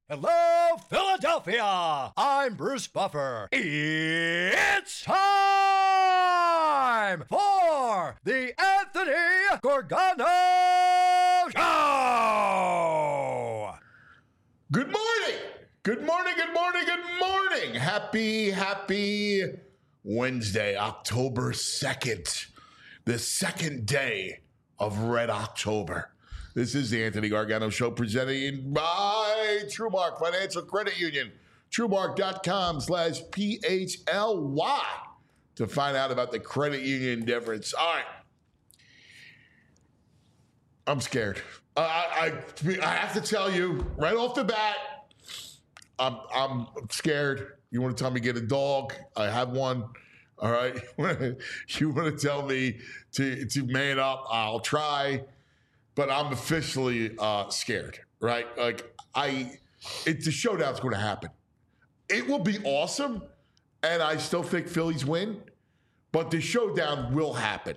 Hello, Philadelphia! I'm Bruce Buffer. It's time for the Anthony Gorgano Show! Good morning! Good morning, good morning, good morning! Happy Wednesday, October 2nd, the second day of Red October. This is the Anthony Gargano Show presented by TrueMark Financial Credit Union. TrueMark.com/PHLY to find out about the credit union difference. All right. I'm scared. I have to tell you right off the bat, I'm scared. You want to tell me get a dog? I have one. All right. You want to tell me to man up? I'll try. But I'm officially scared, right? Like the showdown's going to happen. It will be awesome, and I still think Phillies win, but the showdown will happen.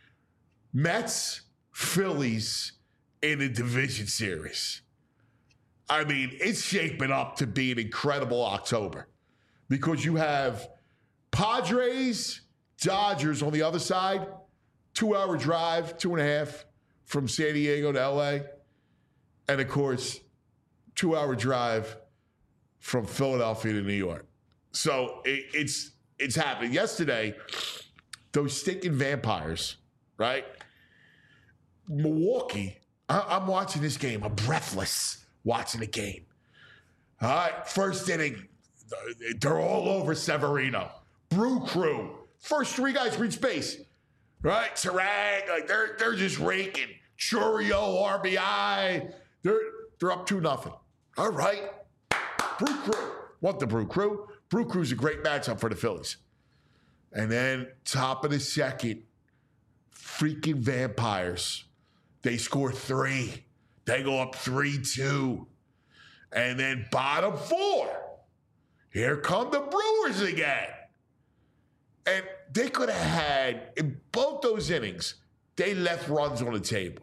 Mets, Phillies in a division series. I mean, it's shaping up to be an incredible October because you have Padres, Dodgers on the other side, 2-hour drive, 2.5 from San Diego to LA. And of course, 2-hour drive from Philadelphia to New York. So it's happening. Yesterday, those stinking vampires, right? Milwaukee, I'm watching this game. I'm breathless watching the game. All right, first inning, they're all over Severino. Brew Crew, first three guys reach base. Right, Sarang, like they're just raking. Churio, RBI, they're up 2-0. All right, Brew Crew. What the Brew Crew? Brew Crew's a great matchup for the Phillies. And then top of the second, freaking vampires. They score 3. They go up 3-2. And then bottom 4. Here come the Brewers again. And they could have had, in both those innings, they left runs on the table.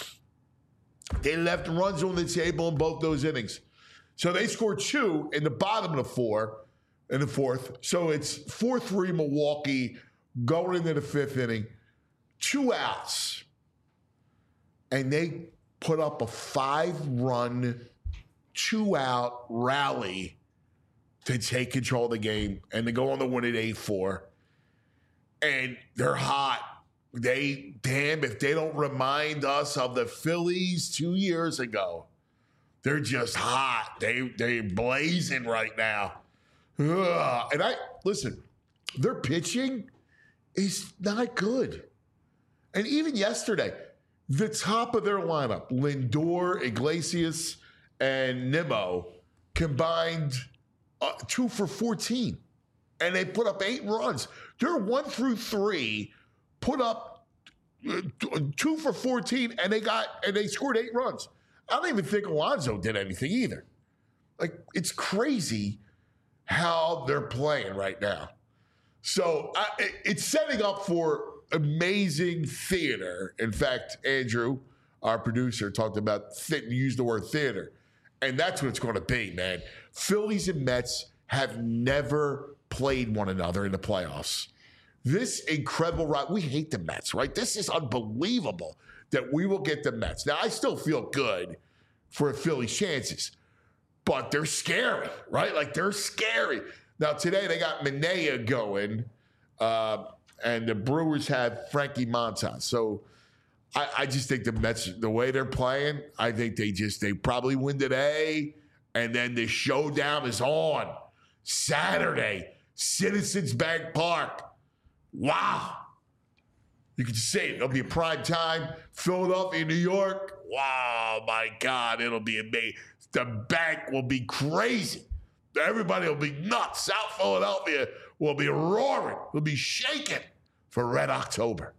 They left runs on the table in both those innings. So they scored 2 in the bottom of the 4 in the 4th. So it's 4-3 Milwaukee going into the 5th inning. 2 outs. And they put up a 5-run, 2-out rally to take control of the game and to go on the win at 8-4. And they're hot. If they don't remind us of the Phillies 2 years ago, they're just hot. They're blazing right now. Ugh. And listen, their pitching is not good. And even yesterday, the top of their lineup, Lindor, Iglesias, and Nimmo, combined 2 for 14. And they put up 8 runs. They're 1 through 3, put up 2 for 14, and they scored 8 runs. I don't even think Alonso did anything either. Like, it's crazy how they're playing right now. So it's setting up for amazing theater. In fact, Andrew, our producer, used the word theater. And that's what it's going to be, man. Phillies and Mets have never played one another in the playoffs. This incredible ride. We hate the Mets, right? This is unbelievable that we will get the Mets. Now, I still feel good for Philly's chances, but they're scary, right? Like, they're scary. Now, today they got Manaea going, and the Brewers have Frankie Montas. So I just think the Mets, the way they're playing, I think they probably win today, and then the showdown is on Saturday, Citizens Bank Park. Wow. You can just say it. It'll be a prime time. Philadelphia, New York. Wow, my God, it'll be amazing. The bank will be crazy. Everybody will be nuts. South Philadelphia will be roaring. Will be shaking for Red October.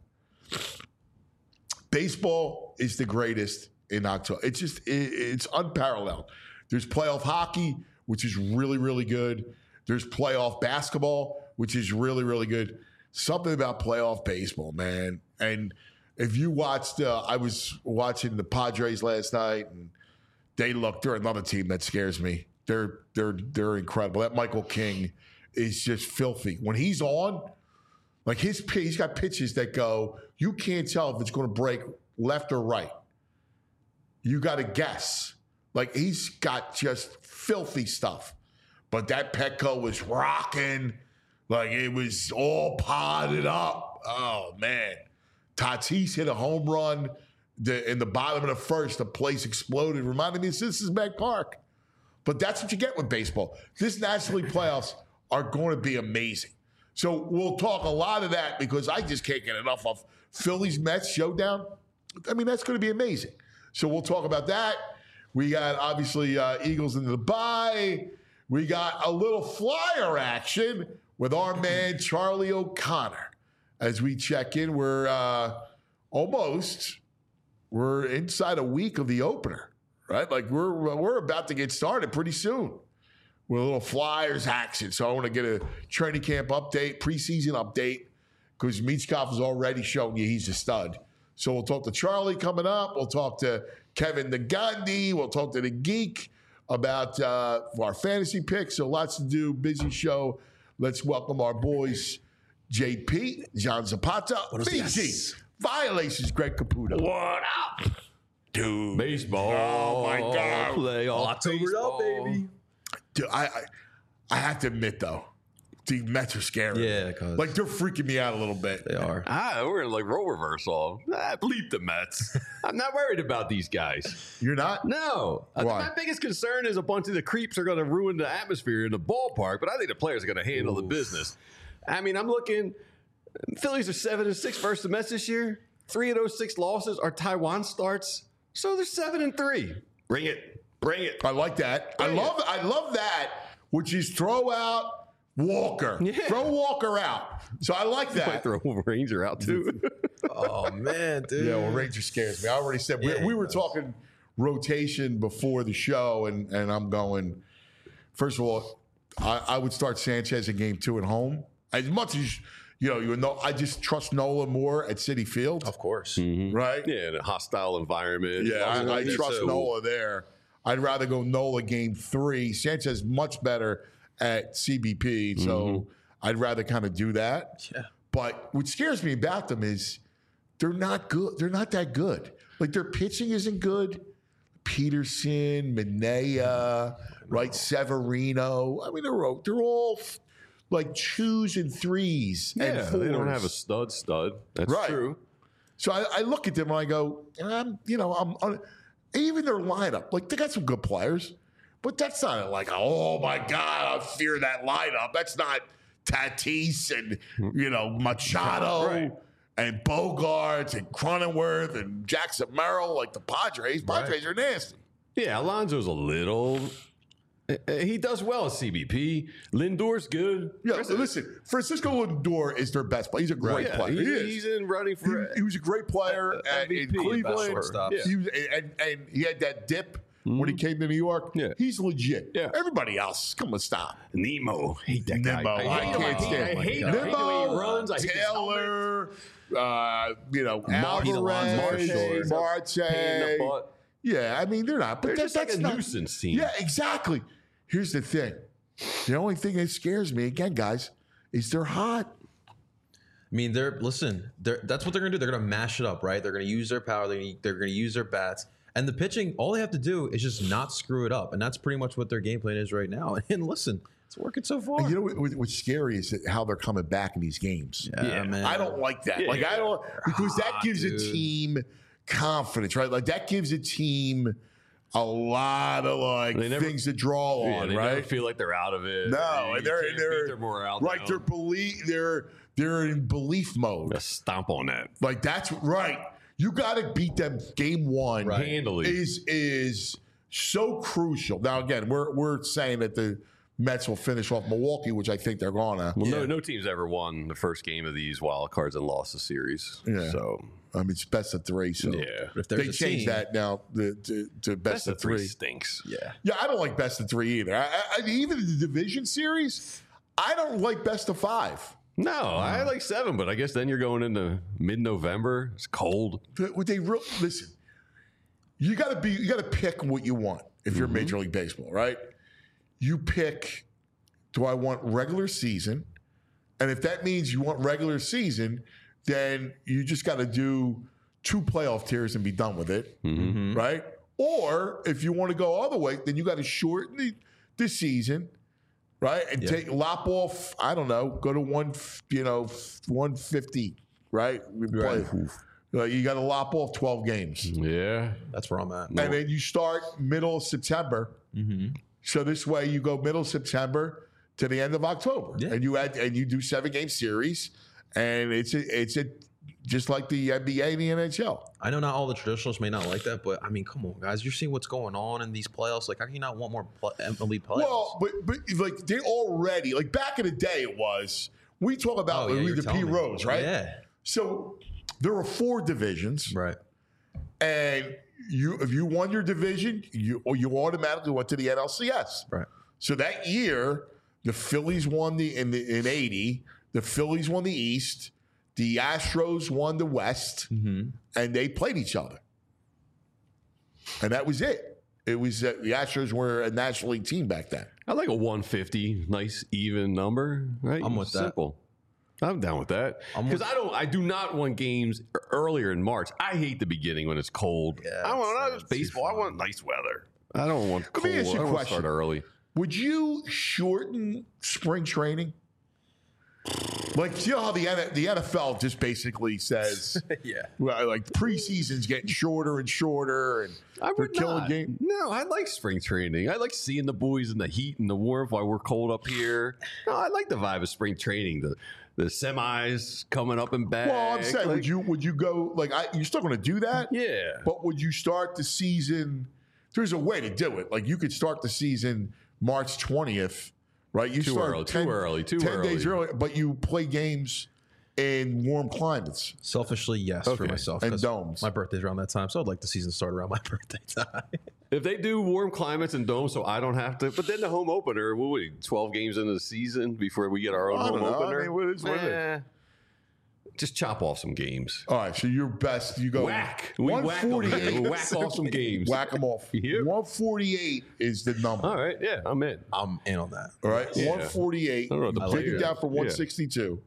Baseball is the greatest in October. It's unparalleled. There's playoff hockey, which is really, really good. There's playoff basketball, which is really, really good. Something about playoff baseball, man. And if you watched, I was watching the Padres last night, and they're another team that scares me. They're incredible. That Michael King is just filthy. When he's on, like he's got pitches that go, you can't tell if it's going to break left or right. You got to guess. Like he's got just filthy stuff. But that Petco was rocking. Like it was all potted up. Oh, man. Tatis hit a home run in the bottom of the first. The place exploded. Reminded me of Cincinnati Park. But that's what you get with baseball. This National League playoffs are going to be amazing. So we'll talk a lot of that because I just can't get enough of Phillies-Mets showdown. I mean, that's going to be amazing. So we'll talk about that. We got, obviously, Eagles into the bye. We got a little flyer action with our man Charlie O'Connor. As we check in, we're inside a week of the opener, right? Like we're about to get started pretty soon with a little Flyers action. So I want to get a training camp update, preseason update, because Michkov is already showing you he's a stud. So we'll talk to Charlie coming up. We'll talk to Kevin the Gandhi. We'll talk to the Geek about our fantasy picks. So lots to do. Busy show. Let's welcome our boys, JP, John Zapata, BG, Violations, Greg Caputo. What up? Dude. Baseball. Oh, my God. Playoff October up, baby. Dude, I have to admit, though, the Mets are scary. Yeah, cause Like, they're freaking me out a little bit. they are. We're in like role reversal. Bleep the Mets. I'm not worried about these guys. You're not? No. Why? My biggest concern is a bunch of the creeps are going to ruin the atmosphere in the ballpark, but I think the players are going to handle the business. I mean, I'm looking. Phillies are 7-6 versus the Mets this year. 3 of those 6 losses are Taiwan starts, so they're 7-3. Bring it. I like that. I love that, which is throw out Walker. Yeah. Throw Walker out. So I like Might that. throw Ranger out too. Oh man, dude. Yeah, well, Ranger scares me. I already said Yeah, we were he does. talking rotation before the show, and I'm going. First of all, I would start Sanchez in game 2 at home. As much as you know, I just trust Nola more at Citi Field, Of course. right? Yeah, in a hostile environment. Yeah, I trust too. Nola there. I'd rather go Nola game 3. Sanchez much better at CBP, so I'd rather kind of do that. Yeah. But what scares me about them is they're not good. They're not that good. Like their pitching isn't good. Peterson, Minea, right? Severino. I mean, they're all like 2s and 3s and Yeah, 4s. they don't have a stud. That's Right. true. So I look at them and I go, even their lineup, like they got some good players, but that's not like, oh my God, I fear that lineup. That's not Tatis and, Machado Right. and Bogarts and Cronenworth and Jackson Merrill, like the Padres. Padres are nasty. Yeah, Alonso's a little. He does well at CBP. Lindor's good. Yeah, listen, Francisco Lindor is their best player. He's a great Yeah, player. He is. he's in running for. He was a great player in MVP, best Cleveland. shortstop. He was, and he had that dip when he came to New York. Yeah. He's legit. Yeah. Everybody else, come on, stop. Nemo. Hate that guy. Nemo, I can't stand I hate him. the way he runs. I hate his Taylor, Marty Alvarez, Alonso, pain in the Marte. butt. Yeah, I mean, they're not. But They're just like that's a not, nuisance team. Yeah, exactly. Here's the thing. The only thing that scares me, again, guys, is they're hot. I mean, that's what they're gonna do. They're gonna mash it up, right? They're gonna use their power. They're gonna use their bats. And the pitching, all they have to do is just not screw it up, and that's pretty much what their game plan is right now. And listen, it's working so far. And you know what's scary is how they're coming back in these games. Yeah. man. I don't like that. Yeah. Like I don't because that gives a dude. team confidence, right? Like that gives a team a lot of They never- things to draw Yeah, on, they right? never feel like they're out of it. No, You and they're can't beat their morale like down. they're in belief mode. Just stomp on that. Like that's right. You got to beat them game 1. Right. Handily. Is so crucial. Now again, we're saying that the Mets will finish off Milwaukee, which I think they're gonna. Well, no team's ever won the first game of these wild cards and lost the series. Yeah. So I mean, it's best of 3. So yeah, If there's they a changed team- that now to best of 3. stinks. Yeah. Yeah, I don't like best of 3 either. I even the division series, I don't like best of 5. No, I like 7, but I guess then you're going into mid-November. It's cold. Would they listen? You got to pick what you want. if you're Major League Baseball, right? You pick, do I want regular season? And if that means you want regular season, then you just got to do 2 playoff tiers and be done with it, right? Or if you want to go all the way, then you got to shorten the season, right? And lop off, I don't know, go to 150, right? You got to lop off 12 games. Yeah. That's where I'm at. And then you start middle of September. So this way you go middle of September to the end of October. Yeah. And you do 7-game series. And it's just like the NBA and the NHL. I know not all the traditionalists may not like that, but I mean, come on, guys. You're seeing what's going on in these playoffs. Like, how can you not want more elite playoffs? Well, but like they already, like back in the day it was, we talk about the P. Rose, right? Yeah. So there were 4 divisions. Right. And if you won your division, you automatically went to the NLCS. Right. So that year, the Phillies won in 80. The Phillies won the East. The Astros won the West, and they played each other. And that was it. It was the Astros were a National League team back then. I like a 150, nice even number, right? I'm with Simple. I'm down with that because I do not want games earlier in March. I hate the beginning when it's cold. Yeah, I want baseball. I want nice weather. I don't want cold. Let me ask you a I want to question. start early. Would you shorten spring training? Like, you know how the NFL just basically says, well, like preseason's getting shorter and shorter, and they're killing games. No, I like spring training. I like seeing the boys in the heat and the warmth while we're cold up here. No, I like the vibe of spring training. The semis coming up and back. Well, I'm saying, would you go like you're still going to do that? Yeah. But would you start the season? There's a way to do it. Like you could start the season March 20th. Right, you too start early, 10 days early, but you play games in warm climates. Selfishly, yes, for myself. And 'cause domes. My birthday's around that time, so I'd like the season to start around my birthday time. If they do warm climates and domes, so I don't have to. But then the home opener, 12 games into the season before we get our own home opener. I mean, what is it? Just chop off some games. All right, so your best, you go Whack. We whack 148. them. Whack off some games. Whack them off. Yep. 148 is the number. All right, yeah, I'm in. I'm in on that. All right, Yeah. 148. I don't know, Take it down from 162.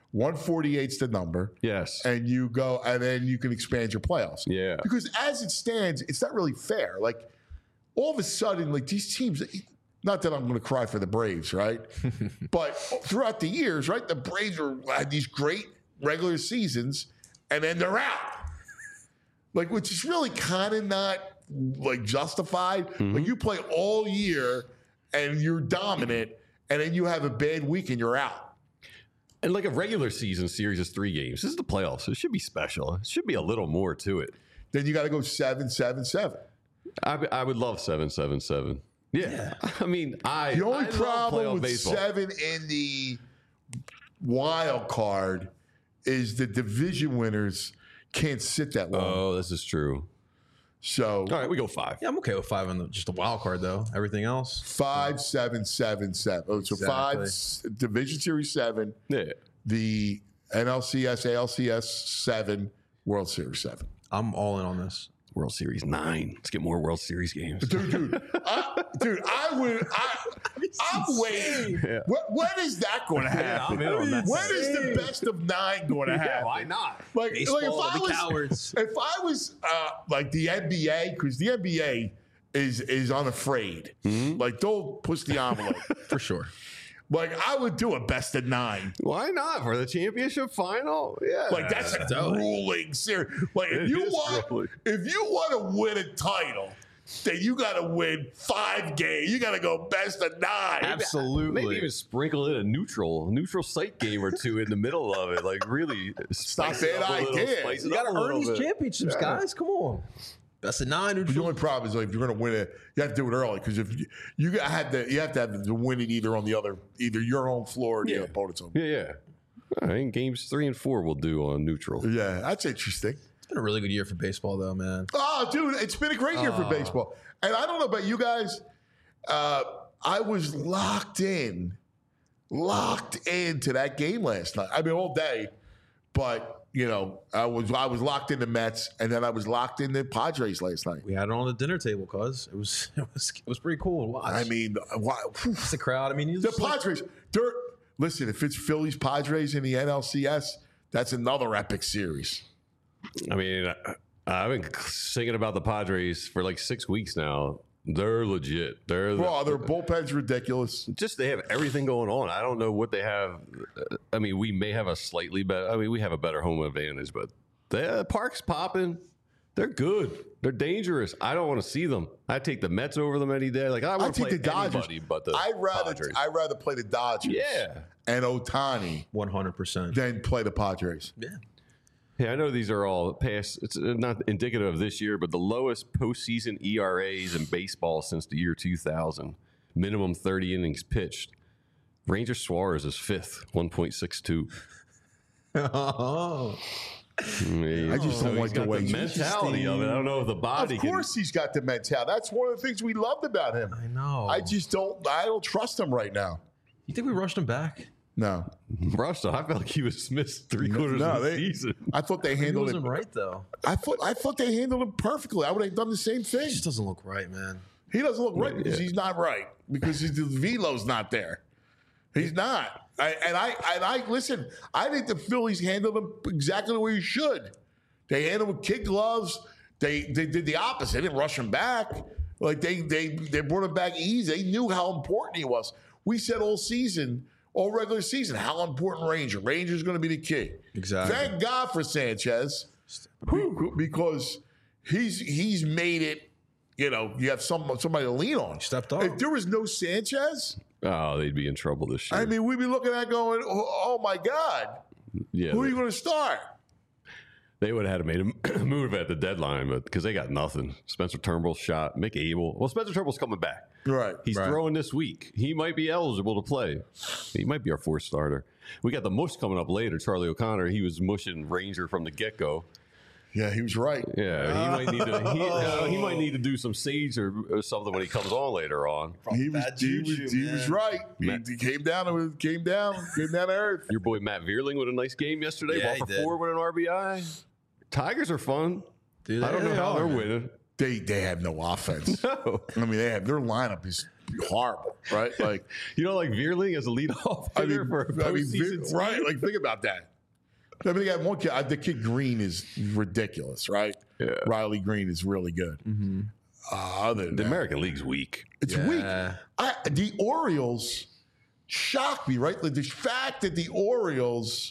148 is the number. Yes. And you go, and then you can expand your playoffs. Yeah. Because as it stands, it's not really fair. Like, all of a sudden, like these teams, not that I'm going to cry for the Braves, right? But throughout the years, right, the Braves had these great regular seasons, and then they're out. Like, which is really kind of not like justified. Like, you play all year and you're dominant, and then you have a bad week and you're out. And like a regular season series is 3 games. This is the playoffs. So it should be special. It should be a little more to it. Then you got to go 7-7-7. I would love 7-7-7. Yeah. I mean, The only I problem love with baseball. 7 in the wild card is the division winners can't sit that long. Oh, this is true. So, All right, we go 5. Yeah, I'm okay with 5 on just the wild card though. Everything else, 5-7-7-7. Oh, so 5 division series 7. Yeah. The NLCS, ALCS 7, World Series 7. I'm all in on this. World Series 9. Let's get more World Series games. Dude, I'm waiting. Yeah. When is that going to happen? I'm in on that. When is the best of 9 going to happen? Yeah, why not? Like Baseball if to the cowards. If I was like the NBA, because the NBA is unafraid. Like they'll push the envelope. For sure. Like I would do a best of 9. Why not? For the championship final? Yeah. Like that's a grueling series. Like if you want to win a title, then you got to win 5 games. You got to go best of 9. Absolutely. Maybe even sprinkle in a neutral site game or 2 in the middle of it. Like really Stop that idea. You got to earn these championships, guys. Come on. That's a 9. But the only problem is like if you're going to win it, you have to do it early because if you have to have to win it either your home floor or the opponent's home. Yeah. All right, games 3 and 4 we'll do on neutral. Yeah, that's interesting. It's been a really good year for baseball, though, man. Oh, dude, it's been a great year for baseball. And I don't know about you guys. I was locked in to that game last night. I mean, all day. But I was locked in the Mets, and then I was locked in the Padres last night. We had it on the dinner table, cuz it was pretty cool to watch. I mean, It's the crowd. I mean, the Padres. Listen, if it's Phillies Padres in the NLCS, that's another epic series. I mean, I've been singing about the Padres for like 6 weeks now. They're legit. Their bullpen's ridiculous. Just they have everything going on. I don't know what they have. I mean, we may have a slightly better. I mean, we have a better home advantage, but the park's popping. They're good. They're dangerous. I don't want to see them. I take the Mets over them any day. Like I want to play the Dodgers. Anybody but the Padres. I'd rather play the Dodgers. Yeah. And Ohtani 100%. than play the Padres. Yeah. Yeah, I know these are all past. It's not indicative of this year, but the lowest postseason ERAs in baseball since the year 2000. Minimum 30 innings pitched. Ranger Suarez is 5th, 1.62. Oh. I just don't like the way the mentality of it. I don't know if the body. Of course, he's got the mentality. That's one of the things we loved about him. I know. I don't trust him right now. You think we rushed him back? No. Russell, I felt like he was missed 3/4 of the season. I thought they He handled wasn't it right though. I thought they handled him perfectly. I would have done the same thing. He just doesn't look right, man. He doesn't look right because he's not right because the velo's not there. He's not. I listen. I think the Phillies handled him exactly the way you should. They handled him with kid gloves. They did the opposite. They didn't rush him back. Like they brought him back easy. They knew how important he was. We said all regular season, how important Ranger's going to be the key. Exactly. Thank God for Sanchez, because he's made it. You have somebody to lean on. Stepped up. If there was no Sanchez, they'd be in trouble this year. I mean, we'd be looking at going, oh my God, yeah, who are you going to start? They would have had to made a move at the deadline, but because they got nothing. Spencer Turnbull's shot. Mick Abel. Well, Spencer Turnbull's coming back. Right. He's throwing this week. He might be eligible to play. He might be our fourth starter. We got the mush coming up later. Charlie O'Connor. He was mushing Ranger from the get-go. Yeah, he was right. Yeah, he might need to. He might need to do some sage or something when he comes on later on. He was right. He came down to earth. Your boy Matt Vierling with a nice game yesterday. Yeah, 1 for 4 with an RBI. Tigers are fun. Dude, I don't know how they're winning. They have no offense. No. I mean, their lineup is horrible, right? Like like Vierling as a leadoff hitter for a postseason team? right? Like think about that. I mean, they got one kid. The kid Green is ridiculous, right? Yeah. Riley Green is really good. Mm-hmm. Other than The that, American League's weak. it's weak. The Orioles shocked me, right? Like the fact that the Orioles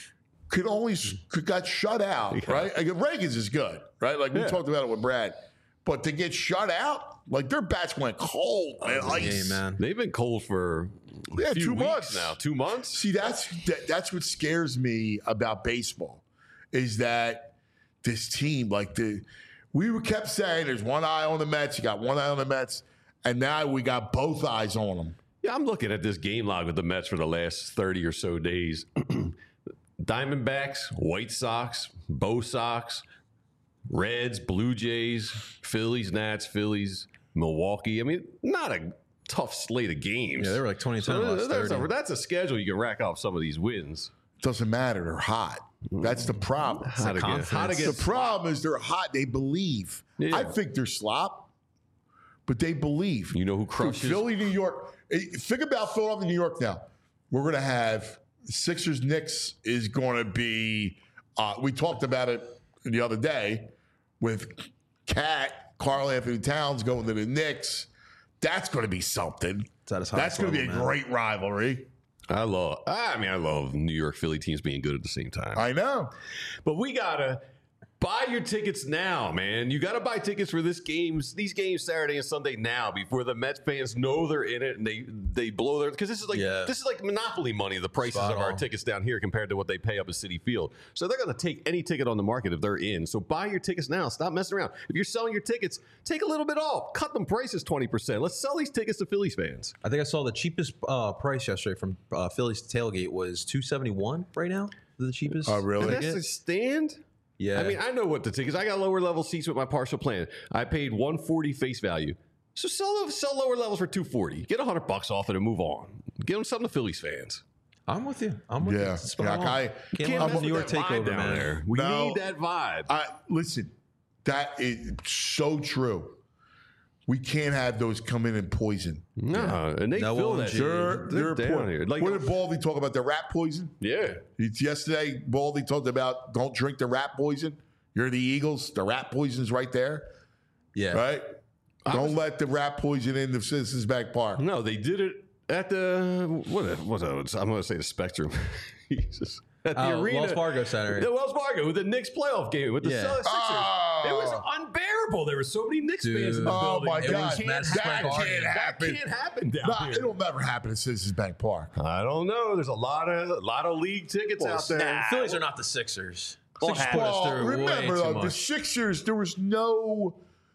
got shut out, right? Like Reagan's is good, right? Like we talked about it with Brad, but to get shut out, like their bats went cold, man. Ice. man. They've been cold for a few 2 weeks months now. 2 months? See, that's what scares me about baseball, is that this team, we kept saying there's one eye on the Mets, you got one eye on the Mets, and now we got both eyes on them. Yeah, I'm looking at this game log with the Mets for the last 30 or so days. Diamondbacks, White Sox, Bo Sox, Reds, Blue Jays, Phillies, Nats, Phillies, Milwaukee. I mean, not a tough slate of games. Yeah, they were like 20 last 30. That's a schedule you can rack off some of these wins. Doesn't matter, they're hot. That's the problem. How to get The problem is they're hot. They believe. Yeah. I think they're slop, but they believe. You know who crushes? Philly, New York. Think about Philadelphia, New York now. We're going to have Sixers, Knicks is going to be, we talked about it the other day with Karl Anthony Towns going to the Knicks. That's going to be something. That's going to be a great rivalry. I love New York Philly teams being good at the same time. I know. But we got to buy your tickets now, man. You got to buy tickets for these games Saturday and Sunday now before the Mets fans know they're in it and they blow their, because this is like monopoly money, the prices of our tickets down here compared to what they pay up at Citi Field. So they're going to take any ticket on the market if they're in. So buy your tickets now. Stop messing around. If you're selling your tickets, take a little bit off. Cut them prices 20%. Let's sell these tickets to Phillies fans. I think I saw the cheapest price yesterday from Phillies tailgate was $271 right now. The cheapest. Oh, really? And that's a stand? Yeah. I mean, I know what the tickets. I got lower level seats with my partial plan. I paid $140 face value. So sell lower levels for $240. Get $100 off it and move on. Give them something to Phillies fans. I'm with you. I'm with you. Yeah. It's spot Yeah, on. I- Can't Can't let mess New York with that take vibe over, down man. there. We No. need that vibe. Listen, that is so true. We can't have those come in and poison. No, and they No feel OMG. that shit. They're down here. Like, what did Baldy talk about? The rat poison? yeah. Yesterday, Baldy talked about don't drink the rat poison. You're the Eagles. The rat poison's right there, Yeah. right? Don't let the rat poison in the Citizens Bank Park. No, they did it at the I'm going to say the Spectrum. Jesus. At the arena. Wells Fargo Center. The Wells Fargo with the Knicks playoff game with the Yeah. Sixers. Oh. It was unbearable. There were so many Knicks fans in the Oh, building. my It God. can't Madison happen. Square Garden. can't happen. That can't happen down Nah, here. it'll never happen at Citizens Bank Park. I don't know. There's a lot of league tickets out there. The Phillies are not the Sixers. Won't Sixers happen. put us Well, through way remember too though, the much. Sixers, there was no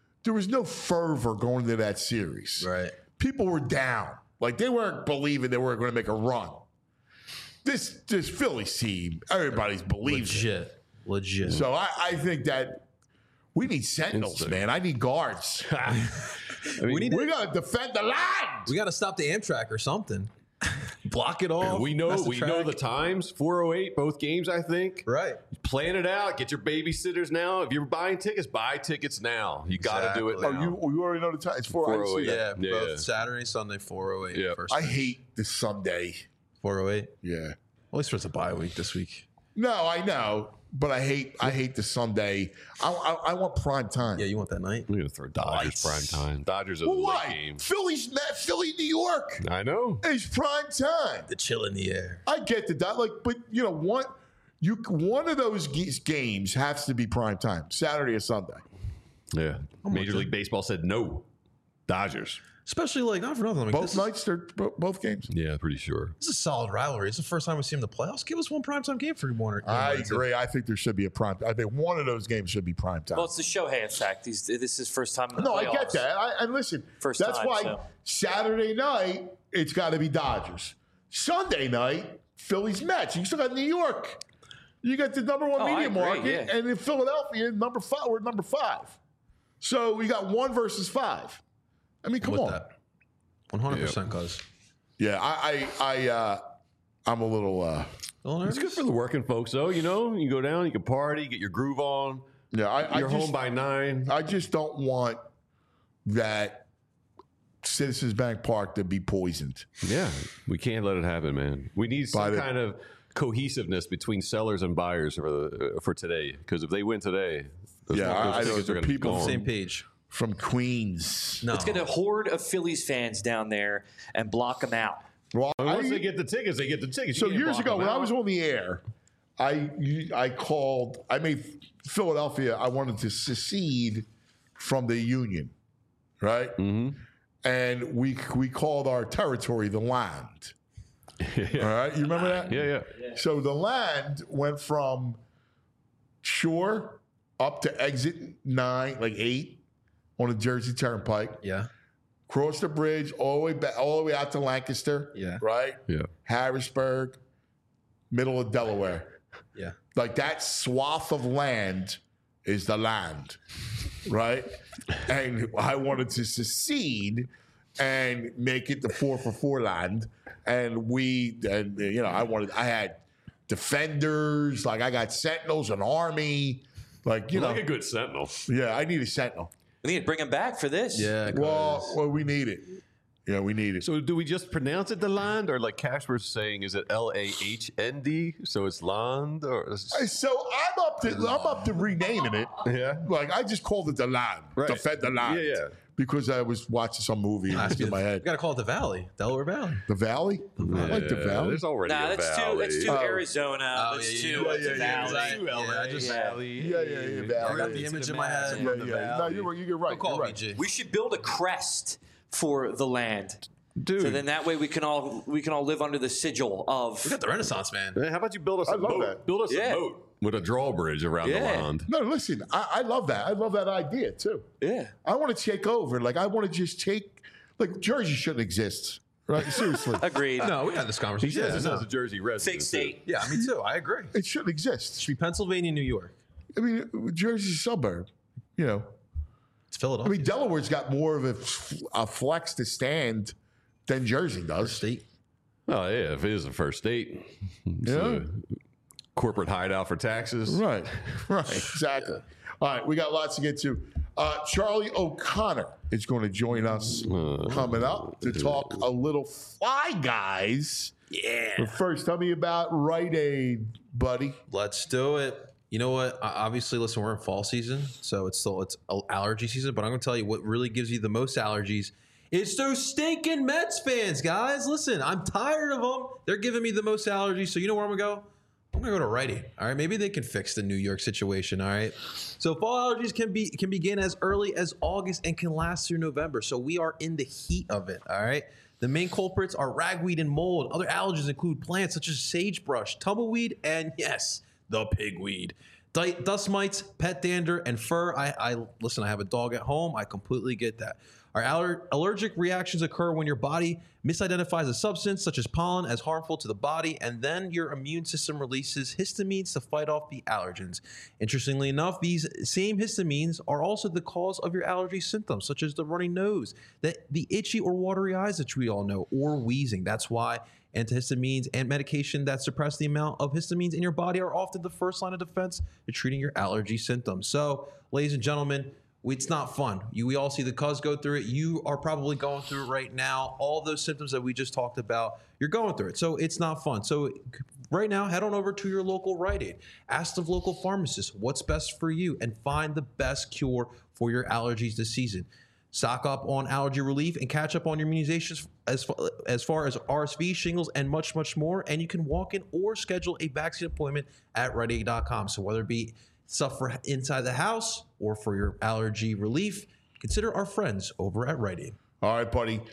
fervor going into that series. Right. People were down. Like they weren't believing they were going to make a run. This Phillies team, everybody's believes it. Legit. So I think that we need sentinels, Instant. man. I need guards. we need We to, got to defend the line. we got to stop the Amtrak or something. Block it off. We know That's the the track. times. 408 both games, I think. Right. Plan it out. Get your babysitters now. If you're buying tickets, buy tickets now. You got to do it Exactly. now. You already know the time. It's 408. Yeah. Yeah, both Saturday, Sunday, 408. Yeah. First I match. hate the Sunday. 408. Yeah. At least it's a bye week this week. No, I know, but I hate the Sunday. I want prime time. Yeah, you want that night? We're going to throw Dodgers Lights. prime time. Dodgers are Well, the late why? game. Philly, New York I know. is prime time. The chill in the air. I get the but you know what? One of those games has to be prime time, Saturday or Sunday. Yeah. Major with League Baseball said no. Dodgers. Especially like not for nothing. Like, Both this nights, they're both games. Yeah, pretty sure. This is a solid rivalry. It's the first time we've seen them in the playoffs. Give us one primetime game for Warner. I agree. I think there should be a prime. I think one of those games should be prime time. Well, it's the Shohei effect. This is first time in the No, playoffs. I get that. And listen, First that's time, why so. Saturday night it's got to be Dodgers. Sunday night, Phillies Mets. You still got New York. You got the number one Oh, I media agree, market, yeah. and in Philadelphia, number 5. We're number 5. So we got 1 versus 5. I mean, come with on. that. 100%, cuz. Yeah, I'm a little. It's good for the working folks, though. You know, you go down, you can party, get your groove on. Yeah, You're home by 9. I just don't want that Citizens Bank Park to be poisoned. Yeah, we can't let it happen, man. We need some kind of cohesiveness between sellers and buyers for today. Because if they win today, those Yeah, I know tickets the are going to be people gone. Same page. From Queens. No. Let's get a horde of Phillies fans down there and block them out. Well, Once they get the tickets, they get the tickets. So You can't years block ago, them when I out. was on the air, I made Philadelphia. I wanted to secede from the Union, right? Mm-hmm. And we called our territory the land. All right, you remember that? Yeah. So the land went from Shore up to exit 9, like 8, on the Jersey Turnpike. Yeah. Cross the bridge all the way back, all the way out to Lancaster. Yeah. Right. Yeah. Harrisburg, middle of Delaware. Yeah. Like that swath of land is the land, right? And I wanted to secede and make it the 4-for-4 land. And I had defenders, like I got sentinels, an army, like, Like a good sentinel. yeah, I need a sentinel. We need to bring them back for this. Yeah. Well, we need it. Yeah, we need it. So do we just pronounce it the land, or like Cash was saying, is it LAHND? So it's land, or So I'm up to renaming it. yeah. Like I just called it the land, Right. defend the land. Yeah. Because I was watching some movie and it was in my We head. got to call it the Valley, Delaware Valley. The Valley? I like the Valley. There's already Nah, a that's valley. too Oh. Arizona. Oh, That's yeah, too yeah, it's a yeah, valley. Yeah, I just- Valley. Yeah, Valley. I got the image in my head. Yeah. No, you're right. Don't call You're me right. G. We should build a crest for the land. Dude. So then that way we can all live under the sigil of. We got the Renaissance man. How about you build us a I love boat? that. Build us Yeah. a boat with a drawbridge around the Yeah. land. No, listen, I love that. I love that idea too. Yeah. I want to take over. Like I want to just take. Like Jersey shouldn't exist. Right? Seriously, Agreed. No, we had this He conversation. says this no. as a Jersey resident. Fake state. Yeah, me too. I agree. It it shouldn't exist. should be Pennsylvania, New York. I mean, Jersey's a suburb. You know, It's I Philadelphia. mean, Delaware's got more of a flex to stand than Jersey does. State. Oh, yeah, if it is a first date. It's a corporate hideout for taxes. Right, exactly. All right, we got lots to get to. Charlie O'Connor is going to join us coming up to talk a little Fly Guys. Yeah. But first, tell me about Rite Aid, buddy. Let's do it. You know what? Obviously, listen, we're in fall season, so it's allergy season. But I'm going to tell you what really gives you the most allergies. It's those stinking Mets fans, guys. Listen, I'm tired of them. They're giving me the most allergies. So you know where I'm going to go? I'm going to go to Rite Aid. All right, maybe they can fix the New York situation. All right. So fall allergies can begin as early as August and can last through November. So we are in the heat of it. All right. The main culprits are ragweed and mold. Other allergens include plants such as sagebrush, tumbleweed, and yes, the pigweed. Dust mites, pet dander, and fur. Listen, I have a dog at home. I completely get that. Our allergic reactions occur when your body misidentifies a substance such as pollen as harmful to the body, and then your immune system releases histamines to fight off the allergens. Interestingly enough, these same histamines are also the cause of your allergy symptoms, such as the runny nose, the itchy or watery eyes that we all know, or wheezing. That's why antihistamines and medication that suppress the amount of histamines in your body are often the first line of defense to treating your allergy symptoms. So, ladies and gentlemen, it's not fun. We all see the cuz go through it. You are probably going through it right now. All those symptoms that we just talked about, you're going through it. So it's not fun. So right now, head on over to your local Rite Aid. Ask the local pharmacist what's best for you and find the best cure for your allergies this season. Stock up on allergy relief and catch up on your immunizations as far as RSV, shingles, and much, much more. And you can walk in or schedule a vaccine appointment at RiteAid.com. So whether it be stuff for inside the house or for your allergy relief, consider our friends over at Rite Aid. All right, buddy.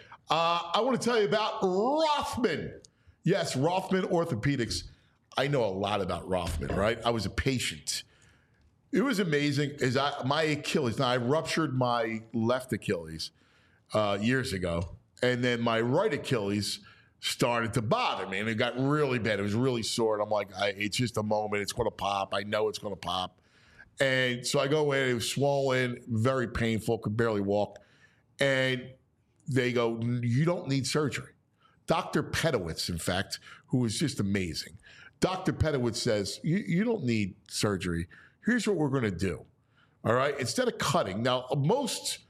I want to tell you about Rothman. Yes, Rothman Orthopedics. I know a lot about Rothman, right? I was a patient. It was amazing. My Achilles, now I ruptured my left Achilles years ago, and then my right Achilles started to bother me, and it got really bad. It was really sore, and I'm like, it's just a moment. It's going to pop. I know it's going to pop. And so I go in. It was swollen, very painful, could barely walk. And they go, you don't need surgery. Dr. Pedowitz, in fact, who was just amazing. Dr. Pedowitz says, you don't need surgery. Here's what we're going to do. All right? Instead of cutting. Now, most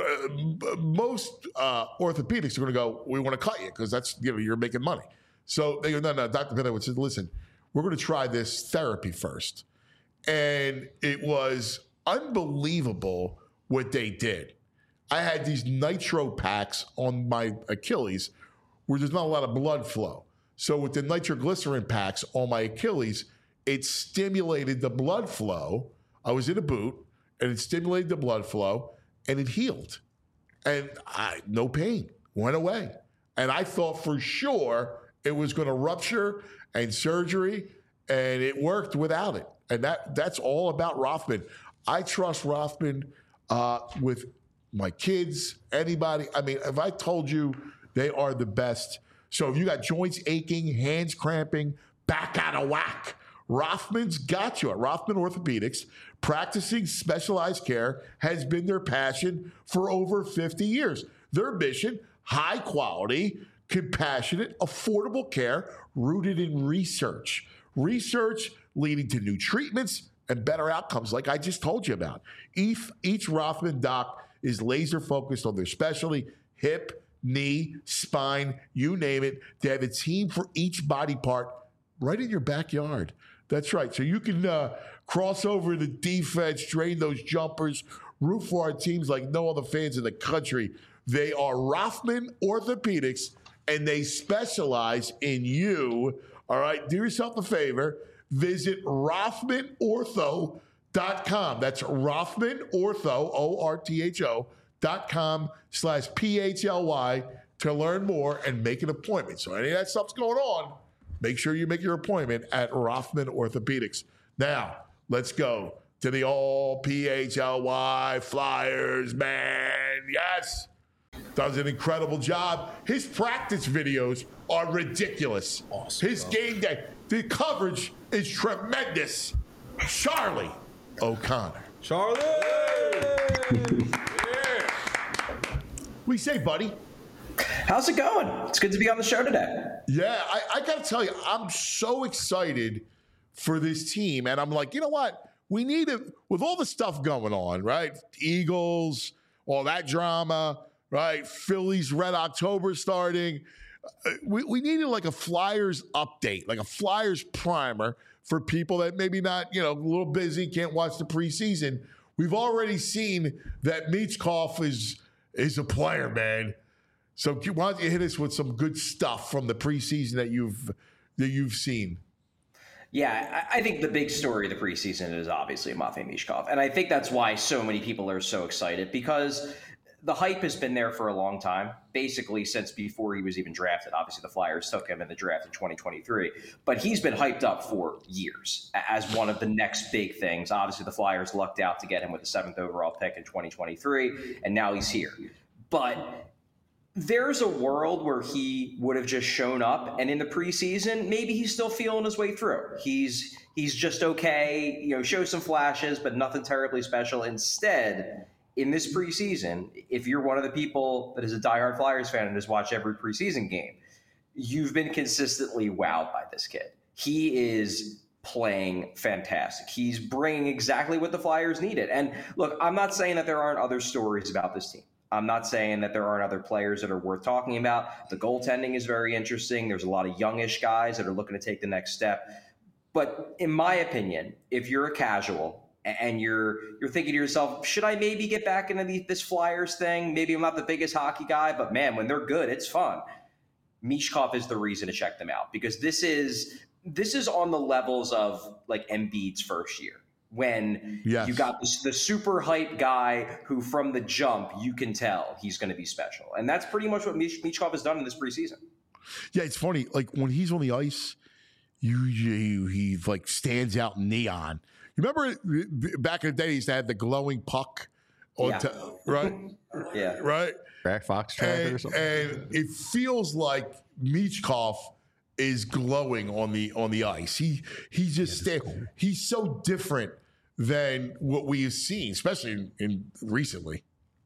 orthopedics are going to go, we want to cut you because that's, you're making money. So they go, no. Dr. Pedowitz says, listen, we're going to try this therapy first. And it was unbelievable what they did. I had these nitro packs on my Achilles where there's not a lot of blood flow. So with the nitroglycerin packs on my Achilles, it stimulated the blood flow. I was in a boot, and it stimulated the blood flow, and it healed. And no pain, went away. And I thought for sure it was going to rupture and surgery, and it worked without it. And that's all about Rothman. I trust Rothman with my kids, anybody. I mean, if I told you they are the best. So if you got joints aching, hands cramping, back out of whack, Rothman's got you. At Rothman Orthopedics, practicing specialized care has been their passion for over 50 years. Their mission, high quality, compassionate, affordable care rooted in research. Research leading to new treatments and better outcomes like I just told you about. Each Rothman doc is laser focused on their specialty, hip, knee, spine, you name it. They have a team for each body part right in your backyard. That's right. So you can cross over the defense, drain those jumpers, root for our teams like no other fans in the country. They are Rothman Orthopedics, and they specialize in you. All right, do yourself a favor. Visit RothmanOrtho.com. That's RothmanOrtho, ORTHO.com/PHLY to learn more and make an appointment. So any of that stuff's going on, make sure you make your appointment at Rothman Orthopedics. Now, let's go to the all PHLY Flyers, man. Yes. Does an incredible job. His practice videos are ridiculous. Awesome. His game day, the coverage is tremendous. Charlie O'Connor. Charlie! Yeah. We say, buddy, How's it going? It's good to be on the show today. Yeah, I got to tell you, I'm so excited for this team. And I'm like, you know what? We need it with all the stuff going on, right? Eagles, all that drama, right? Phillies, Red October starting. We needed like a Flyers update, like a Flyers primer for people that maybe not, a little busy, can't watch the preseason. We've already seen that Michkov is a player, man. So why don't you hit us with some good stuff from the preseason that you've seen? Yeah, I think the big story of the preseason is obviously Matvei Michkov. And I think that's why so many people are so excited, because the hype has been there for a long time, basically since before he was even drafted. Obviously, the Flyers took him in the draft in 2023, but he's been hyped up for years as one of the next big things. Obviously, the Flyers lucked out to get him with the 7th overall pick in 2023, and now he's here. But there's a world where he would have just shown up, and in the preseason, maybe he's still feeling his way through. He's just okay, shows some flashes, but nothing terribly special. Instead, in this preseason, if you're one of the people that is a diehard Flyers fan and has watched every preseason game, you've been consistently wowed by this kid. He is playing fantastic. He's bringing exactly what the Flyers needed. And look, I'm not saying that there aren't other stories about this team. I'm not saying that there aren't other players that are worth talking about. The goaltending is very interesting. There's a lot of youngish guys that are looking to take the next step. But in my opinion, if you're a casual and you're thinking to yourself, should I maybe get back into this Flyers thing? Maybe I'm not the biggest hockey guy, but man, when they're good, it's fun. Michkov is the reason to check them out, because this is on the levels of like Embiid's first year, when you got the super hype guy who from the jump you can tell he's going to be special. And that's pretty much what Michkov has done in this preseason. Yeah, it's funny. Like when he's on the ice, he like stands out in neon. You remember back in the day, he used to have the glowing puck on right? Yeah. Right? Fox tracker or something. And it feels like Michkov is glowing on the ice. He's just he's so different than what we have seen, especially in recently.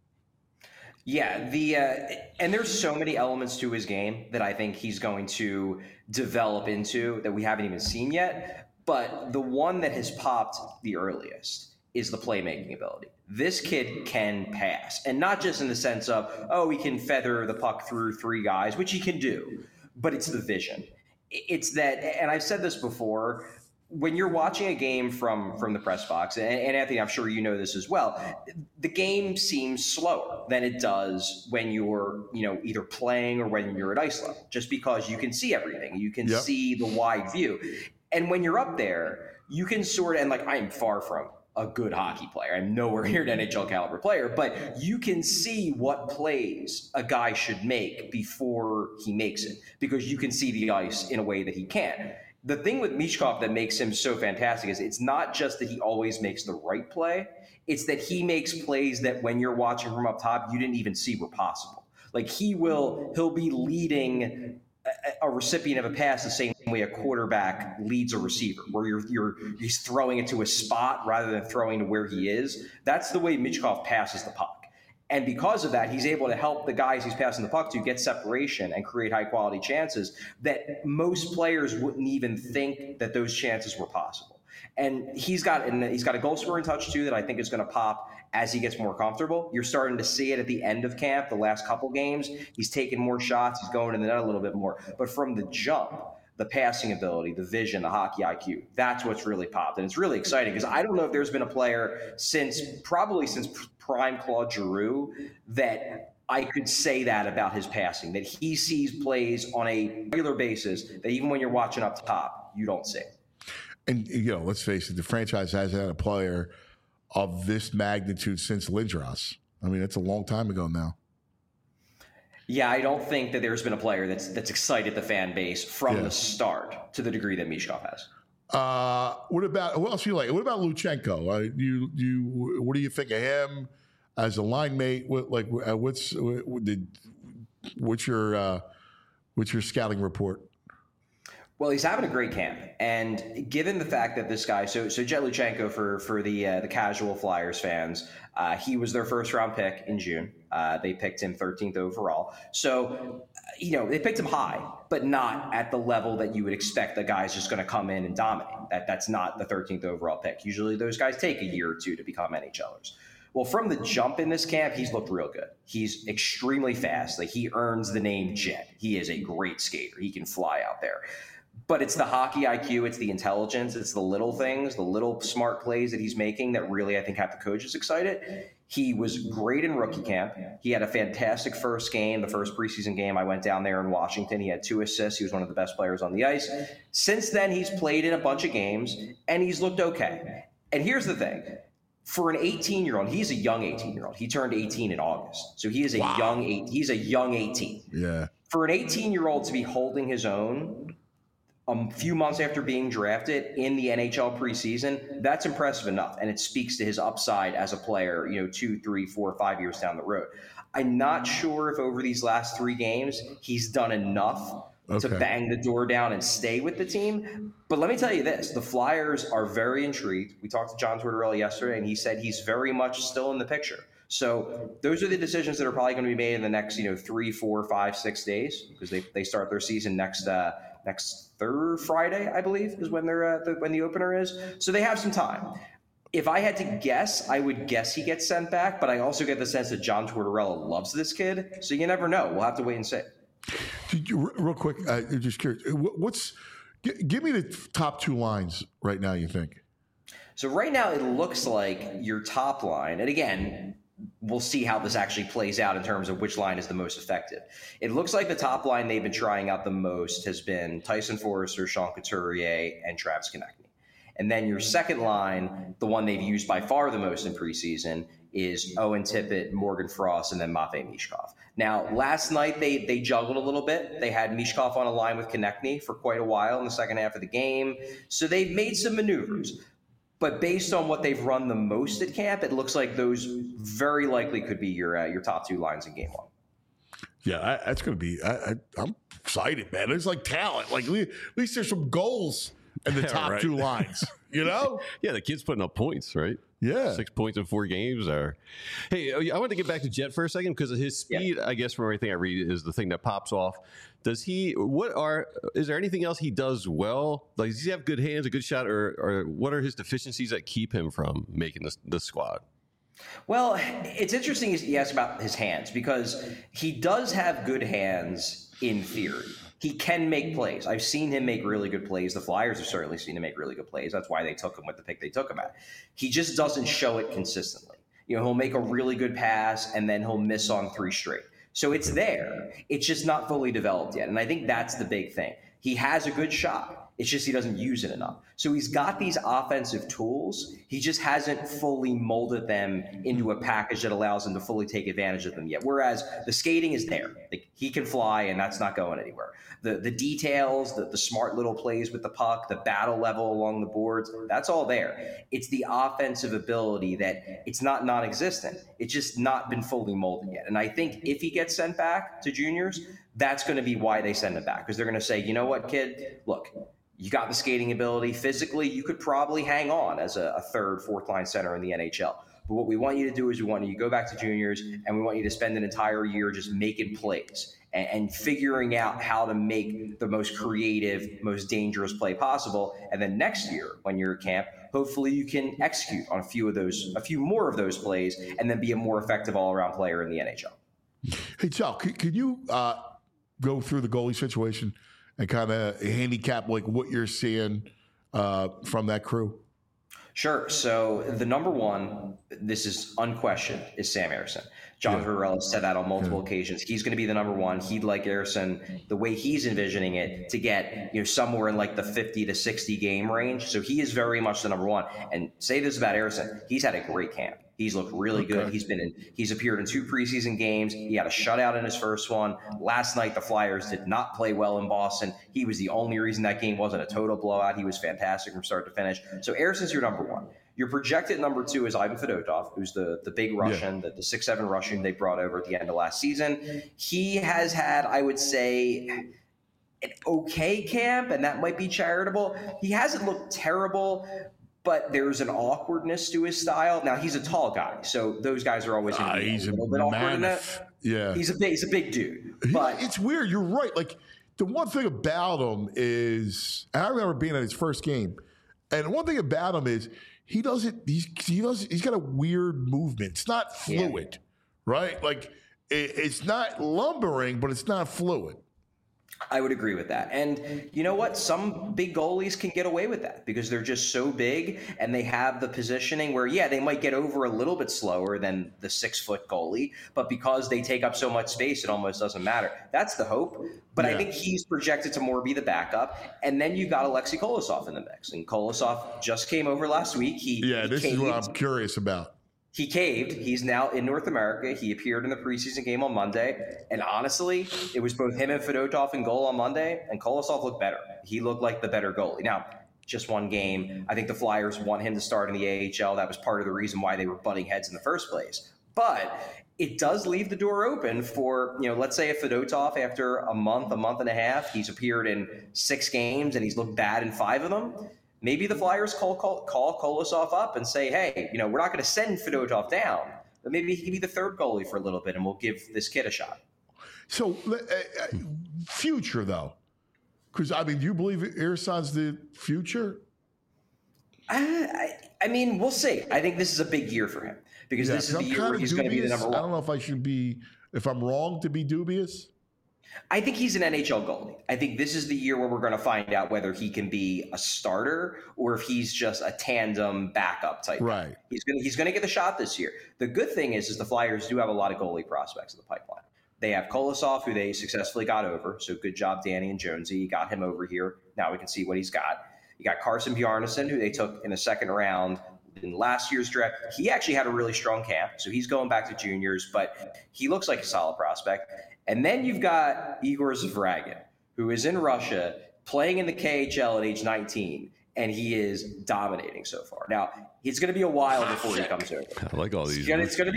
Yeah, and there's so many elements to his game that I think he's going to develop into that we haven't even seen yet. But the one that has popped the earliest is the playmaking ability. This kid can pass, and not just in the sense of, he can feather the puck through 3 guys, which he can do, but it's the vision. It's that, and I've said this before, when you're watching a game from the press box, and Anthony, I'm sure you know this as well, the game seems slower than it does when you're, either playing or when you're at ice level, just because you can see everything. You can see the wide view. And when you're up there, you can I'm far from a good hockey player. I'm nowhere near an NHL caliber player, but you can see what plays a guy should make before he makes it, because you can see the ice in a way that he can't. The thing with Michkov that makes him so fantastic is it's not just that he always makes the right play. It's that he makes plays that when you're watching from up top, you didn't even see were possible. Like he'll be leading a recipient of a pass the same way a quarterback leads a receiver, where he's throwing it to a spot rather than throwing to where he is. That's the way Michkov passes the puck. And because of that, he's able to help the guys he's passing the puck to get separation and create high-quality chances that most players wouldn't even think that those chances were possible. And he's got a goal-scoring touch, too, that I think is going to pop as he gets more comfortable. You're starting to see it at the end of camp, the last couple games. He's taking more shots. He's going in the net a little bit more. But from the jump, the passing ability, the vision, the hockey IQ, that's what's really popped. And it's really exciting because I don't know if there's been a player since prime Claude Giroux that I could say that about his passing, that he sees plays on a regular basis that even when you're watching up top, you don't see. And, let's face it, the franchise hasn't had a player of this magnitude since Lindros. I mean, that's a long time ago now. Yeah, I don't think that there's been a player that's excited the fan base from the start to the degree that Michkov has. What else do you like? What about Luchenko? What do you think of him as a line mate? What's your scouting report? Well, he's having a great camp, and given the fact that this guy, so Jet Luchenko for the casual Flyers fans, he was their first round pick in June. They picked him 13th overall. So, they picked him high, but not at the level that you would expect a guy's just going to come in and dominate. That's not the 13th overall pick. Usually those guys take a year or two to become NHLers. Well, from the jump in this camp, he's looked real good. He's extremely fast. Like, he earns the name Jet. He is a great skater. He can fly out there. But it's the hockey IQ, it's the intelligence, it's the little things, the little smart plays that he's making that really, I think, have the coaches excited. He was great in rookie camp. He had a fantastic first game, the first preseason game. I went down there in Washington. He had 2 assists. He was one of the best players on the ice. Since then, he's played in a bunch of games, and he's looked okay. And here's the thing. For an 18-year-old, he's a young 18-year-old. He turned 18 in August. So he is he's a young 18. Yeah. For an 18-year-old to be holding his own a few months after being drafted in the NHL preseason, that's impressive enough. And it speaks to his upside as a player, 2, 3, 4, 5 years down the road. I'm not sure if over these last 3 games, he's done enough to bang the door down and stay with the team. But let me tell you this, the Flyers are very intrigued. We talked to John Tortorella yesterday, and he said he's very much still in the picture. So those are the decisions that are probably going to be made in the next, 3, 4, 5, 6 days, because they start their season next third Friday, I believe, is when when the opener is. So they have some time. If I had to guess, I would guess he gets sent back, but I also get the sense that John Tortorella loves this kid. So you never know. We'll have to wait and see. Real quick, just curious. Give me the top 2 lines right now, you think? So right now it looks like your top line, and again, we'll see how this actually plays out in terms of which line is the most effective. It looks like the top line they've been trying out the most has been Tyson Forrester, Sean Couturier, and Travis Konecny. And then your second line, the one they've used by far the most in preseason, is Owen Tippett, Morgan Frost, and then Matvei Michkov. Now, last night they juggled a little bit. They had Michkov on a line with Konecny for quite a while in the second half of the game. So they've made some maneuvers. But based on what they've run the most at camp, it looks like those very likely could be your top 2 lines in game 1. Yeah, that's going to be I'm excited, man. There's like talent. Like, at least there's some goals in the top right. 2 lines, Yeah, the kid's putting up points, right? Yeah. 6 points in 4 games. Hey, I want to get back to Jet for a second because his speed, I guess, from everything I read, is the thing that pops off. Is there anything else he does well? Like, does he have good hands, a good shot, or what are his deficiencies that keep him from making the squad? Well, it's interesting you ask about his hands because he does have good hands in theory. He can make plays. I've seen him make really good plays. The Flyers have certainly seen him make really good plays. That's why they took him with the pick they took him at. He just doesn't show it consistently. He'll make a really good pass and then he'll miss on 3 straight. So it's there. It's just not fully developed yet. And I think that's the big thing. He has a good shot. It's just he doesn't use it enough. So he's got these offensive tools. He just hasn't fully molded them into a package that allows him to fully take advantage of them yet. Whereas the skating is there. Like, he can fly, and that's not going anywhere. The details, the smart little plays with the puck, the battle level along the boards, that's all there. It's the offensive ability that it's not non-existent. It's just not been fully molded yet. And I think if he gets sent back to juniors, that's going to be why they send him back. Because they're going to say, you know what, kid, look, you got the skating ability. Physically, you could probably hang on as a 3rd, 4th line center in the NHL. But what we want you to do is we want you to go back to juniors, and we want you to spend an entire year just making plays and figuring out how to make the most creative, most dangerous play possible. And then next year, when you're at camp, hopefully you can execute on a few more of those plays, and then be a more effective all-around player in the NHL. Hey, Sal, could you go through the goalie situation and kind of handicap like what you're seeing from that crew? Sure. So the number one, this is unquestioned, is Sam Ersson. John Tortorella said that on multiple occasions. He's going to be the number one. He'd like Ersson, the way he's envisioning it, to get somewhere in like the 50 to 60 game range. So he is very much the number one. And say this about Ersson, he's had a great camp. He's looked really good. He's appeared in 2 preseason games. He had a shutout in his first one. Last night, the Flyers did not play well in Boston. He was the only reason that game wasn't a total blowout. He was fantastic from start to finish. So Ersson's your number one. Your projected number 2 is Ivan Fedotov, who's the big Russian, the 6'7" Russian they brought over at the end of last season. He has had, I would say, an okay camp, and that might be charitable. He hasn't looked terrible, but there's an awkwardness to his style. Now he's a tall guy, so those guys are always going to be He's a little bit awkward in that. Yeah. He's a big dude. But It's weird. You're right. Like, the one thing about him is, and I remember being at his first game, and one thing about him is he's got a weird movement. It's not fluid, right? Like, it's not lumbering, but it's not fluid. I would agree with that. And you know what? Some big goalies can get away with that because they're just so big and they have the positioning where, they might get over a little bit slower than the 6-foot goalie, but because they take up so much space, it almost doesn't matter. That's the hope. But I think he's projected to more be the backup. And then you've got Alexei Kolosov in the mix. And Kolosov just came over last week. This is what I'm curious about. He caved. He's now in North America. He appeared in the preseason game on Monday. And honestly, it was both him and Fedotov in goal on Monday, and Kolosov looked better. He looked like the better goalie. Now, just one game. I think the Flyers want him to start in the AHL. That was part of the reason why they were butting heads in the first place. But it does leave the door open for, let's say if Fedotov, after a month and a half, he's appeared in 6 games and he's looked bad in 5 of them. Maybe the Flyers call Kolosov up and say, hey, we're not going to send Fedotov down, but maybe he can be the third goalie for a little bit and we'll give this kid a shot. So, future, though, because, do you believe Ersan's the future? I mean, we'll see. I think this is a big year for him because this is the year where he's going to be the number one. I don't know if I'm wrong to be dubious. I think he's an NHL goalie. I think this is the year where we're going to find out whether he can be a starter or if he's just a tandem backup type. Right. He's going to get the shot this year. The good thing is the Flyers do have a lot of goalie prospects in the pipeline. They have Kolosov, who they successfully got over. So good job, Danny and Jonesy. You got him over here. Now we can see what he's got. You got Carson Bjarnason, who they took in the second round in last year's draft. He actually had a really strong camp, so he's going back to juniors, but he looks like a solid prospect. And then you've got Igor Zavragin, who is in Russia, playing in the KHL at age 19, and he is dominating so far. Now, it's going to be a while before he comes over. I like all these. It's going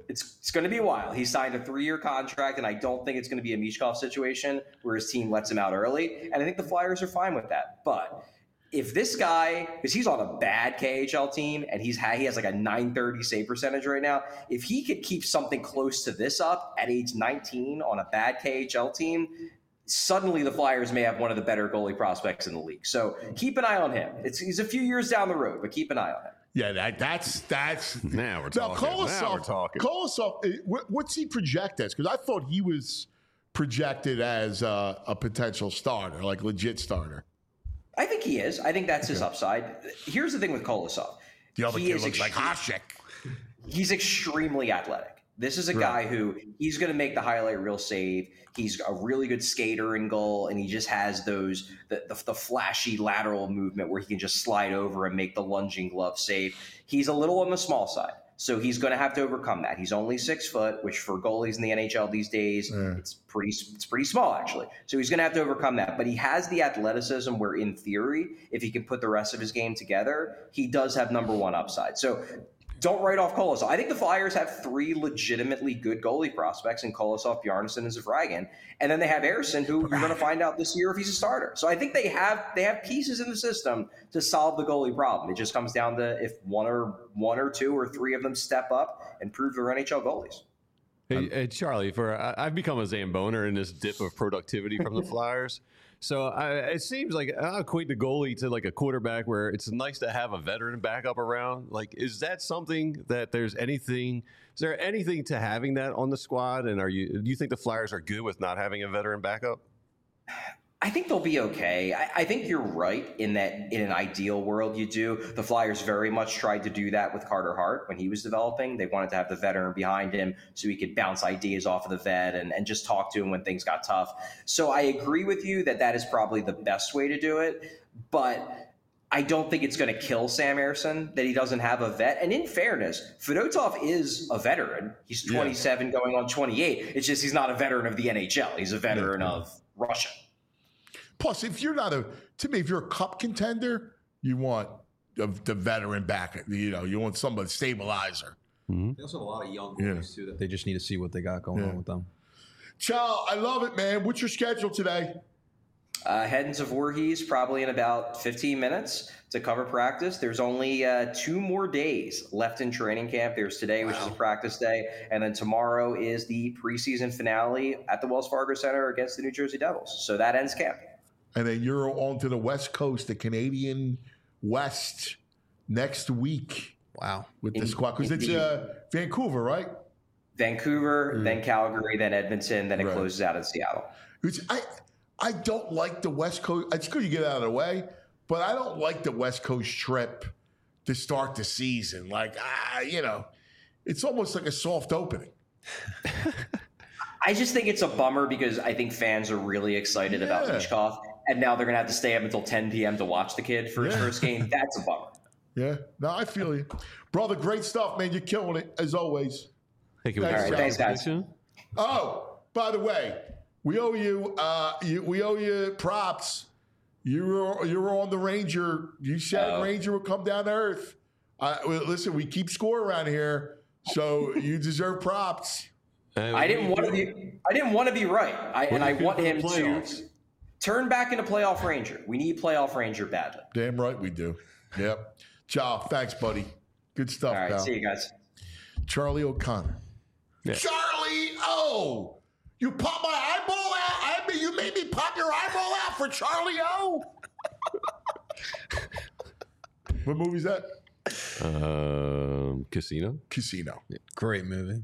to be a while. He signed a 3-year contract, and I don't think it's going to be a Mishkov situation where his team lets him out early. And I think the Flyers are fine with that. But if this guy, because he's on a bad KHL team and he has like a .930 save percentage right now, if he could keep something close to this up at age 19 on a bad KHL team, suddenly the Flyers may have one of the better goalie prospects in the league. So keep an eye on him. He's a few years down the road, but keep an eye on him. Yeah, that's now we're talking. Kolosov, what's he project as? Because I thought he was projected as a potential starter, like legit starter. I think he is. I think that's his upside. Here's the thing with Kolosov. The other kid looks like Hasek. He's extremely athletic. This is a guy who he's going to make the highlight reel save. He's a really good skater in goal, and he just has the flashy lateral movement where he can just slide over and make the lunging glove save. He's a little on the small side, so he's going to have to overcome that. He's only 6 foot, which for goalies in the NHL these days, it's pretty small actually. So he's going to have to overcome that. But he has the athleticism where, in theory, if he can put the rest of his game together, he does have number one upside. So don't write off Kolosov. I think the Flyers have 3 legitimately good goalie prospects in Kolosov, Bjarnason, and Zavragin. And then they have Ersson, who you're going to find out this year if he's a starter. So I think they have pieces in the system to solve the goalie problem. It just comes down to if one or 2 or 3 of them step up and prove they're NHL goalies. Hey, Charlie, I've become a Zamboner in this dip of productivity from the Flyers. So it seems like I equate the goalie to like a quarterback where it's nice to have a veteran backup around. Like, is that something that is there anything to having that on the squad? And do you think the Flyers are good with not having a veteran backup? I think they'll be okay. I think you're right in that in an ideal world you do. The Flyers very much tried to do that with Carter Hart when he was developing. They wanted to have the veteran behind him so he could bounce ideas off of the vet and just talk to him when things got tough. So I agree with you that is probably the best way to do it. But I don't think it's going to kill Sam Ersson that he doesn't have a vet. And in fairness, Fedotov is a veteron. He's 27 going on 28. It's just he's not a veteran of the NHL. He's a veteran of Russia. Plus, if you're if you're a cup contender, you want the veteran back. You want somebody stabilizer. Mm-hmm. They also have a lot of young guys too that they just need to see what they got going on with them. Chow, I love it, man. What's your schedule today? Heading to Voorhees probably in about 15 minutes to cover practice. There's only 2 more days left in training camp. There's today, which is a practice day, and then tomorrow is the preseason finale at the Wells Fargo Center against the New Jersey Devils. So that ends camp. And then you're on to the West Coast, the Canadian West, next week. Wow. With the squad. Because it's Vancouver, right? Vancouver, then Calgary, then Edmonton, then it closes out in Seattle. Which I don't like the West Coast. It's good you get out of the way, but I don't like the West Coast trip to start the season. Like, it's almost like a soft opening. I just think it's a bummer because I think fans are really excited about Michkov, and now they're going to have to stay up until 10 p.m. to watch the kid for his first game. That's a bummer. Yeah. No, I feel you. Brother, great stuff, man. You're killing it, as always. Thank you. All right, thanks, guys. Oh, by the way, we owe you props. You were on the Ranger. You said Ranger would come down to earth. Listen, we keep score around here, so you deserve props. I didn't want to be right. I want him to turn back into playoff Ranger. We need playoff Ranger badly. Damn right we do. Yep. Ciao. Thanks, buddy. Good stuff, all right, pal. see you guys. Charlie O'Connor. Yeah. Charlie O! You popped my eyeball out? You made me pop your eyeball out for Charlie O? What movie is that? Casino. Casino. Yeah, great movie.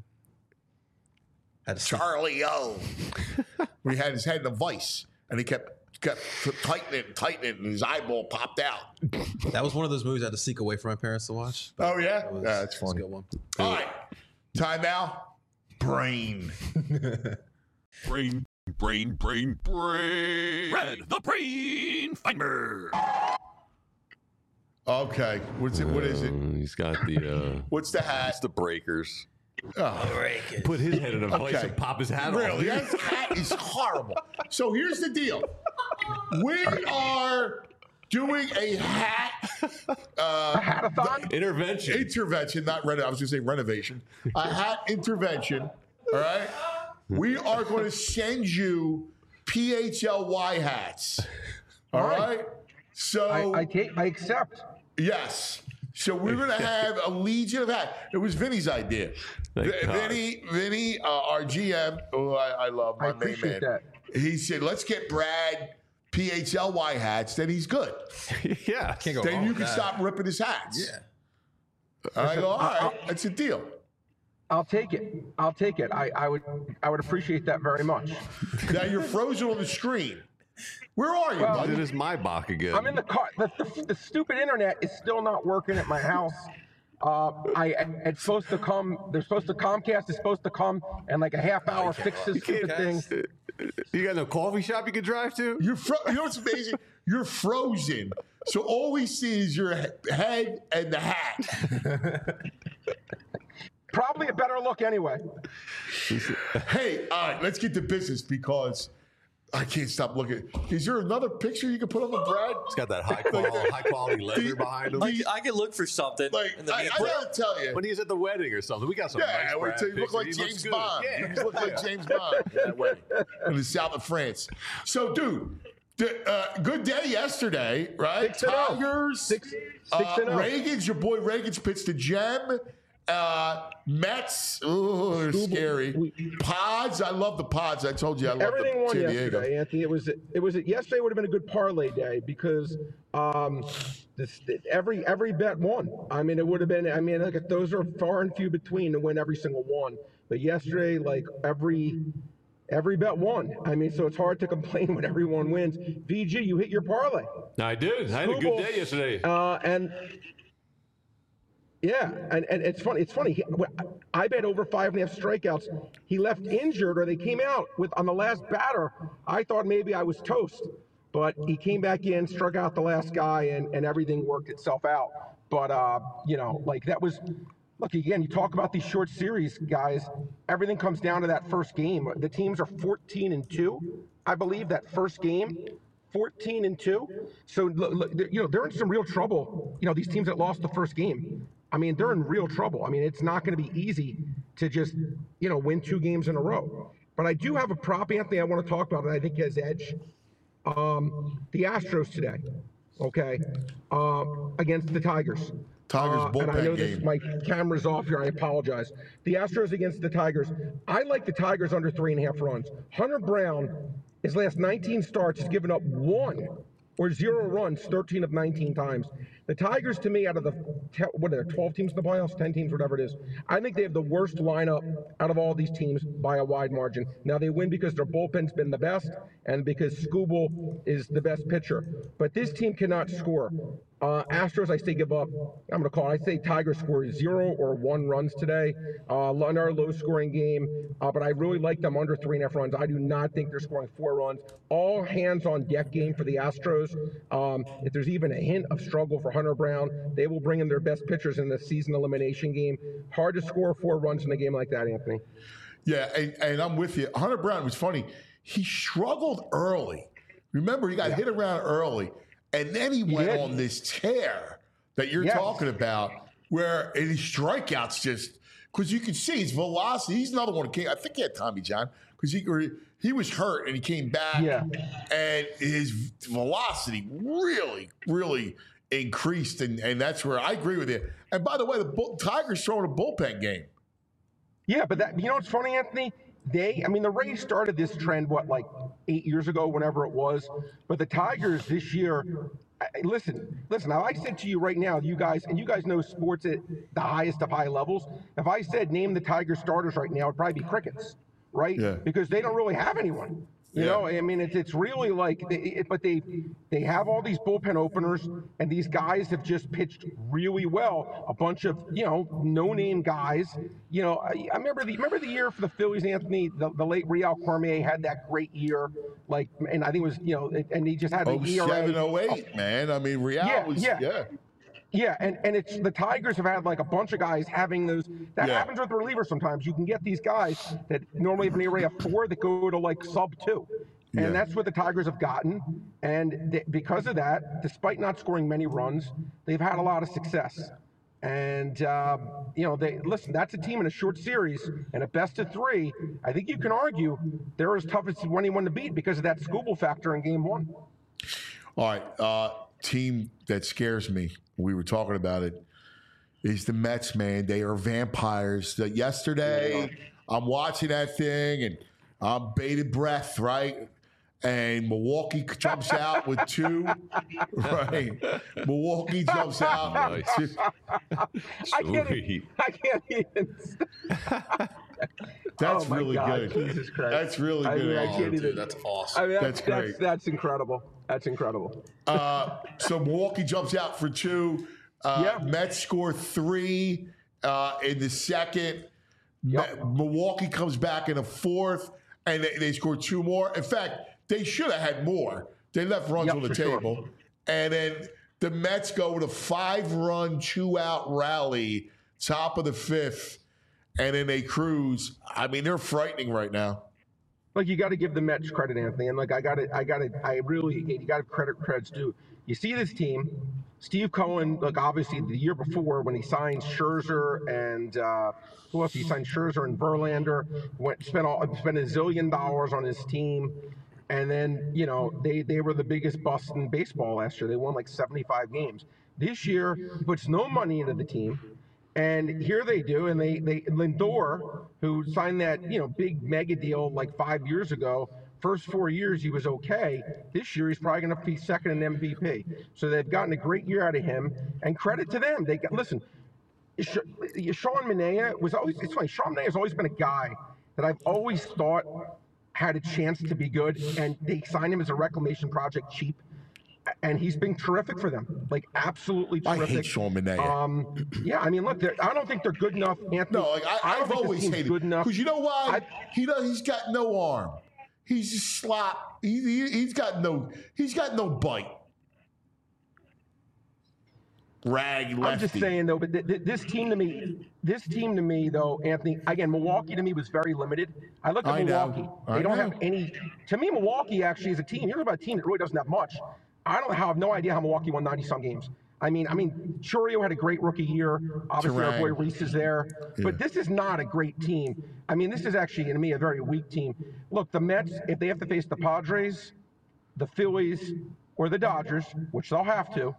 Charlie O. When he had his head in a vice, and he kept tightening it, and his eyeball popped out. That was one of those movies I had to seek away from my parents to watch. Oh, yeah? That's That's funny. a good one. All right. Time now. Brain. Brain. Red, the Brain Finder. Okay. What is it? He's got the... What's the hat? It's the Breakers. Oh. Put his head in a vice and pop his hat off. Really? That hat is horrible. So here's the deal. We are doing a hat hatathon? Intervention, not renovation. I was going to say renovation. A hat intervention. All right? We are going to send you PHLY hats. All right? So I accept. Yes. So we're going to have a legion of hats. It was Vinny's idea. Vinny, our GM, who I love, my main man. That. He said, let's get Brad PHLY hats. Then he's good. Yeah. Can't go Then wrong you with can that. stop ripping his hats. Yeah. And I go, all right, that's a deal. I'll take it. I would appreciate that very much. Now you're frozen on the screen. Where are you, buddy? It is my Bach again. I'm in the car. The stupid internet is still not working at my house. It's supposed to come. Comcast is supposed to come and like a half hour fix this stupid thing. You got no coffee shop you can drive to? You know what's amazing? You're frozen. So all we see is your head and the hat. Probably a better look anyway. Hey, all right, let's get to business because I can't stop looking. Is there another picture you can put on the Brad? It's got that high quality leather behind him. I can look for something. I gotta tell you. When he's at the wedding or something, we got some nice Yeah, Brad you look like pictures. He looks James good. Bond. Yeah. You look like James Bond that way in the south of France. So, dude, good day yesterday, right? 6-0. Tigers, 6-0. Reagans, your boy Reagans pitched to Gem. Mets, they're scary. Pods, I love the Pods. I told you I love Everything the won San Diego. yesterday, Anthony. Yesterday would have been a good parlay day because every bet won. I mean, it would have been. I mean, like those are far and few between to win every single one. But yesterday, like every bet won. I mean, so it's hard to complain when everyone wins. VG, you hit your parlay. I did. I had a good day yesterday. And it's funny. It's funny. I bet over 5.5 strikeouts. He left injured, or they came out on the last batter. I thought maybe I was toast, but he came back in, struck out the last guy, and everything worked itself out. But that was. Look, again, you talk about these short series, guys. Everything comes down to that first game. The teams are 14-2, I believe. That first game. 14-2. So they're in some real trouble. These teams that lost the first game. I mean, they're in real trouble. I mean, it's not going to be easy to just, win 2 games in a row. But I do have a prop, Anthony, I want to talk about, and I think has edge. the Astros today, okay, against the Tigers. Tigers And I bullpen know game. my camera's off here. I apologize. The Astros against the Tigers. I like the Tigers under 3.5 runs. Hunter Brown, his last 19 starts, has given up 1 or 0 runs 13 of 19 times. The Tigers, to me, out of the, what are there, 12 teams in the playoffs, 10 teams, whatever it is, I think they have the worst lineup out of all these teams by a wide margin. Now, they win because their bullpen's been the best and because Skubal is the best pitcher. But this team cannot score. Astros, I say give up. I'm going to call it. I say Tigers score 0 or 1 runs today. Another low-scoring game, but I really like them under 3.5 runs. I do not think they're scoring 4 runs. All hands-on-deck game for the Astros. If there's even a hint of struggle for Hunter Brown, they will bring in their best pitchers in the season elimination game. Hard to score 4 runs in a game like that, Anthony. Yeah, and I'm with you. Hunter Brown was funny. He struggled early. Remember, he got hit around early. And then he went on this tear that you're talking about, where his strikeouts just, because you can see his velocity. He's another one who came, I think he had Tommy John, because he was hurt and he came back. Yeah. And his velocity really, really increased. And that's where I agree with you. And by the way, the Tigers throwing a bullpen game. Yeah, but that, you know what's funny, Anthony? The Rays started this trend, like 8 years ago, whenever it was. But the Tigers this year, listen, now I said to you right now, you guys know sports at the highest of high levels. If I said name the Tigers starters right now, it'd probably be crickets, right? Yeah. Because they don't really have anyone. You know, it's really like, but they have all these bullpen openers, and these guys have just pitched really well. A bunch of no-name guys. I remember the year for the Phillies, Anthony. The late Real Cormier had that great year, and I think it was and he just had an ERA. 07-08, man. I mean, Real was Yeah, and it's the Tigers have had a bunch of guys having those. That happens with relievers sometimes. You can get these guys that normally have an ERA of 4 that go to sub 2. And that's what the Tigers have gotten. And because of that, despite not scoring many runs, they've had a lot of success. And, that's a team in a short series and a best of 3. I think you can argue they're as tough as anyone to beat because of that Skubal factor in game 1. All right. Team that scares me, we were talking about it, is the Mets, man. They are vampires. Yesterday, I'm watching that thing, and I'm bated breath, right? And Milwaukee jumps out with 2, right? Milwaukee jumps out. Nice. I can't even. That's really good. Jesus Christ. That's really good. I can't even. That's awesome. That's great. That's incredible. That's incredible. So Milwaukee jumps out for 2. Mets score 3 in the second. Milwaukee comes back in the 4th, and they score 2 more. In fact, they should have had more. They left runs on the table. Sure. And then the Mets go with a 5-run, 2-out rally, top of the 5th, and then they cruise. I mean, they're frightening right now. You got to give the Mets credit, Anthony, and you got to credit's due. You see this team, Steve Cohen. Obviously, the year before when he signed Scherzer and who else? He signed Scherzer and Verlander. Spent $1 zillion on his team, and then they were the biggest bust in baseball last year. They won 75 games. This year, he puts no money into the team. And here they do, and they Lindor, who signed that big mega deal 5 years ago. First 4 years he was okay. This year he's probably going to be second in MVP. So they've gotten a great year out of him, and credit to them. Listen, Sean Manaea was always. It's funny. Sean Manaea has always been a guy that I've always thought had a chance to be good, and they signed him as a reclamation project cheap. And he's been terrific for them, absolutely terrific. I hate Sean Manaea. Look, I don't think they're good enough, Anthony. No, I've always hated him. Because you know why? He's got no arm. He's just slop. He's got no bite. Rag lefty. I'm just saying though, but this team to me though, Anthony. Again, Milwaukee to me was very limited. I look at Milwaukee. They don't have any. To me, Milwaukee actually is a team. You're about a team that really doesn't have much. I have no idea how Milwaukee won 90-some games. I mean, Churio had a great rookie year. Obviously, our boy Reese is there. Yeah. But this is not a great team. This is actually, to me, a very weak team. Look, the Mets, if they have to face the Padres, the Phillies or the Dodgers, which they'll have to,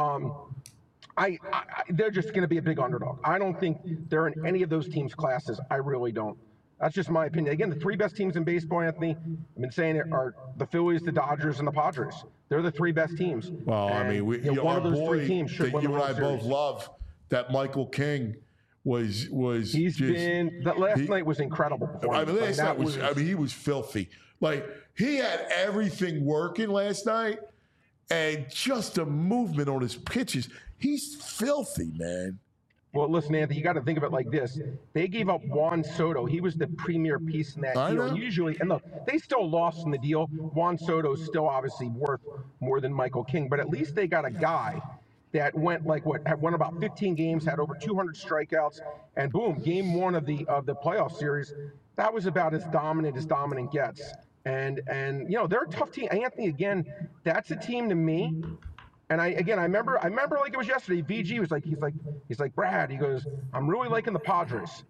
they're just going to be a big underdog. I don't think they're in any of those teams' classes. I really don't. That's just my opinion. Again, the three best teams in baseball, Anthony, I've been saying it, are the Phillies, the Dodgers, and the Padres. They're the three best teams. Well, And, I mean, one of those three teams should that win the you and World I both Series. love, that Michael King was He's just, been that last night was incredible. I mean, last night was. I mean, he was filthy. Like, he had everything working last night, and just the movement on his pitches. He's filthy, man. Well, listen, Anthony, you got to think of it like this. They gave up Juan Soto. He was the premier piece in that I deal. know. And usually, and look, they still lost in the deal. Juan Soto's still obviously worth more than Michael King, but at least they got a guy that went had won about 15 games, had over 200 strikeouts, and boom, game one of the playoff series. That was about as dominant gets. And you know, they're a tough team. Anthony, again, that's a team to me. And I remember like it was yesterday. VG was like, he's like, Brad, he goes, I'm really liking the Padres.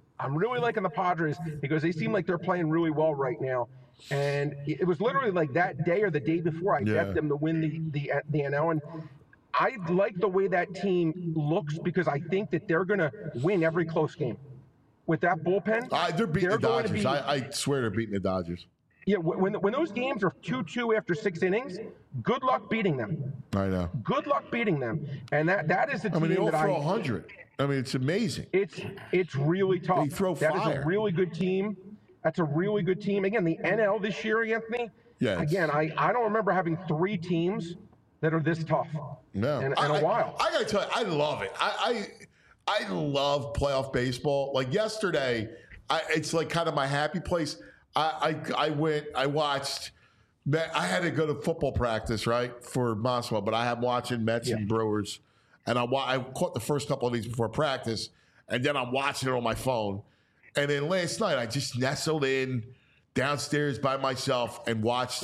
Because they seem like they're playing really well right now. And it was literally like that day or the day before I bet them to win the NL. And I like the way that team looks because I think that they're going to win every close game. With that bullpen, They're beating the going to Dodgers. be- I swear they're beating the Dodgers. Yeah, when those games are 2-2 after 6 innings, good luck beating them. I know. Good luck beating them. And that is the I team mean, they all that throw 100. I mean, it's amazing. It's really tough. They throw That is fire. a really good team. That's a really good team. Again, the NL this year, Anthony. Yeah, Again, I don't remember having 3 teams that are this tough. No, In a while. I gotta tell you, I love it. I love playoff baseball. Like yesterday, it's like kind of my happy place. I watched. I had to go to football practice, right, for Monson, but I am watching Mets and Brewers, and I caught the first couple of these before practice, and then I'm watching it on my phone, and then last night I just nestled in downstairs by myself and watched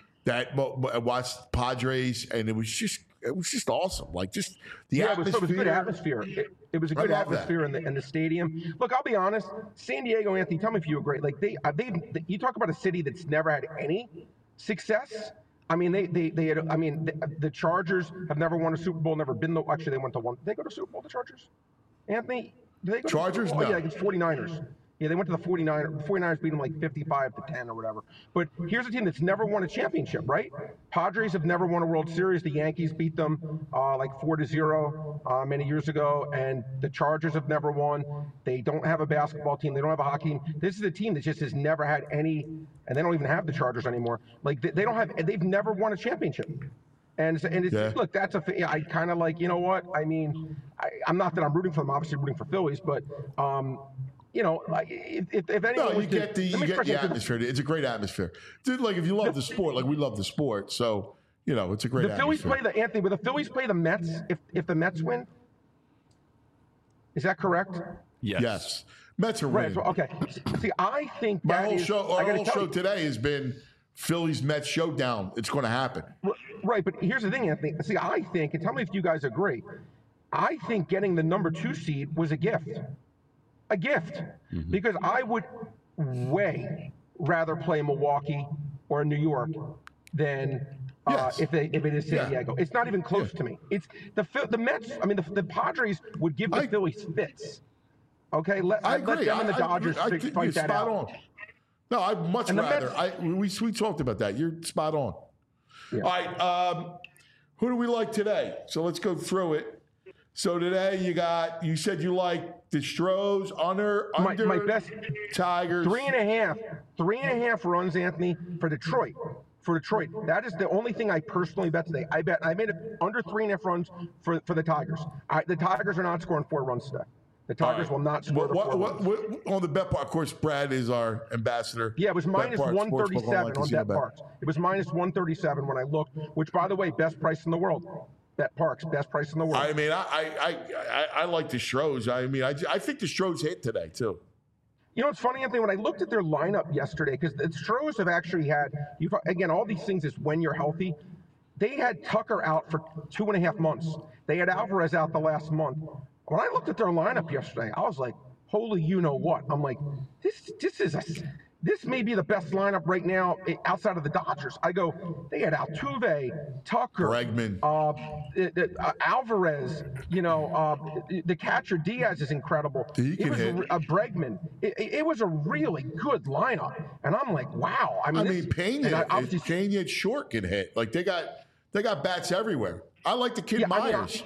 watched Padres, and it was just awesome. Like just the atmosphere. It was a good atmosphere. It was a good love that. atmosphere in the stadium. Look, I'll be honest. San Diego, Anthony, tell me if you agree. Like you talk about a city that's never had any success. I mean, they had. I mean, the Chargers have never won a Super Bowl. Never been. Actually, they went to one. Did they go to Super Bowl? The Chargers, Anthony. Did they go Chargers? To, oh, No. yeah, against 49ers. Yeah, they went to the 49ers. The 49ers beat them like 55-10 or whatever. But here's a team that's never won a championship, right? Padres have never won a World Series. The Yankees beat them like 4-0 many years ago. And the Chargers have never won. They don't have a basketball team. They don't have a hockey team. This is a team that just has never had any, and they don't even have the Chargers anymore. Like they've never won a championship. And it's look, that's I kind of like, you know what? I mean, I'm not that I'm rooting for them, obviously rooting for Phillies, but you know, like if anyone No, was you get the to- atmosphere. It's a great atmosphere. Dude, like if you love the sport, like we love the sport, so you know it's a great the Phillies atmosphere. play Anthony. Will the Phillies play the Mets if the Mets win? Is that correct? Yes. Mets are Right. winning. So, okay. See, I think My that whole is- show, I our gotta whole tell show you- today has been Phillies Mets showdown. It's going to happen. Right, but here's the thing, Anthony. See, I think, and tell me if you guys agree, I think getting the number 2 seed was a gift. A gift. Because I would way rather play Milwaukee or New York than Yes. if it is San Yeah. Diego. It's not even close to me. It's the Mets, I mean, the Padres would give the Phillies fits. Okay, let I agree. them and the Dodgers I think fight you're that spot out. on. No, I'd much And the rather. Mets- We talked about that. You're spot on. Yeah. All right. Who do we like today? So let's go through it. So today you said you like the Stros under My best Tigers. 3.5 runs, Anthony, for Detroit. That is the only thing I personally bet today. I made it under 3.5 runs for the Tigers. The Tigers are not scoring 4 runs today. The Tigers will not score the 4 runs. What on the bet part? Of course, Brad is our ambassador. Yeah, it was minus Bet Park, 137 Sportsbook on Casino Bet Parks. It was minus 137 when I looked, which, by the way, best price in the world. Bet Parks, best price in the world. I mean, I like the Stros. I mean, I think the Stros hit today too. You know, it's funny, Anthony, when I looked at their lineup yesterday, because the Stros have actually had, again, all these things is when you're healthy. They had Tucker out for 2.5 months. They had Alvarez out the last month. When I looked at their lineup yesterday, I was like, holy you know what? I'm like, this may be the best lineup right now outside of the Dodgers. I go, they had Altuve, Tucker, Bregman, Alvarez. The catcher Diaz is incredible. He can hit. Bregman. It was a really good lineup, and I'm like, wow. Pena short can hit. Like they got bats everywhere. I like the kid Myers.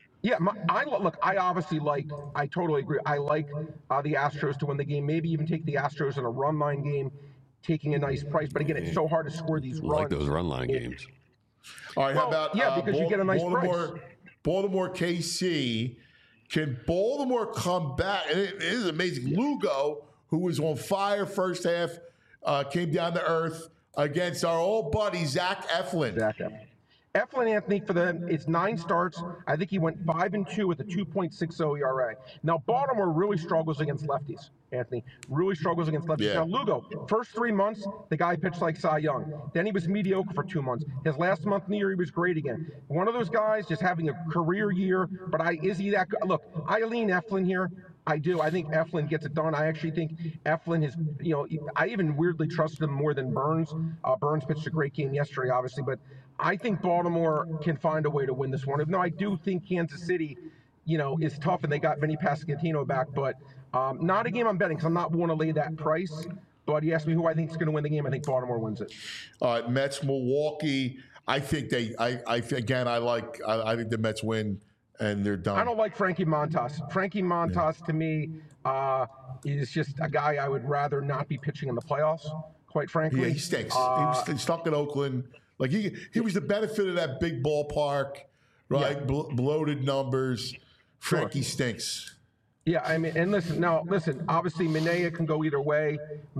I totally agree. I like the Astros to win the game. Maybe even take the Astros in a run line game, taking a nice price. But again, it's so hard to score these runs. I like those run line games. All right, how about because you get a nice price. Baltimore KC. Can Baltimore come back? And it is amazing. Lugo, who was on fire first half, came down to earth against our old buddy Zach Eflin. Eflin, Anthony, for them, it's 9 starts. I think he went 5-2 with a 2.60 ERA. Now, Baltimore really struggles against lefties, Anthony. Really struggles against lefties. Yeah. Now, Lugo, first 3 months, the guy pitched like Cy Young. Then he was mediocre for 2 months. His last month in the year, he was great again. One of those guys just having a career year, but is he that good? Look, I lean Eflin here. I do. I think Eflin gets it done. I actually think Eflin has, I even weirdly trusted him more than Burns. Burns pitched a great game yesterday, obviously, but I think Baltimore can find a way to win this one. Even though I do think Kansas City, is tough and they got Vinny Pasquantino back, but not a game I'm betting because I'm not willing to lay that price. But you asked me who I think is going to win the game. I think Baltimore wins it. Mets, Milwaukee. I think I think the Mets win. And they're done. I don't like Frankie Montas. Frankie Montas, to me, is just a guy I would rather not be pitching in the playoffs, quite frankly. Yeah, he stinks. He was stuck in Oakland. Like he was the benefit of that big ballpark, right? Yeah. Bloated numbers. Frankie stinks. Yeah, I mean, and listen, obviously Minaya can go either way.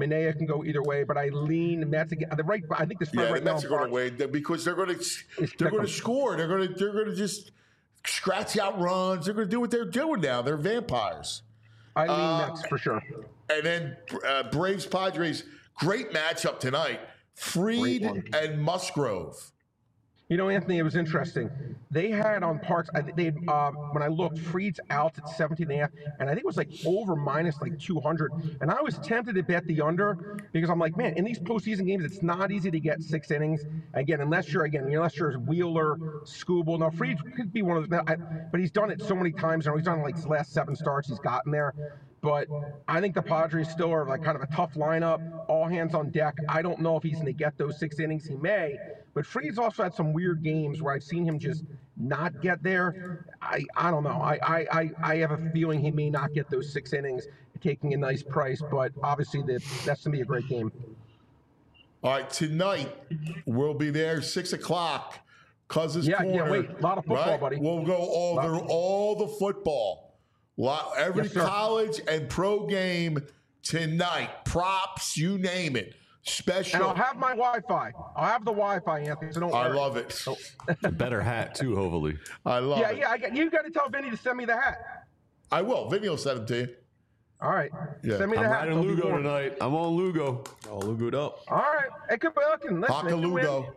But I lean Mets again. I think the spread right now. The Mets are going to win because they're going to score. They're going to just scratch out runs. They're going to do what they're doing now. They're vampires. I lean Mets for sure. And then Braves Padres, great matchup tonight. Fried and Musgrove. Anthony, it was interesting. They had on Parks. When I looked, Fried's out at 17.5, and I think it was like over minus like 200. And I was tempted to bet the under because I'm like, man, in these postseason games, it's not easy to get 6 innings. Again, unless you're Wheeler, Skubal. Now Fried could be one of those, but he's done it so many times. He's done like his last 7 starts. He's gotten there. But I think the Padres still are like kind of a tough lineup, all hands on deck. I don't know if he's going to get those 6 innings. He may, but Fried's also had some weird games where I've seen him just not get there. I don't know. I have a feeling he may not get those 6 innings, taking a nice price. But obviously that's going to be a great game. All right, tonight we'll be there 6 o'clock. Cousins Corner. Yeah, wait, a lot of football, right? buddy. We'll go all the football. Every college and pro game tonight. Props, you name it. Special. And I'll have my Wi-Fi. I'll have the Wi-Fi, Anthony, so don't worry. I love it. A better hat, too, hopefully. I love it. Yeah, you got to tell Vinny to send me the hat. I will. Vinny will send it to you. All right. Yeah. Send me the hat. I'm riding Lugo tonight. I'm on Lugo. All Lugo'd up. All right. It could be looking. Haka Lugo.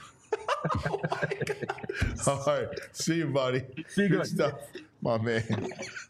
All right. See you, buddy. See you good stuff. My man.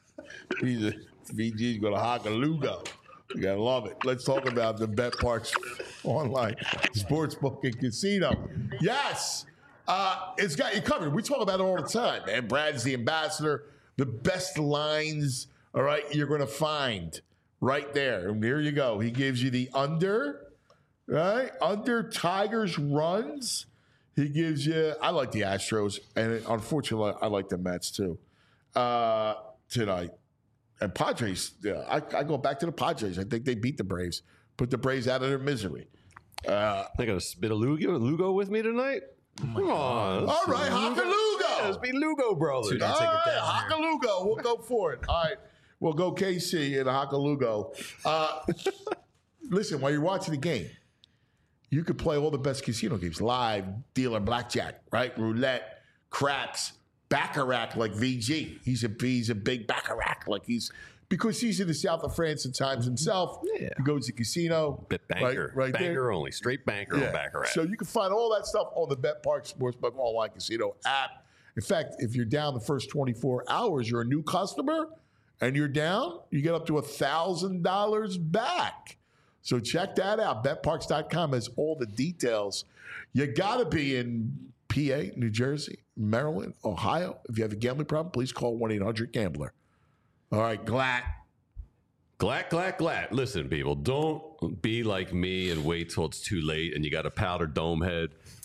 VG's going to Haka Lugo. You gotta love it. Let's talk about the BetParx online sportsbook and casino. Yes, it's got you covered. We talk about it all the time, man. Brad's the ambassador. The best lines, all right, you're going to find right there. And here you go. He gives you the under, right? Under Tigers runs. He gives you. I like the Astros, and unfortunately, I like the Mets too tonight. And Padres, yeah, I go back to the Padres. I think they beat the Braves, put the Braves out of their misery. They got a bit of Lugo with me tonight. Come on. All right, Haka Lugo. Yeah, let's be Lugo brothers. All right, Haka Lugo. We'll go for it. All right, we'll go KC and Haka Lugo. Listen, while you're watching the game, you could play all the best casino games, live, dealer, blackjack, right, roulette, craps. Baccarat like VG. He's a big Baccarat because he's in the south of France at times himself. Yeah. He goes to casino. Bit banker. Right banker there. Only. Straight banker on Baccarat. So you can find all that stuff on the BetParx Sportsbook Online Casino app. In fact, if you're down the first 24 hours, you're a new customer and you're down, you get up to $1,000 back. So check that out. BetParks.com has all the details. You got to be in PA, New Jersey, Maryland, Ohio. If you have a gambling problem, please call 1-800-GAMBLER. All right, Glatt. Glatt. Listen, people, don't be like me and wait till it's too late and you got a powder dome head.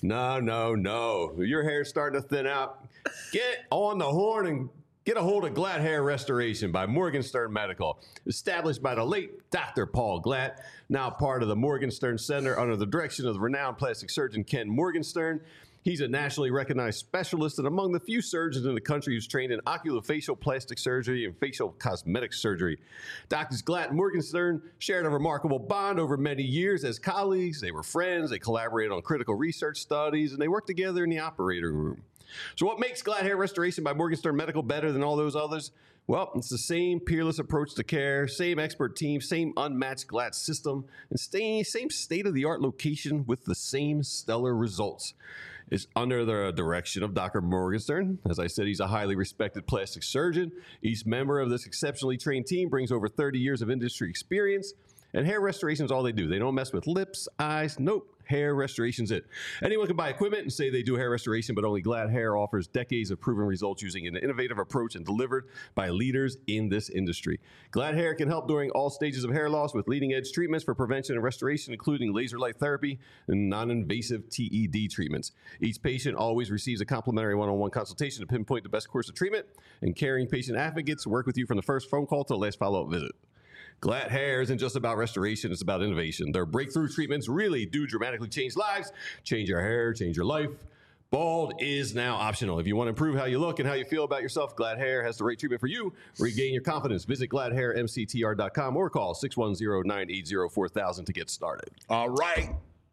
No. Your hair's starting to thin out. Get on the horn and get a hold of Glatt Hair Restoration by Morgenstern Medical. Established by the late Dr. Paul Glatt, now part of the Morgenstern Center under the direction of the renowned plastic surgeon Ken Morgenstern. He's a nationally recognized specialist and among the few surgeons in the country who's trained in oculofacial plastic surgery and facial cosmetic surgery. Doctors Glatt and Morgenstern shared a remarkable bond over many years as colleagues. They were friends, they collaborated on critical research studies, and they worked together in the operating room. So what makes Glatt Hair Restoration by Morgenstern Medical better than all those others? Well, it's the same peerless approach to care, same expert team, same unmatched Glatt system, and same state-of-the-art location with the same stellar results. It's under the direction of Dr. Morgenstern. As I said, he's a highly respected plastic surgeon. Each member of this exceptionally trained team brings over 30 years of industry experience. And hair restoration is all they do. They don't mess with lips, eyes. Nope. Hair restoration's it. Anyone can buy equipment and say they do hair restoration, but only Glatt Hair offers decades of proven results using an innovative approach and delivered by leaders in this industry. Glatt Hair can help during all stages of hair loss with leading-edge treatments for prevention and restoration, including laser light therapy and non-invasive TED treatments. Each patient always receives a complimentary one-on-one consultation to pinpoint the best course of treatment, and caring patient advocates work with you from the first phone call to the last follow-up visit. Glatt Hair isn't just about restoration, it's about innovation. Their breakthrough treatments really do dramatically change lives, change your hair, change your life. Bald is now optional. If you want to improve how you look and how you feel about yourself, Glatt Hair has the right treatment for you. Regain your confidence. Visit GlattHairMCTR.com or call 610-980-4000 to get started. All right.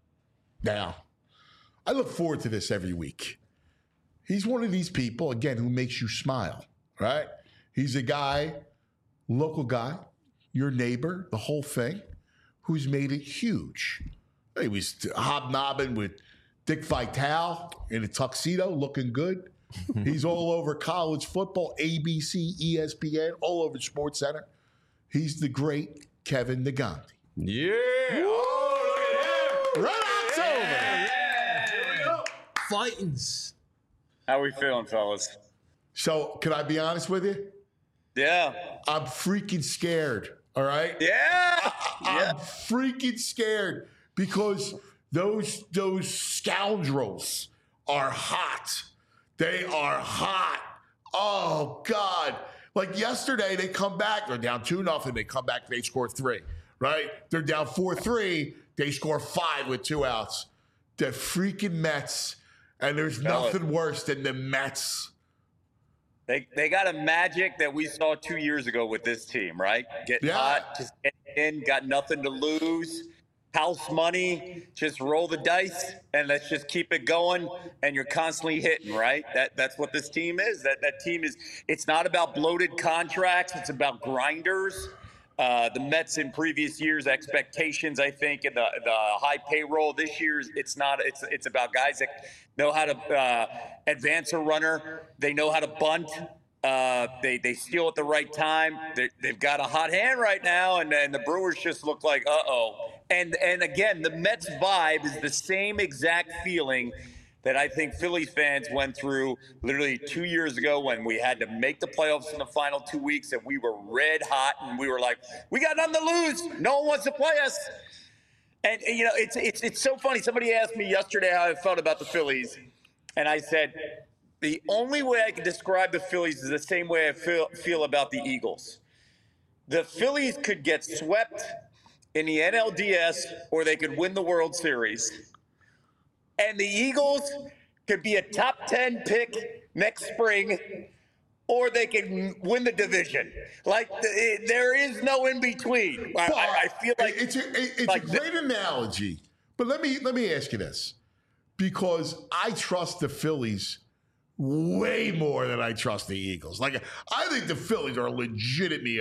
Now, I look forward to this every week. He's one of these people, again, who makes you smile, right? He's a guy, local guy, your neighbor, the whole thing, who's made it huge. He was hobnobbing with Dick Vitale in a tuxedo, looking good. He's all over college football, ABC, ESPN, all over SportsCenter. He's the great Kevin Negandhi. Yeah. Oh, look at him. Right October. Fightins. How we feeling, fellas? So, can I be honest with you? Yeah. I'm freaking scared. All right? Yeah. I'm freaking scared because those scoundrels are hot. They are hot. Oh, God. Like yesterday, they come back. They're down 2-0. They come back. They score 3, right? They're down 4-3. They score 5 with 2 outs. The freaking Mets. And there's nothing worse than the Mets. They got a magic that we saw 2 years ago with this team, right? Get hot, just get in, got nothing to lose. House money, just roll the dice and let's just keep it going. And you're constantly hitting, right? That's what this team is. That team is. It's not about bloated contracts. It's about grinders. The Mets in previous years' expectations, I think, and the high payroll this year, it's not. It's about guys that know how to advance a runner. They know how to bunt. They steal at the right time. They've got a hot hand right now, and the Brewers just look like uh-oh. And again, the Mets vibe is the same exact feeling that I think Phillies fans went through literally 2 years ago when we had to make the playoffs in the final 2 weeks and we were red hot and we were like, we got nothing to lose. No one wants to play us. And you know, it's so funny. Somebody asked me yesterday how I felt about the Phillies, and I said the only way I can describe the Phillies is the same way I feel about the Eagles. The Phillies could get swept in the NLDS or they could win the World Series. And the Eagles could be a top 10 pick next spring, or they can win the division. Like, there is no in between. I feel like it's a great analogy. But let me ask you this, because I trust the Phillies way more than I trust the Eagles. Like, I think the Phillies are legitimately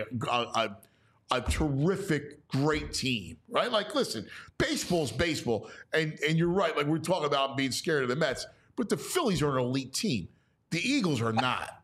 a terrific, great team, right? Like, listen, baseball's baseball, and you're right. Like, we're talking about being scared of the Mets, but the Phillies are an elite team. The Eagles are not.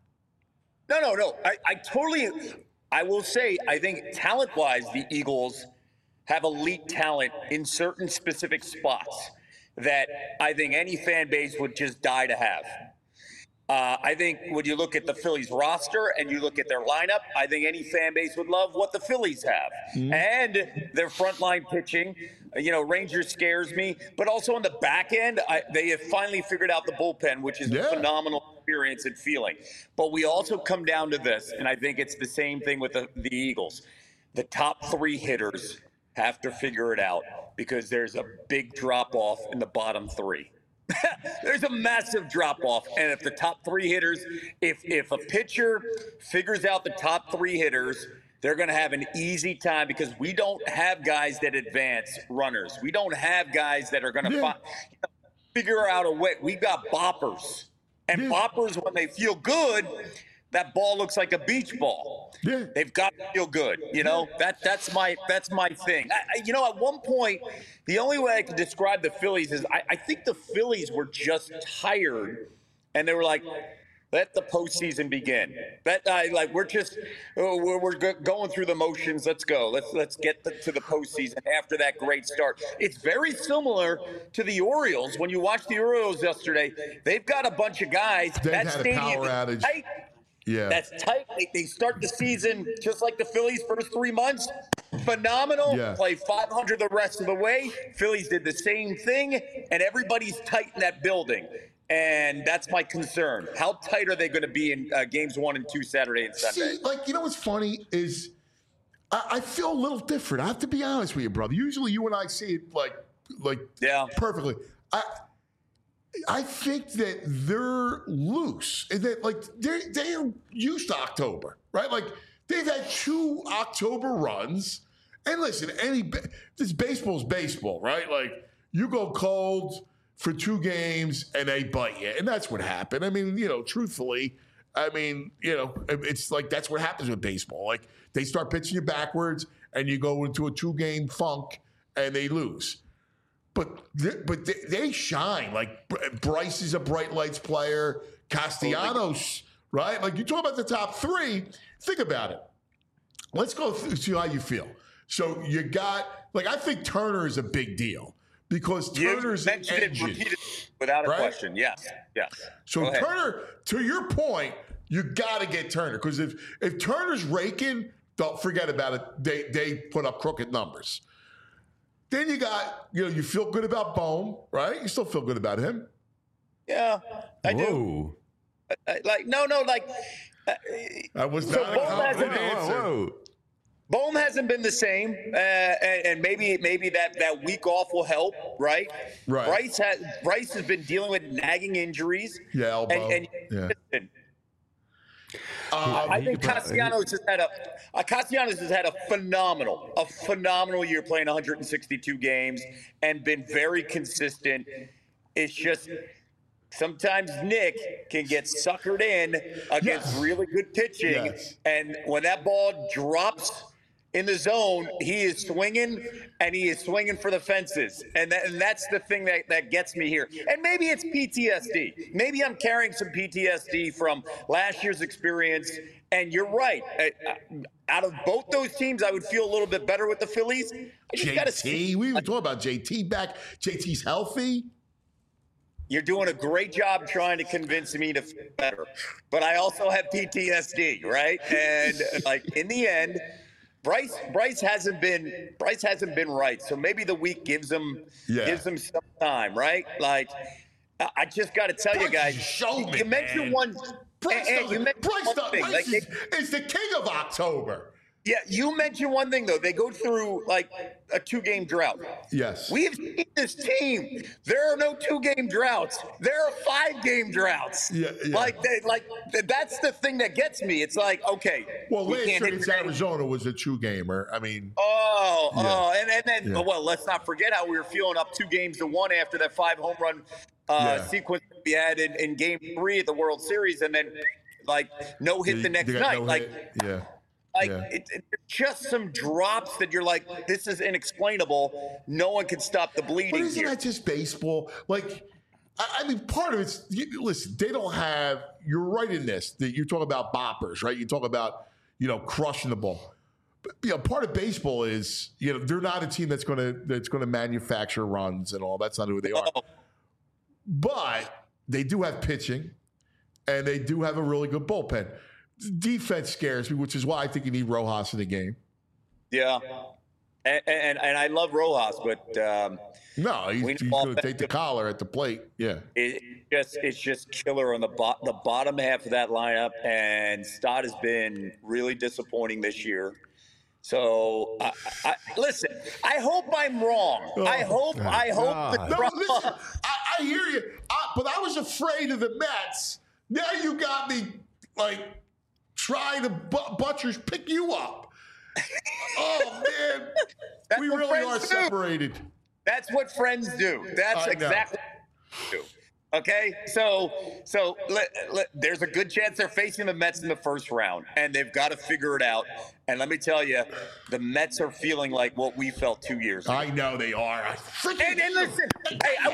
No. I totally. I will say, I think talent-wise, the Eagles have elite talent in certain specific spots that I think any fan base would just die to have. I think when you look at the Phillies roster and you look at their lineup, I think any fan base would love what the Phillies have. And their frontline pitching, Rangers scares me. But also on the back end, they have finally figured out the bullpen, which is a phenomenal experience and feeling. But we also come down to this, and I think it's the same thing with the Eagles. The top 3 hitters have to figure it out because there's a big drop-off in the bottom 3. There's a massive drop-off, and if the top 3 hitters, if a pitcher figures out the top 3 hitters, they're going to have an easy time because we don't have guys that advance runners. We don't have guys that are going to figure out a way. We've got boppers, and boppers, when they feel good, that ball looks like a beach ball. Yeah. They've got to feel good. That's my thing. At one point, the only way I could describe the Phillies is I think the Phillies were just tired, and they were like, let the postseason begin. We're going through the motions. Let's go. Let's get to the postseason after that great start. It's very similar to the Orioles. When you watch the Orioles yesterday, they've got a bunch of guys. They've had a power outage. Tight. Yeah. That's tight. They start the season just like the Phillies first 3 months. Phenomenal. Yeah. Play 500 the rest of the way. Phillies did the same thing, and everybody's tight in that building. And that's my concern. How tight are they going to be in games 1 and 2 Saturday and Sunday? See, what's funny is I feel a little different. I have to be honest with you, brother. Usually you and I see it perfectly. I think that they're loose, and that they're used to October, right? Like they've had 2 October runs, and listen, this baseball's baseball, right? Like you go cold for 2 games and they bite you, and that's what happened. I mean, truthfully, it's like that's what happens with baseball. Like they start pitching you backwards, and you go into a 2-game funk, and they lose. But they shine. Like Bryce is a bright lights player. Castellanos, right? Like you talk about the top 3. Think about it. Let's go see how you feel. So you got I think Turner is a big deal because Turner's an engine, without a question. Yes. So Turner, to your point, you got to get Turner because if Turner's raking, don't forget about it. They put up crooked numbers. Then you got, you feel good about Bohm, right? You still feel good about him. Yeah, I do. I was not a confident answer. Bohm hasn't been the same, and maybe that week off will help, right? Right. Bryce has been dealing with nagging injuries. Yeah, elbow. I think Castellanos has had a phenomenal year playing 162 games and been very consistent. It's just sometimes Nick can get suckered in against really good pitching, and when that ball drops in the zone, he is swinging, and he is swinging for the fences. And that's the thing that gets me here. And maybe it's PTSD. Maybe I'm carrying some PTSD from last year's experience. And you're right. Out of both those teams, I would feel a little bit better with the Phillies. JT, we were talking about JT back. JT's healthy. You're doing a great job trying to convince me to feel better. But I also have PTSD, right? And in the end, Bryce hasn't been right. So maybe the week gives him some time, right? Like I just got to tell you guys, you mentioned one. Bryce is the king of October. Yeah, you mentioned one thing, though. They go through like a 2-game drought. Yes. We've seen this team. There are no 2-game droughts. There are 5-game droughts. Yeah. That's the thing that gets me. It's like, okay. Well, last year against Arizona was a 2-gamer. I mean. And then, well, let's not forget how we were feeling up 2-1 after that 5-home run sequence we had in Game 3 at the World Series, and then no hit the next night. It's just some drops that you're like, this is inexplainable. No one can stop the bleeding. But isn't that just baseball? I mean, part of it's, listen, they don't have, you're right in this, that you talk about boppers, right? You talk about, crushing the ball. part of baseball is, they're not a team that's going to manufacture runs and all. That's not who they are. But they do have pitching, and they do have a really good bullpen. Defense scares me, which is why I think you need Rojas in the game. Yeah, and I love Rojas, but no, he's going to take the collar at the plate. Yeah, it's just killer on the bottom half of that lineup, and Stott has been really disappointing this year. So listen, I hope I'm wrong. I hope. Listen, I hear you, but I was afraid of the Mets. Now you got me trying to butchers pick you up. Oh man, we really are separated. That's what friends do. That's exactly what they do. Okay, so there's a good chance they're facing the Mets in the first round, and they've got to figure it out. And let me tell you, the Mets are feeling like what we felt 2 years ago. I know they are. And listen, hey, I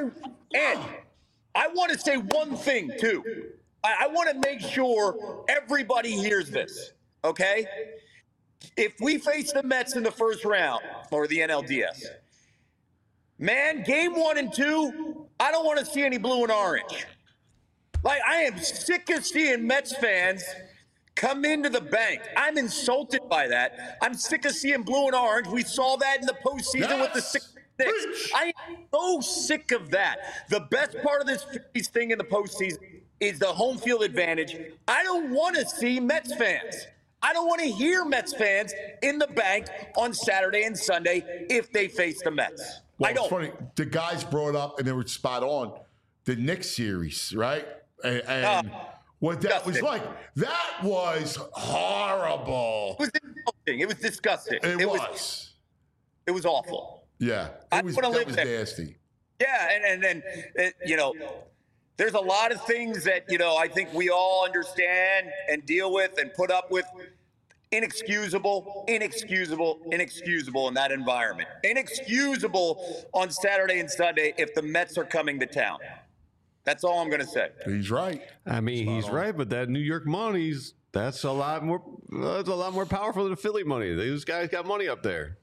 want to say one thing too. I want to make sure everybody hears this. Okay, if we face the Mets in the first round or the NLDS. Man, game 1 and 2, I don't want to see any blue and orange. I am sick of seeing Mets fans come into the bank. I'm insulted by that. I'm sick of seeing blue and orange. We saw that in the postseason with the 6-6. I am so sick of that. The best part of this Phillies thing in the postseason is the home field advantage. I don't want to see Mets fans. I don't want to hear Mets fans in the bank on Saturday and Sunday if they face the Mets. Well, it's funny. The guys brought up, and they were spot on, the Knicks series, right? And what that was like. That was horrible. It was disgusting. It was. It was awful. Yeah. That was nasty. Yeah, and there's a lot of things that, I think we all understand and deal with and put up with. Inexcusable in that environment. Inexcusable on Saturday and Sunday if the Mets are coming to town. That's all I'm going to say. He's right. I mean, he's right, but that New York money's that's a lot more powerful than the Philly money. These guys got money up there.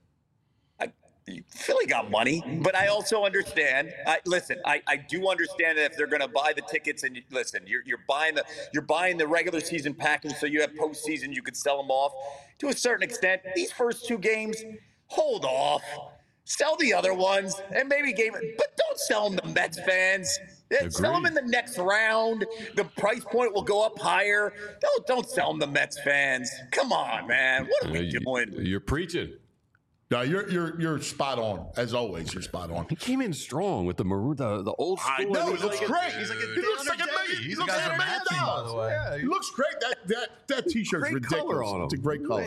Philly got money, but I also understand. I do understand that if they're going to buy the tickets, and listen, you're buying the regular season package, so you have postseason, you could sell them off to a certain extent. These first 2 games, hold off, sell the other ones, and maybe but don't sell them to Mets fans. Sell them in the next round. The price point will go up higher. Don't sell them to Mets fans. Come on, man, what are we doing? You're preaching. No, you're spot on. As always, you're spot on. He came in strong with the maroon, the old school. I know, he looks great. He looks like $1 million. He looks like $1 million. By the way. Yeah, he looks great. That T-shirt's ridiculous. It's a great color.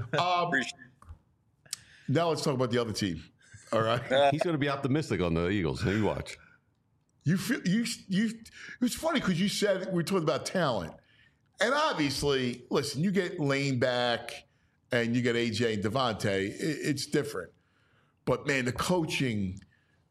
Now let's talk about the other team. All right. He's going to be optimistic on the Eagles. You watch. It was funny because you said we talked about talent, and obviously, listen, you get Lane back. And you get AJ and Devontae, it's different. But man, the coaching,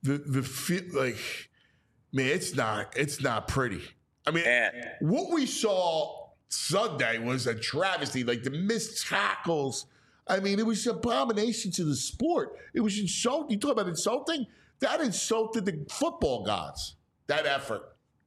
it's not pretty. I mean, what we saw Sunday was a travesty. The missed tackles. I mean, it was an abomination to the sport. It was insulting. You talk about insulting? That insulted the football gods. That effort.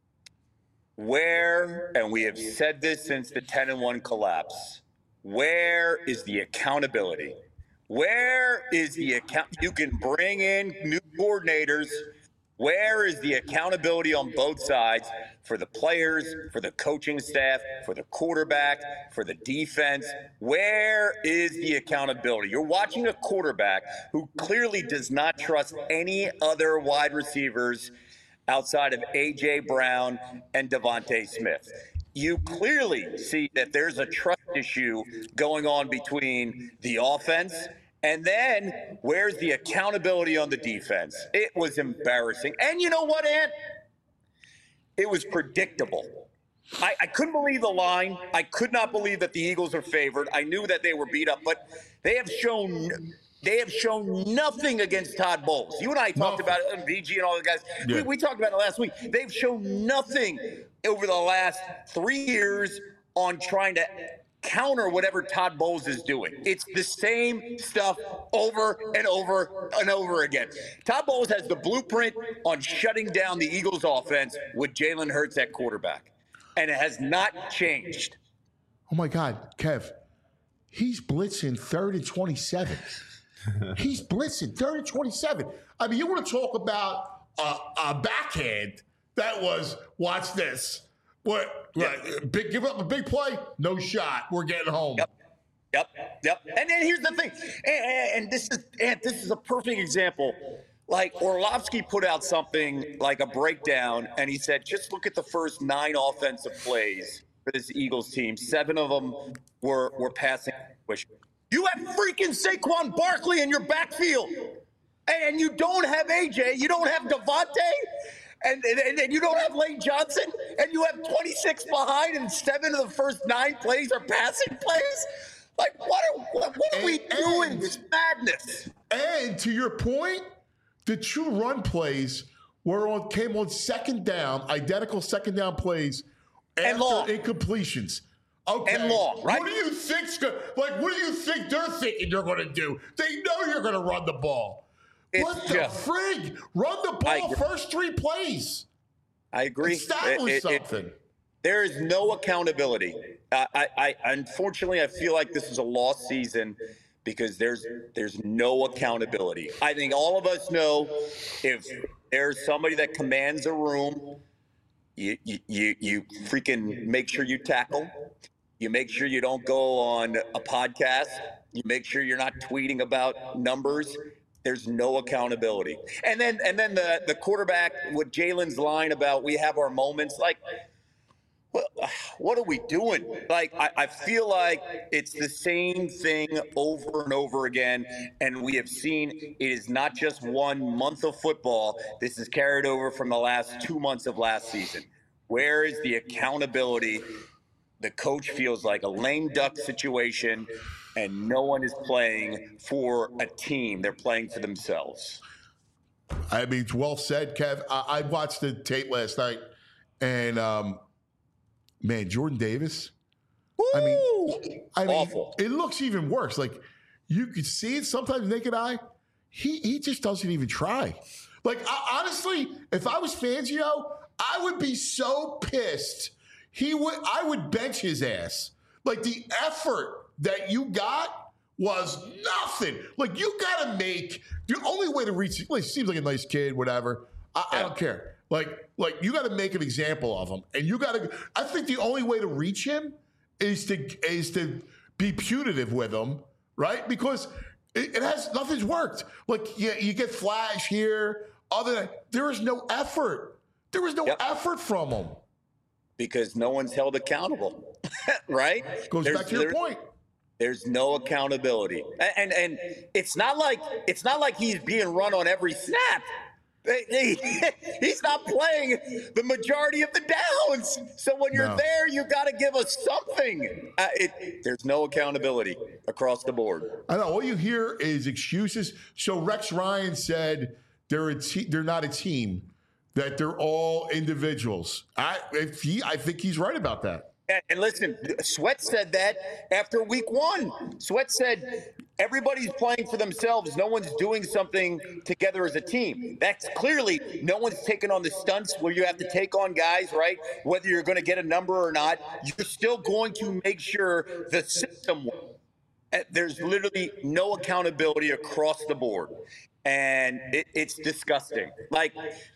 And we have said this since the 10-1 collapse. Where is the accountability? Where is the account? You can bring in new coordinators. Where is the accountability on both sides for the players, for the coaching staff, for the quarterback, for the defense? Where is the accountability? You're watching a quarterback who clearly does not trust any other wide receivers outside of A.J. Brown and Devontae Smith. You clearly see that there's a trust issue going on between the offense, and then where's the accountability on the defense? It was embarrassing. And you know what, Ant? It was predictable. I couldn't believe the line. I could not believe that the Eagles are favored. I knew that they were beat up, but they have shown nothing against Todd Bowles. You and I talked about it, and VG and all the guys. Yeah. We talked about it last week. They've shown nothing over the last 3 years on trying to counter whatever Todd Bowles is doing. It's the same stuff over and over and over again. Todd Bowles has the blueprint on shutting down the Eagles offense with Jalen Hurts at quarterback, and it has not changed. Oh my God, Kev, he's blitzing 3rd and 27. He's blitzing 3rd and 27. I mean, you want to talk about a backhand that was, watch this. What? Like, give up a big play? No shot. We're getting home. Yep. And then here's the thing, and this is a perfect example. Like Orlovsky put out something like a breakdown, and he said, just look at the first 9 offensive plays for this Eagles team. 7 of them were passing. You have freaking Saquon Barkley in your backfield, and you don't have AJ, you don't have Devontae. And you don't have Lane Johnson, and you have 26 behind, and 7 of the first 9 plays are passing plays. Like, what are we doing? It's madness. And to your point, the 2 run plays came on 2nd down, identical 2nd down plays after incompletions. Okay. And long, right? What do you think they're thinking you're going to do? They know you're going to run the ball. What the frig? Run the ball first 3 plays. I agree. Establish something. There is no accountability. Unfortunately, I feel like this is a lost season because there's no accountability. I think all of us know if there's somebody that commands a room, you freaking make sure you tackle. You make sure you don't go on a podcast. You make sure you're not tweeting about numbers. There's no accountability. And then the quarterback with Jalen's line about we have our moments, like, what are we doing? Like, I feel like it's the same thing over and over again. And we have seen it is not just 1 month of football. This is carried over from the last 2 months of last season. Where is the accountability? The coach feels like a lame duck situation. And no one is playing for a team. They're playing for themselves. I mean, it's well said, Kev. I watched the tape last night, and, man, Jordan Davis. Woo! I mean, awful. It looks even worse. Like, you could see it sometimes naked eye. He just doesn't even try. Like, honestly, if I was Fangio, I would be so pissed. I would bench his ass. Like, the effort that you got was nothing. Like, you got to make the only way to reach. Well, he seems like a nice kid, whatever. I don't care. Like you got to make an example of him, and you got to. I think the only way to reach him is to be punitive with him, right? Because nothing's worked. Like, you get flash here. Other than there is no effort. There was no effort from him because no one's held accountable, right? Goes back to your point. There's no accountability, and it's not like he's being run on every snap. He's not playing the majority of the downs. So when you're there, you got to give us something. There's no accountability across the board. I know. All you hear is excuses. So Rex Ryan said they're not a team, that they're all individuals. I think he's right about that. And listen, Sweat said that after week 1. Sweat said everybody's playing for themselves. No one's doing something together as a team. That's clearly no one's taking on the stunts where you have to take on guys, right? Whether you're going to get a number or not, you're still going to make sure the system works. There's literally no accountability across the board. And it's disgusting. Like,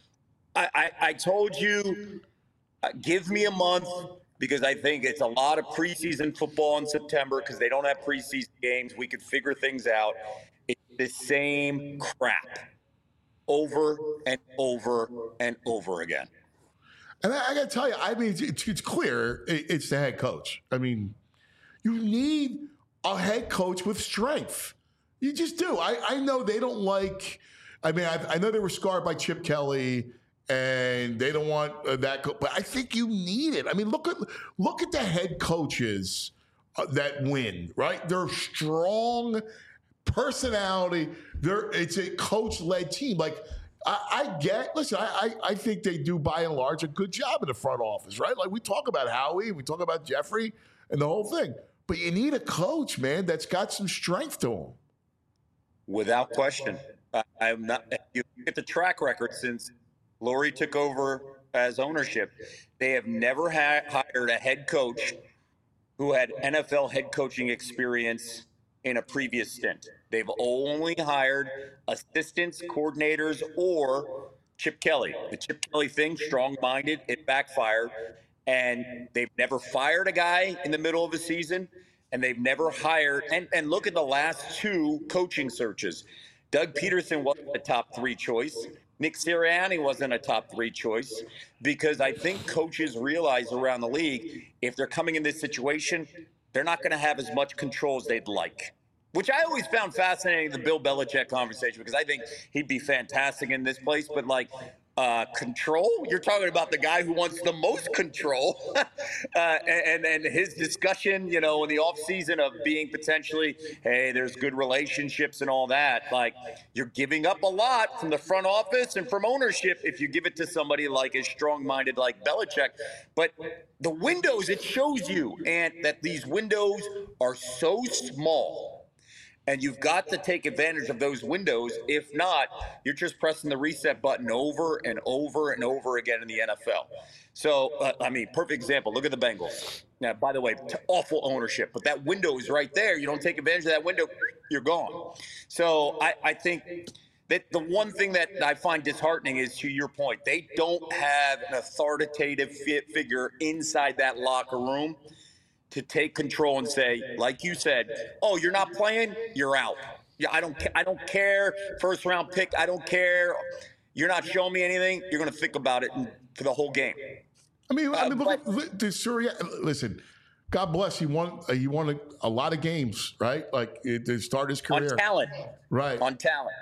I told you, give me a month. Because I think it's a lot of preseason football in September because they don't have preseason games. We could figure things out. It's the same crap over and over and over again. And I got to tell you, I mean, it's clear it's the head coach. I mean, you need a head coach with strength. You just do. I know they don't like – I mean, I know they were scarred by Chip Kelly – and they don't want that. But I think you need it. I mean, look at the head coaches that win, right? They're strong personality. It's a coach-led team. Like, I think they do, by and large, a good job in the front office, right? Like, we talk about Howie, we talk about Jeffrey and the whole thing. but you need a coach, man, that's got some strength to him. Without question. I'm not. You look at the track record since Lurie took over as ownership. They have never hired a head coach who had NFL head coaching experience in a previous stint. They've only hired assistants, coordinators, or Chip Kelly. The Chip Kelly thing, strong-minded, it backfired. And they've never fired a guy in the middle of a season, and they've never hired. And look at the last two coaching searches. Doug Peterson wasn't a top 3 choice. Nick Sirianni wasn't a top 3 choice, because I think coaches realize around the league, if they're coming in this situation, they're not going to have as much control as they'd like. Which I always found fascinating, the Bill Belichick conversation, because I think he'd be fantastic in this place. But like control, you're talking about the guy who wants the most control, and his discussion, you know, in the offseason of being potentially, hey, there's good relationships and all that. Like, you're giving up a lot from the front office and from ownership if you give it to somebody like as strong-minded like Belichick. But the windows, it shows you, and that these windows are so small. And you've got to take advantage of those windows. If not, you're just pressing the reset button over and over and over again in the NFL. So, I mean, perfect example. Look at the Bengals. Now, by the way, awful ownership. But that window is right there. You don't take advantage of that window, you're gone. So I think that the one thing that I find disheartening is, to your point, they don't have an authoritative figure inside that locker room to take control and say, like you said, oh, you're not playing, you're out. Yeah, I don't care. First round pick, I don't care. You're not showing me anything. You're going to think about it for the whole game. I mean, look to Sirianni. Listen, God bless. He won a lot of games, right? Like to start his career on talent, right? On talent.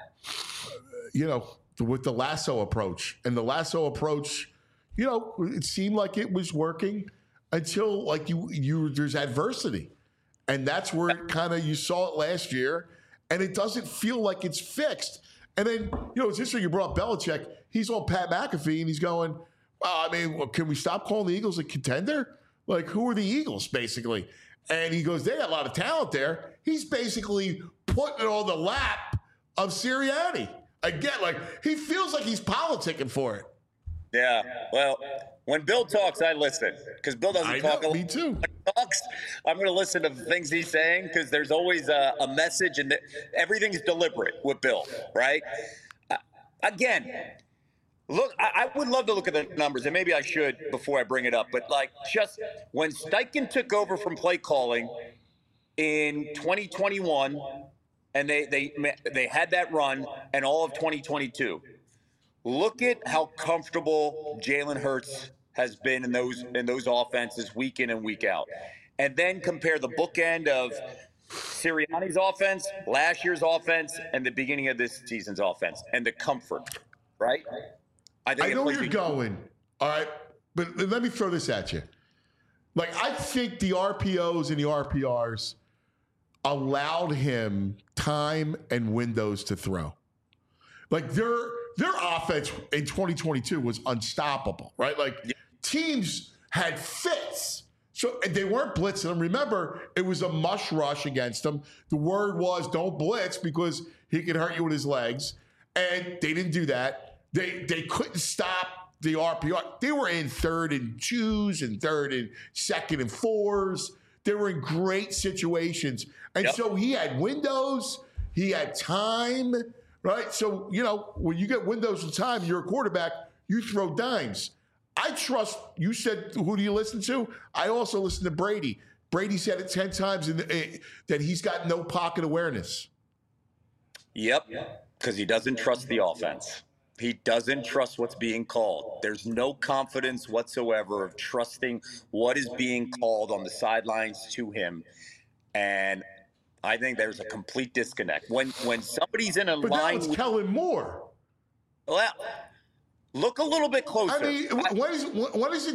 You know, with the Lasso approach, and the Lasso approach, you know, it seemed like it was working. Until like there's adversity, and that's where kind of you saw it last year, and it doesn't feel like it's fixed. And then it's interesting you brought up Belichick. He's on Pat McAfee, and he's going, "Well, I mean, can we stop calling the Eagles a contender? Like, who are the Eagles basically?" And he goes, "They got a lot of talent there." He's basically putting it on the lap of Sirianni again. Like he feels like he's politicking for it. Yeah, well. When Bill talks, I listen, because Bill doesn't talk a lot. Me too. When he talks, I'm going to listen to the things he's saying, because there's always a message, and everything's deliberate with Bill, right? Again, look, I would love to look at the numbers, and maybe I should before I bring it up, but like just when Steichen took over from play calling in 2021, and they had that run, and all of 2022. Look at how comfortable Jalen Hurts has been in those offenses week in and week out. And then compare the bookend of Sirianni's offense, last year's offense, and the beginning of this season's offense, and the comfort, right? I know where you're going, all right? But let me throw this at you. Like, I think the RPOs and the RPRs allowed him time and windows to throw. Like, their offense in 2022 was unstoppable, right? Like teams had fits. So and they weren't blitzing them. Remember, it was a mush rush against them. The word was don't blitz because he could hurt you with his legs. And they didn't do that. They couldn't stop the RPR. They were in 3rd and 2s and 3rd and 2nd and 4s. They were in great situations. And so he had windows. He had time. Right? So, when you get windows of time, you're a quarterback, you throw dimes. I trust, you said, who do you listen to? I also listen to Brady. Brady said it 10 times that he's got no pocket awareness. Yep, because he doesn't trust the offense. He doesn't trust what's being called. There's no confidence whatsoever of trusting what is being called on the sidelines to him. And I think there's a complete disconnect. When somebody's in a but line... But now it's Kellen Moore. Well, look a little bit closer. I mean, when does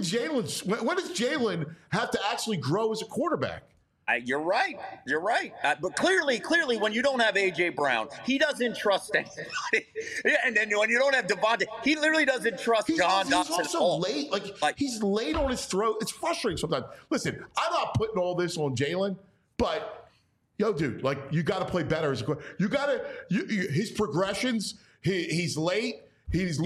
Jalen have to actually grow as a quarterback? You're right. You're right. But clearly, when you don't have A.J. Brown, he doesn't trust anybody. And then when you don't have Devontae, he literally doesn't trust John Dotson at all. He's also late. Like, he's late on his throw. It's frustrating sometimes. Listen, I'm not putting all this on Jalen. But, yo, dude, like, you got to play better as a quarterback. You got to, his progressions, he's late. There's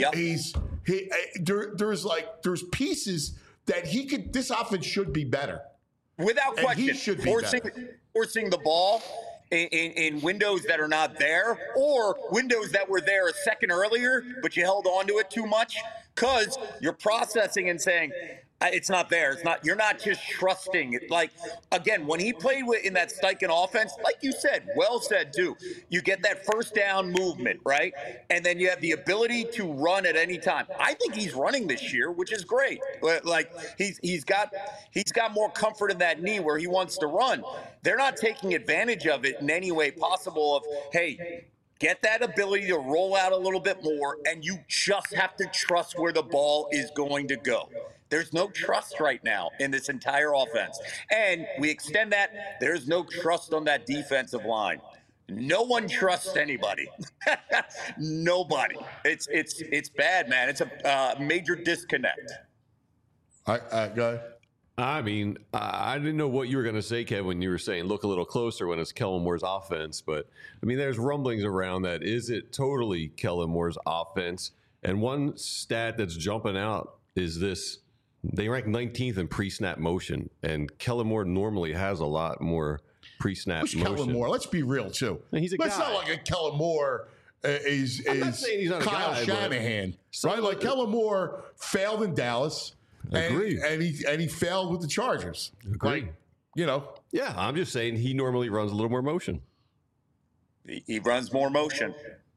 pieces that this offense should be better. Without question. He should be forcing the ball in windows that are not there, or windows that were there a second earlier, but you held on to it too much because you're processing and saying, it's not there. It's not. You're not just trusting. Like, again, when he played in that Steichen offense, like you said, well said too. You get that first down movement, right, and then you have the ability to run at any time. I think he's running this year, which is great. Like he's got more comfort in that knee where he wants to run. They're not taking advantage of it in any way possible. Of hey, get that ability to roll out a little bit more, and you just have to trust where the ball is going to go. There's no trust right now in this entire offense. And we extend that, there's no trust on that defensive line. No one trusts anybody. Nobody. It's bad, man. It's a major disconnect. All right, go ahead. I mean, I didn't know what you were going to say, Kev, when you were saying look a little closer when it's Kellen Moore's offense. But, I mean, there's rumblings around that. Is it totally Kellen Moore's offense? And one stat that's jumping out is this. They rank 19th in pre-snap motion, and Kellen Moore normally has a lot more pre-snap motion. Kellen Moore? Let's be real, too. He's a guy. It's not like a Kellen Moore is Kyle Shanahan, right? Like Kellen Moore failed in Dallas. Agreed. And he failed with the Chargers. Agreed. Like, you know. Yeah, I'm just saying he normally runs a little more motion. He runs more motion.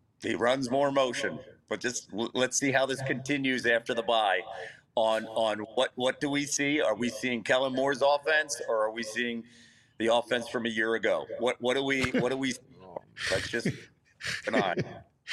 But just let's see how this continues after the bye. On what do we see? Are we seeing Kellen Moore's offense, or are we seeing the offense from a year ago? What do we? Let's just keep an eye.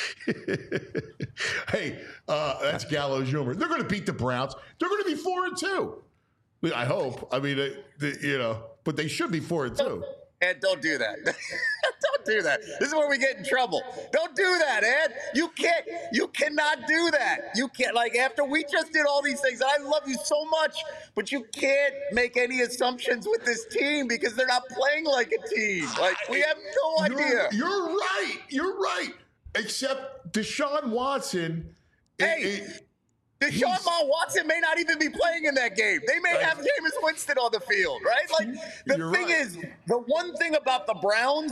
Hey, that's Gallows humor. They're going to beat the Browns. They're going to be 4-2. I hope. I mean, but they should be 4-2. Ed, don't do that. Don't do that. This is where we get in trouble. Don't do that, Ed. You cannot do that. You can't, like, after we just did all these things, and I love you so much, but you can't make any assumptions with this team because they're not playing like a team. Like, we have no idea. You're right. Except Deshaun Watson. Deshaun Watson may not even be playing in that game. They may have Jameis Winston on the field, right? Like, the thing is, the one thing about the Browns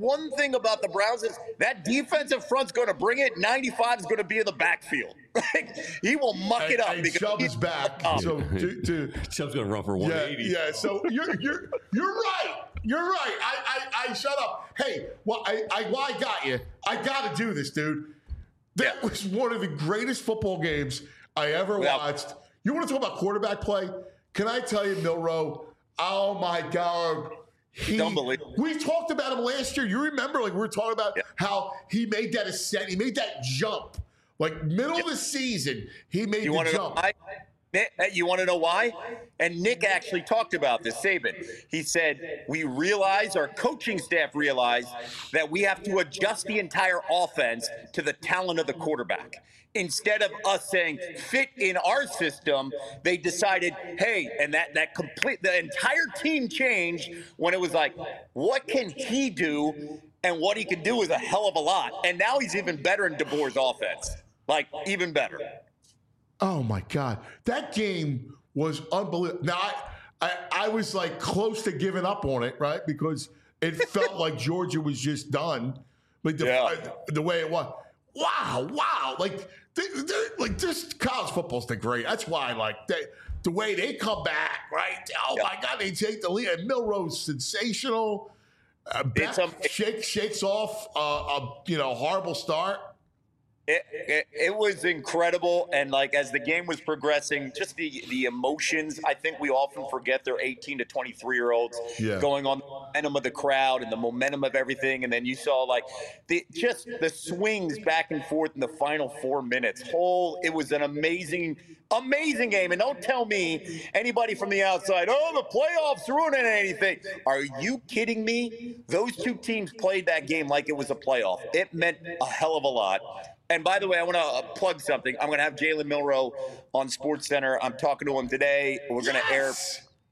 is that defensive front's going to bring it. 95 is going to be in the backfield. He will muck it up. And Chubb is back. So Chubb's going to run for 180. Yeah. So you're right. You're right. I shut up. Hey, well, I got you. I got to do this, dude. That was one of the greatest football games I ever watched. You want to talk about quarterback play? Can I tell you, Milroe? Oh my God. Don't believe it. We talked about him last year. You remember, like, we were talking about how he made that ascent, he made that jump. Like, middle of the season, he made the jump. You want to know why? And Nick actually talked about this, Saban. He said, our coaching staff realized that we have to adjust the entire offense to the talent of the quarterback. Instead of us saying fit in our system, they decided, hey, and the entire team changed when it was like, what can he do? And what he can do is a hell of a lot. And now he's even better in DeBoer's offense. Like, even better. Oh my God, that game was unbelievable. Now I was like close to giving up on it, right? Because it felt like Georgia was just done. Like the way it was. Wow. Like this college football's the great. That's why the way they come back, right? Oh my God, they take the lead. And Milroe's sensational. Shakes off a horrible start. It was incredible, and like as the game was progressing, just the emotions. I think we often forget they're 18 to 23-year-olds going on the momentum of the crowd and the momentum of everything, and then you saw like the swings back and forth in the final 4 minutes. It was an amazing game, and don't tell me anybody from the outside, the playoffs ruining anything. Are you kidding me? Those two teams played that game like it was a playoff. It meant a hell of a lot. And by the way, I want to plug something. I'm going to have Jalen Milroe on SportsCenter. I'm talking to him today. We're going to air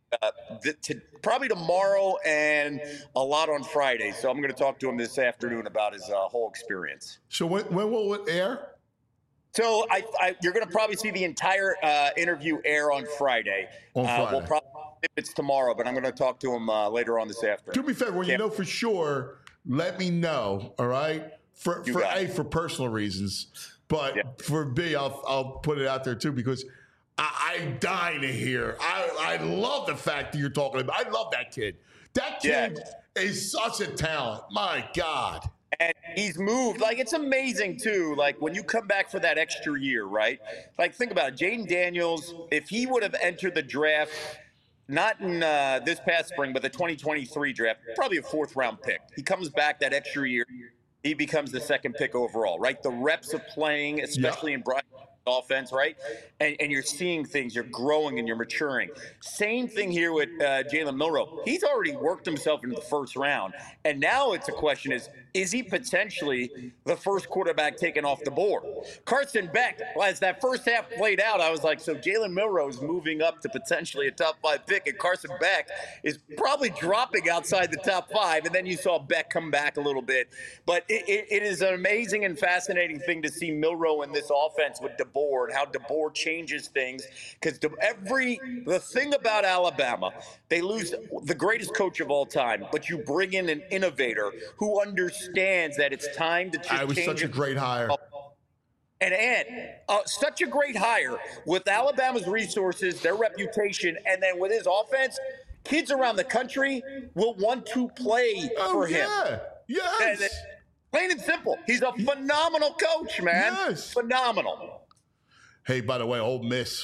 probably tomorrow and a lot on Friday. So I'm going to talk to him this afternoon about his whole experience. So when will it air? So you're going to probably see the entire interview air on Friday. On Friday. We'll probably if it's tomorrow, but I'm going to talk to him later on this afternoon. Do me a favor, when you know for sure, let me know. All right, for personal reasons, but for B, I'll put it out there too because I'm dying to hear. I love the fact that you're talking about. I love that kid. That kid is such a talent. My God. And he's moved. Like, it's amazing, too. Like, when you come back for that extra year, right? Like, think about it. Jaden Daniels, if he would have entered the draft, not in this past spring, but the 2023 draft, probably a 4th-round pick. He comes back that extra year. He becomes the 2nd pick overall, right? The reps of playing, especially in Brian offense, right? And you're seeing things, you're growing and you're maturing. Same thing here with Jalen Milroe. He's already worked himself into the 1st round. And now it's a question is he potentially the first quarterback taken off the board? Carson Beck, as that first half played out, I was like, so Jalen Milroe is moving up to potentially a top 5 pick, and Carson Beck is probably dropping outside the top 5. And then you saw Beck come back a little bit. But it is an amazing and fascinating thing to see Milroe in this offense with DeBoer and how DeBoer changes things. Because the thing about Alabama, they lose the greatest coach of all time, but you bring in an innovator who understands that it's time to change. It was such a great hire. And such a great hire with Alabama's resources, their reputation, and then with his offense, kids around the country will want to play for him. Yes. And plain and simple. He's a phenomenal coach, man. Yes. Phenomenal. Hey, by the way, Ole Miss.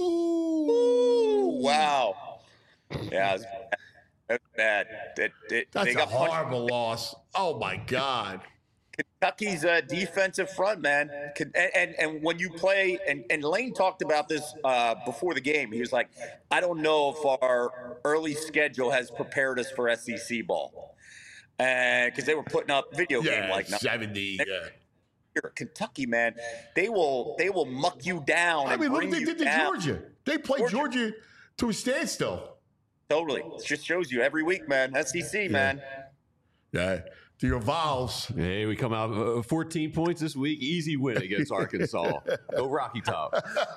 Ooh, wow. Yeah, that's bad. That's a horrible loss. Oh, my God. Kentucky's defensive front, man. And when you play, and Lane talked about this before the game. He was like, I don't know if our early schedule has prepared us for SEC ball. Because they were putting up video game like 70. Here, Kentucky, man, they will muck you down. I mean, look what they did to Georgia. They played Georgia to a standstill. Totally. It just shows you every week, man. SEC, man. Yeah. The Vols. Hey, we come out 14 points this week. Easy win against Arkansas. Go Rocky Top.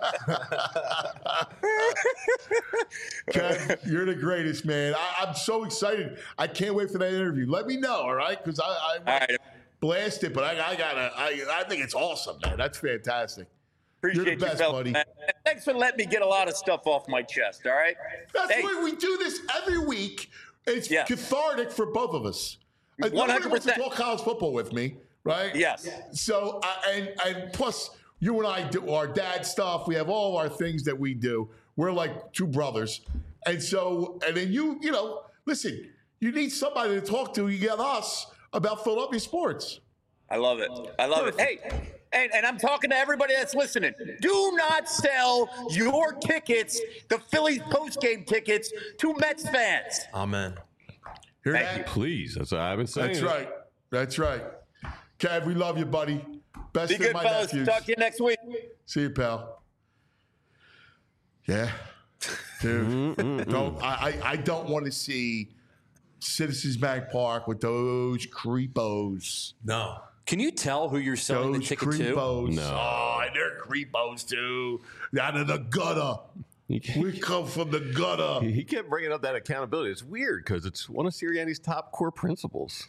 Kev, you're the greatest, man. I'm so excited. I can't wait for that interview. Let me know, all right? Because I blast it, but I think it's awesome, man. That's fantastic. Appreciate you're the best, buddy. Man. Thanks for letting me get a lot of stuff off my chest, all right? That's why we do this every week. It's cathartic for both of us. 100%. Nobody wants to talk college football with me, right? Yes. So, and plus, you and I do our dad stuff. We have all our things that we do. We're like two brothers. And so, and then you know, listen, you need somebody to talk to. You get us about Philadelphia sports. I love it. I love it. Hey, and I'm talking to everybody that's listening. Do not sell your tickets, the Phillies postgame tickets, to Mets fans. Amen. Hear Thank that? you. Please. That's what I've been saying. That's right. That's right. Kev, we love you, buddy. Best Be of good, my fellas. nephews. Talk to you next week. See you, pal. Yeah. Dude. I don't want to see Citizens Bank Park with those creepos. No. Can you tell who you're selling Those the ticket creepos. to? No. Oh, and they're creepos, too. Out of the gutter. We come from the gutter. He kept bringing up that accountability. It's weird because it's one of Sirianni's top core principles.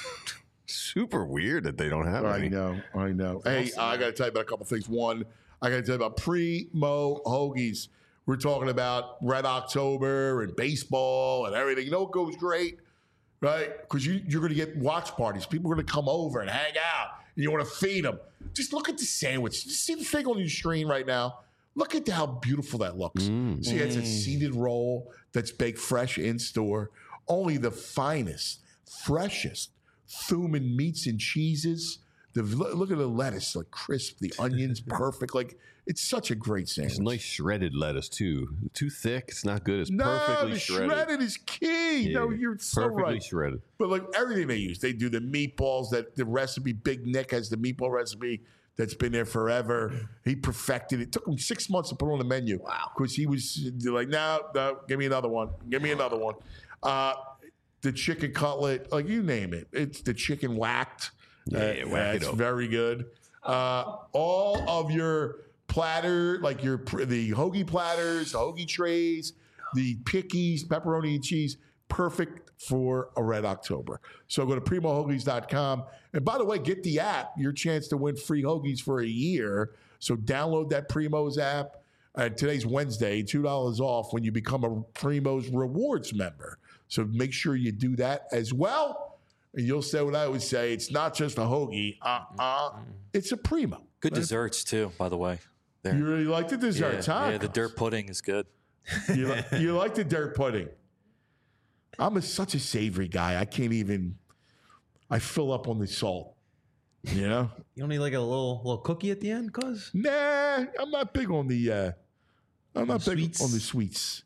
Super weird that they don't have I any. know. Hey, I got to tell you about a couple things. One, I got to tell you about Primo Hoagies. We're talking about Red October and baseball and everything. You know what goes great, right? Because you're going to get watch parties. People are going to come over and hang out, and you want to feed them. Just look at the sandwich. Just see the thing on your screen right now. Look at how beautiful that looks. See, it's a seeded roll that's baked fresh in store. Only the finest, freshest Thuman meats and cheeses. Look at the lettuce, like crisp. The onions, perfect. Like, it's such a great sandwich. It's nice shredded lettuce, too. Too thick, it's not good. It's No, perfectly the shredded. shredded is key. Yeah, No, you're so perfectly right. shredded. But like everything they use, they do the meatballs. That the recipe, Big Nick has the meatball recipe. that's been there forever. He perfected it. It took him 6 months to put on the menu. Wow. Because he was like, no, give me another one. Give me another one. The chicken cutlet, like you name it. It's the chicken whacked. It's very good. All of your platter, like the hoagie platters, the hoagie trays, the pickies, pepperoni and cheese, perfect for a Red October. So go to primohoagies.com. And by the way, get the app, your chance to win free hoagies for a year. So download that Primo's app. Today's Wednesday, $2 off when you become a Primo's Rewards member. So make sure you do that as well. And you'll say what I always say, it's not just a hoagie. It's a Primo. Good desserts, too, by the way. There. You really like the desserts, huh? Yeah, the dirt pudding is good. You like the dirt pudding. I'm such a savory guy. I can't even. I fill up on the salt. You know. You don't need like a little cookie at the end, cuz? Nah, I'm not big on the. I'm not big on the sweets.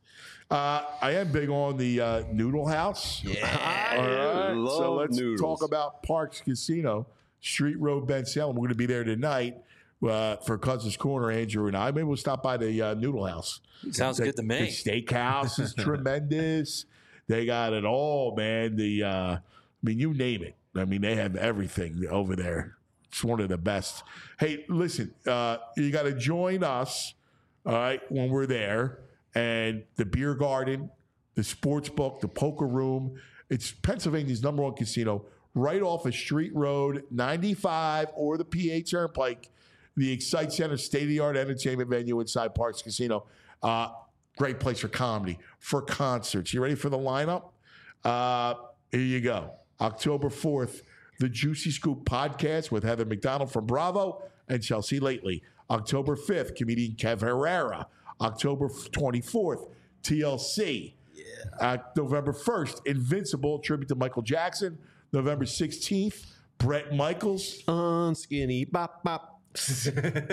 I am big on the Noodle House. Yeah, all right. So let's noodles. talk about Parks Casino, Street Road, Ben Salem. We're going to be there tonight for Cousins Corner, Andrew and I. Maybe we'll stop by the Noodle House. Sounds good to me. The steakhouse is tremendous. They got it all, man. I mean, you name it. I mean, they have everything over there. It's one of the best. Hey, listen, you got to join us, all right, when we're there. And the beer garden, the sports book, the poker room. It's Pennsylvania's #1 casino right off of Street Road, 95 or the PA Turnpike. The Excite Center, state-of-the-art entertainment venue inside Parks Casino. Great place for comedy, for concerts. You ready for the lineup? Here you go. October 4th, the Juicy Scoop podcast with Heather McDonald from Bravo and Chelsea Lately. October 5th, comedian Kev Herrera. October 24th, TLC. November 1st, Invincible, tribute to Michael Jackson. November 16th, Bret Michaels. Skinny bop bop. That's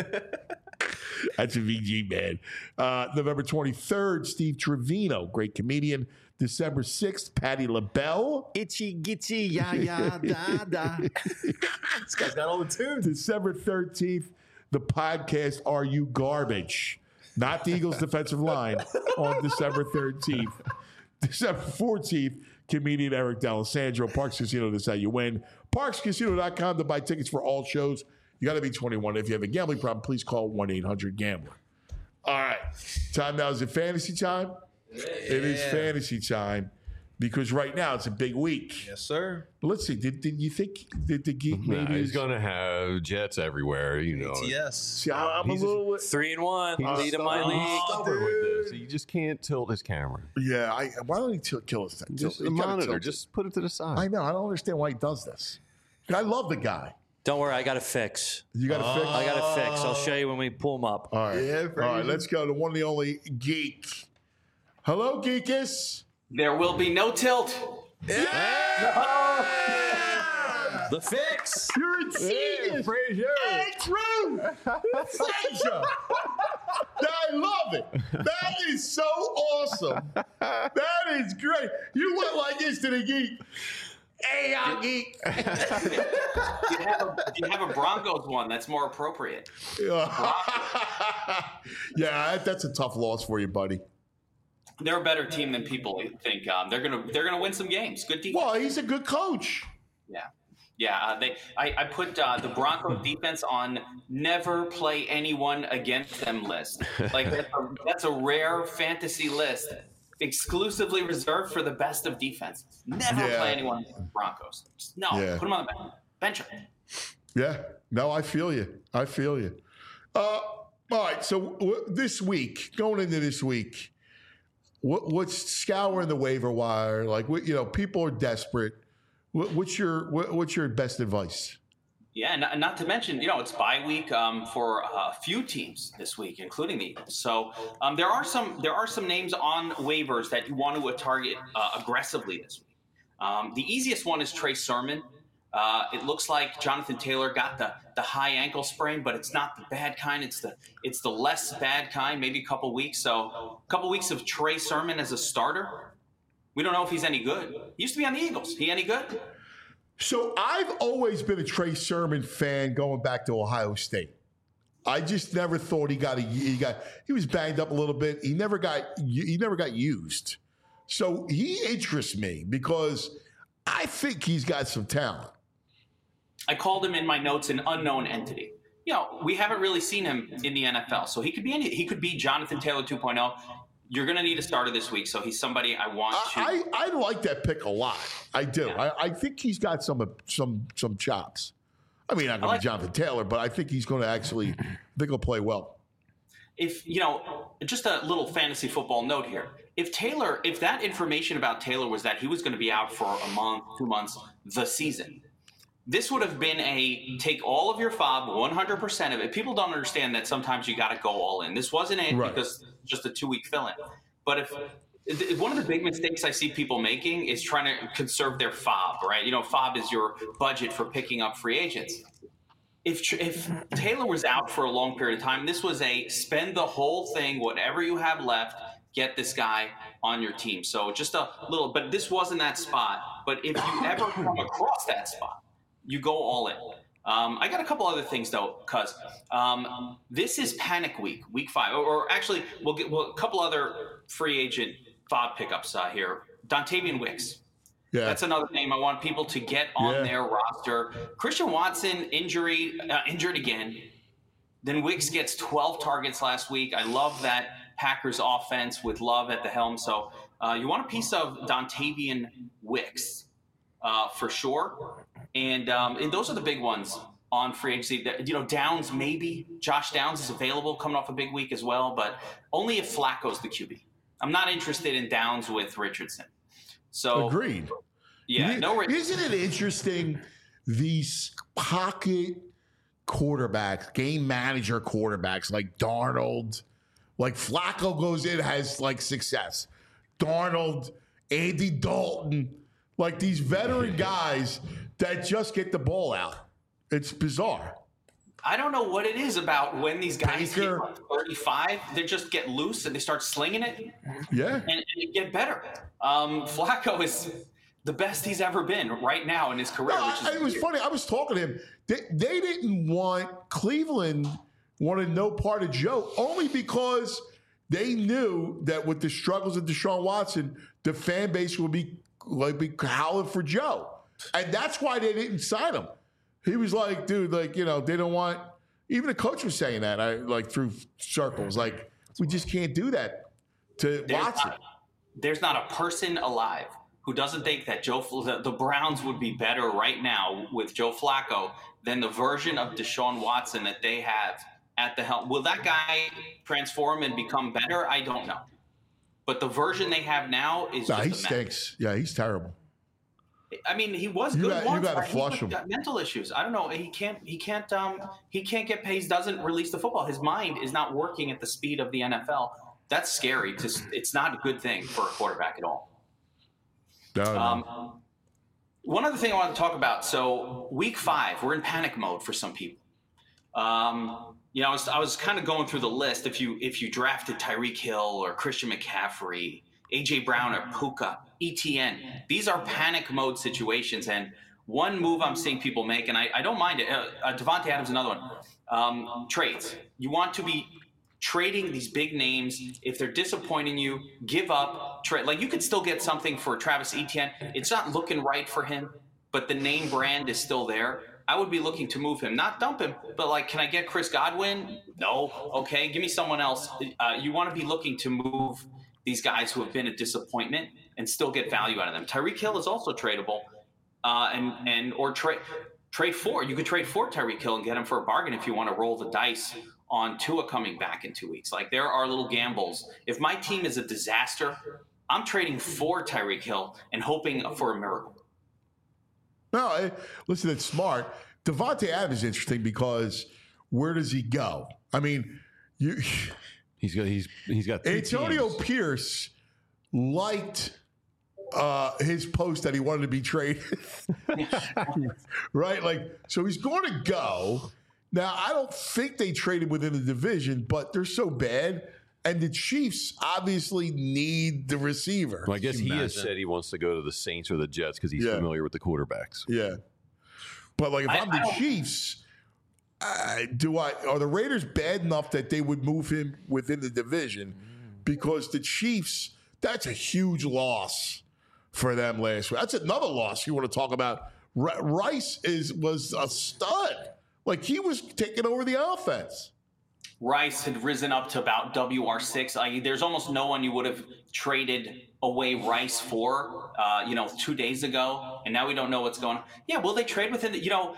a VG, man. November 23rd, Steve Trevino, great comedian. December 6th, Patti LaBelle. Itchy gitchy ya ya da da. This guy's got all the tunes. December 13th, the podcast Are You Garbage? Not the Eagles' defensive line on December 13th. December 14th, comedian Eric D'Alessandro. Parks Casino, that's how you win. ParksCasino.com to buy tickets for all shows. You got to be 21. If you have a gambling problem, please call 1-800-GAMBLER. All right. Time now. Is it fantasy time? Yeah. It is fantasy time because right now it's a big week. Yes, sir. But let's see. Did you think that the geek maybe he's going to have Jets everywhere, you know. Yes. See, I'm a little 3-1. Lead in my league. Stubborn with this. You just can't tilt his camera. Yeah. Why don't he kill his thing? Just the monitor. Just put it to the side. I know. I don't understand why he does this. I love the guy. Don't worry, I got a fix. You got a fix? I got a fix. I'll show you when we pull them up. All right. Yeah, all right, let's go to one and the only Geek. Hello, Geekus. There will be no tilt. Yeah! The fix. You're a genius. It's true. Frazier. I love it. That is so awesome. That is great. You went like this to the Geek. Hey, I'm Geek. You have a Broncos one. That's more appropriate. Yeah, that's a tough loss for you, buddy. They're a better team than people think. They're gonna win some games. Good defense. Well, he's a good coach. Yeah. I put the Broncos defense on never play anyone against them list. Like that's a rare fantasy list. Exclusively reserved for the best of defenses. Never play anyone against the Broncos. Just, put them on the bench. Yeah. No, I feel you. All right. So this week, going into this week, what's scouring the waiver wire? Like, people are desperate. What's your best advice? Yeah, not to mention, it's bye week for a few teams this week, including the Eagles. So there are some names on waivers that you want to target aggressively this week. The easiest one is Trey Sermon. It looks like Jonathan Taylor got the high ankle sprain, but it's not the bad kind. It's the less bad kind. Maybe a couple weeks. So a couple weeks of Trey Sermon as a starter. We don't know if he's any good. He used to be on the Eagles. He any good? So I've always been a Trey Sermon fan going back to Ohio State. I just never thought he was banged up a little bit. He never got used. So he interests me because I think he's got some talent. I called him in my notes an unknown entity. We haven't really seen him in the NFL, so he could be Jonathan Taylor 2.0. You're going to need a starter this week, so he's somebody I want to. I like that pick a lot. I do. Yeah. I think he's got some chops. I mean, not going to be Jonathan Taylor, but I think he's going to actually. I think he'll play well. If just a little fantasy football note here. If that information about Taylor was that he was going to be out for a month, 2 months, the season, this would have been take all of your FOB, 100% of it. People don't understand that sometimes you got to go all in. This wasn't it because just a 2-week fill-in. But one of the big mistakes I see people making is trying to conserve their FOB, right? FOB is your budget for picking up free agents. If Taylor was out for a long period of time, this was spend the whole thing, whatever you have left, get this guy on your team. So just a little, but this wasn't that spot. But if you ever come across that spot, you go all in. I got a couple other things though, because this is panic week, week 5, or actually we'll get a couple other free agent FOB pickups here. Dontavian Wicks. Yeah. That's another name I want people to get on their roster. Christian Watson injured again. Then Wicks gets 12 targets last week. I love that Packers offense with Love at the helm. So you want a piece of Dontavian Wicks for sure. And those are the big ones on free agency. Downs maybe. Josh Downs is available coming off a big week as well, but only if Flacco's the QB. I'm not interested in Downs with Richardson. So agreed. Yeah. Isn't it interesting? These pocket quarterbacks, game manager quarterbacks like Darnold, like Flacco goes in, has like success. Darnold, Andy Dalton, like these veteran guys that just get the ball out. It's bizarre. I don't know what it is about when these guys hit 35, they just get loose and they start slinging it. Yeah. And get better. Flacco is the best he's ever been right now in his career. It was funny. I was talking to him. They didn't want Cleveland wanted no part of Joe only because they knew that with the struggles of Deshaun Watson, the fan base would be howling for Joe. And that's why they didn't sign him. He was like, dude, they don't want, even the coach was saying that, through circles, we just can't do that to Watson. There's not a person alive who doesn't think that the Browns would be better right now with Joe Flacco than the version of Deshaun Watson that they have at the helm. Will that guy transform and become better? I don't know. But the version they have now is just he stinks. Yeah, he's terrible. I mean, he was good once. You got to flush him. Got mental issues. I don't know. He can't get paid. He doesn't release the football. His mind is not working at the speed of the NFL. That's scary. It's not a good thing for a quarterback at all. One other thing I want to talk about. So week 5, we're in panic mode for some people. I was kind of going through the list. If you drafted Tyreek Hill or Christian McCaffrey, A.J. Brown or Puka, ETN, these are panic mode situations. And one move I'm seeing people make, and I don't mind it, Devontae Adams, another one, trades. You want to be trading these big names. If they're disappointing you, give up, trade. Like, you could still get something for Travis Etienne. It's not looking right for him, but the name brand is still there. I would be looking to move him, not dump him, but can I get Chris Godwin? No. Okay, give me someone else. You want to be looking to move these guys who have been a disappointment and still get value out of them. Tyreek Hill is also tradable, or trade for. You could trade for Tyreek Hill and get him for a bargain if you want to roll the dice on Tua coming back in 2 weeks. There are little gambles. If my team is a disaster, I'm trading for Tyreek Hill and hoping for a miracle. No, listen, it's smart. Devontae Adams is interesting because where does he go? I mean, he's got Antonio teams. Pierce liked his post that he wanted to be traded, right? So he's going to go. Now, I don't think they traded within the division, but they're so bad. And the Chiefs obviously need the receiver. Well, I guess he has said he wants to go to the Saints or the Jets because he's familiar with the quarterbacks. Yeah. But like if I'm the Chiefs, are the Raiders bad enough that they would move him within the division? Because the Chiefs, that's a huge loss for them last week. That's another loss you want to talk about. Rice was a stud. Like he was taking over the offense. Rice had risen up to about WR6. There's almost no one you would have traded away Rice for, 2 days ago, and now we don't know what's going on. Yeah, will they trade within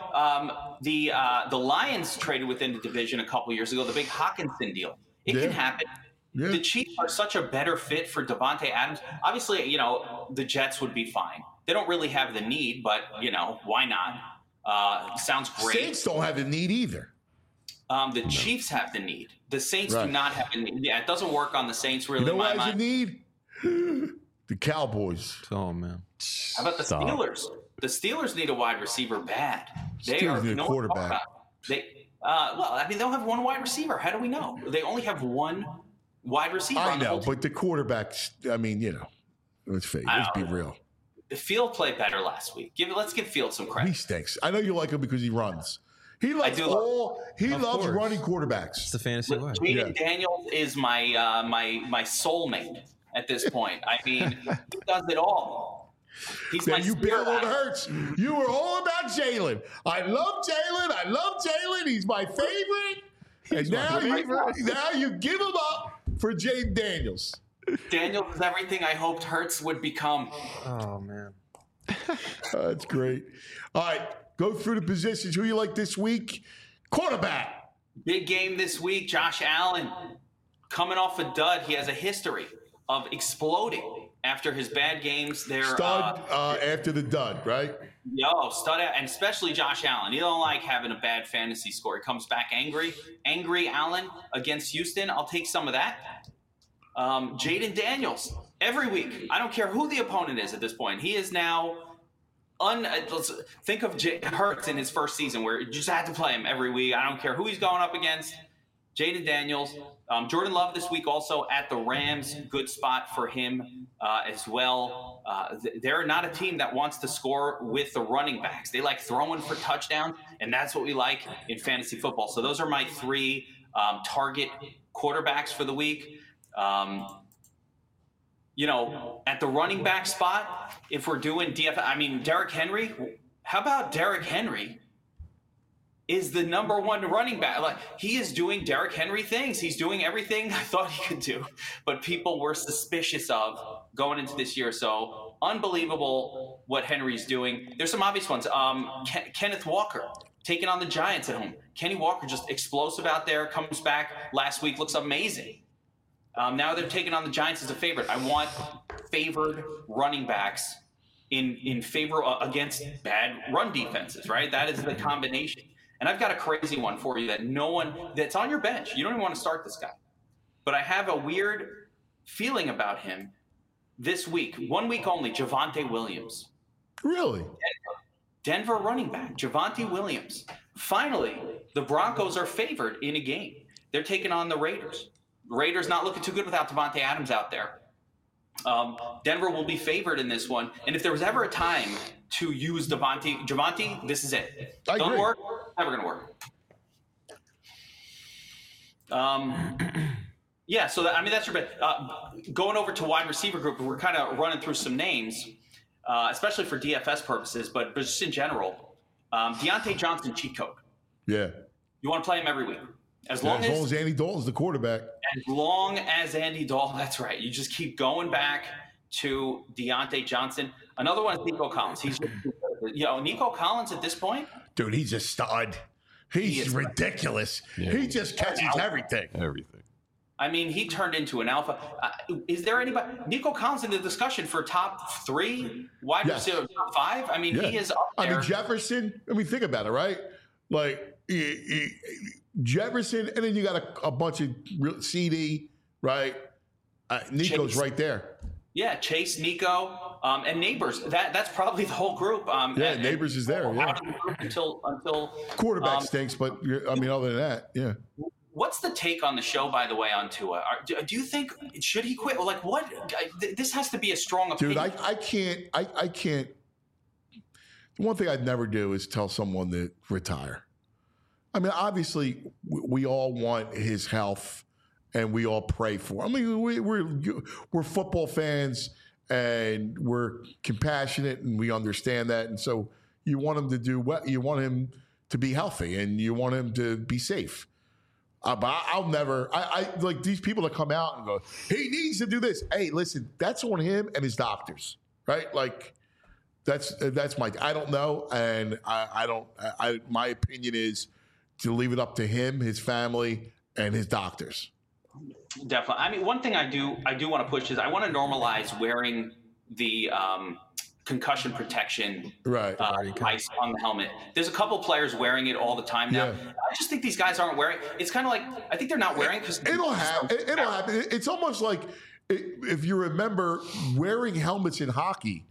the Lions traded within the division a couple years ago, the big Hawkinson deal. It can happen. Yeah. The Chiefs are such a better fit for Davante Adams. Obviously, the Jets would be fine. They don't really have the need, but, why not? Sounds great. Saints don't have the need either. The Chiefs have the need. The Saints do not have the need. Yeah, it doesn't work on the Saints really. You know what has the need? The Cowboys. Oh, man. How about the Steelers? The Steelers need a wide receiver bad. Steelers need a quarterback. They'll have one wide receiver. How do we know? They only have one wide receiver. I know, but the quarterbacks, let's be real. Field played better last week. Let's give Field some credit. He stinks. I know you like him because he runs. He loves running quarterbacks. It's the fantasy way. Jaden Daniels is my soulmate at this point. He does it all. He's you bailed on Hurts. You were all about Jalen. I love Jalen. He's my favorite. Now you give him up for Jaden Daniels. Daniels is everything I hoped Hurts would become. Oh, man. That's great. All right. Go through the positions. Who you like this week? Quarterback. Big game this week. Josh Allen coming off a dud. He has a history of exploding after his bad games. Stud after the dud, right? Stud, and especially Josh Allen. He don't like having a bad fantasy score. He comes back angry. Angry Allen against Houston. I'll take some of that. Jaden Daniels. Every week. I don't care who the opponent is at this point. He is now... let's think of Hurts in his first season where you just had to play him every week. I don't care who he's going up against. Jaden Daniels. Jordan Love this week also at the Rams. Good spot for him as well. They're not a team that wants to score with the running backs. They like throwing for touchdowns, and that's what we like in fantasy football. So those are my three target quarterbacks for the week. At the running back spot, if we're doing DFS, Derrick Henry. How about Derrick Henry is the number one running back? Like, he is doing Derrick Henry things. He's doing everything I thought he could do, but people were suspicious of going into this year. So unbelievable what Henry's doing. There's some obvious ones. Kenneth Walker taking on the Giants at home. Kenny Walker just explosive out there, comes back last week, looks amazing. Now they're taking on the Giants as a favorite. I want favored running backs in favor against bad run defenses, right? That is the combination. And I've got a crazy one for you that's on your bench. You don't even want to start this guy. But I have a weird feeling about him this week. 1 week only, Javonte Williams. Really? Denver running back, Javonte Williams. Finally, the Broncos are favored in a game. They're taking on the Raiders. Raiders not looking too good without Davante Adams out there. Denver will be favored in this one. And if there was ever a time to use Javonte, this is it. Don't work, never going to work. So that's your bet. Going over to wide receiver group, we're kind of running through some names, especially for DFS purposes, but just in general. Deontay Johnson, cheat code. Yeah. You want to play him every week. As long as Andy Dalton's the quarterback. As long as Andy Dalton, that's right. You just keep going back to Deontay Johnson. Another one is Nico Collins. He's, Nico Collins at this point. Dude, he's a stud. He's ridiculous. Yeah. He just catches everything. He turned into an alpha. Is there anybody? Nico Collins in the discussion for top 3 wide receiver, top 5? He is up there. Jefferson. Think about it, right? Like, Jefferson, and then you got a bunch of CD, right? Nico's right there. Yeah, Chase, Nico, and Neighbors. That's probably the whole group. Neighbors is there. Yeah. Until quarterback stinks, but other than that, yeah. What's the take on the show, by the way, on Tua? Do you think should he quit? Like, what? This has to be a strong opinion. Dude, I can't. The one thing I'd never do is tell someone to retire. I mean, obviously, we all want his health, and we all pray for him. I mean, we're football fans, and we're compassionate, and we understand that. And so you want him to do what you want him to be healthy, and you want him to be safe. But I'll never. I like these people that come out and go, he needs to do this. Hey, listen, that's on him and his doctors, right? Like. That's my. I don't know, and I don't. My opinion is to leave it up to him, his family, and his doctors. Definitely. I mean, one thing I do want to push is I want to normalize wearing the concussion protection device on the helmet. There's a couple players wearing it all the time now. Yeah. I just think these guys aren't wearing. It's kind of like I think they're not wearing it because it'll happen. It'll happen. It's almost like if you remember wearing helmets in hockey.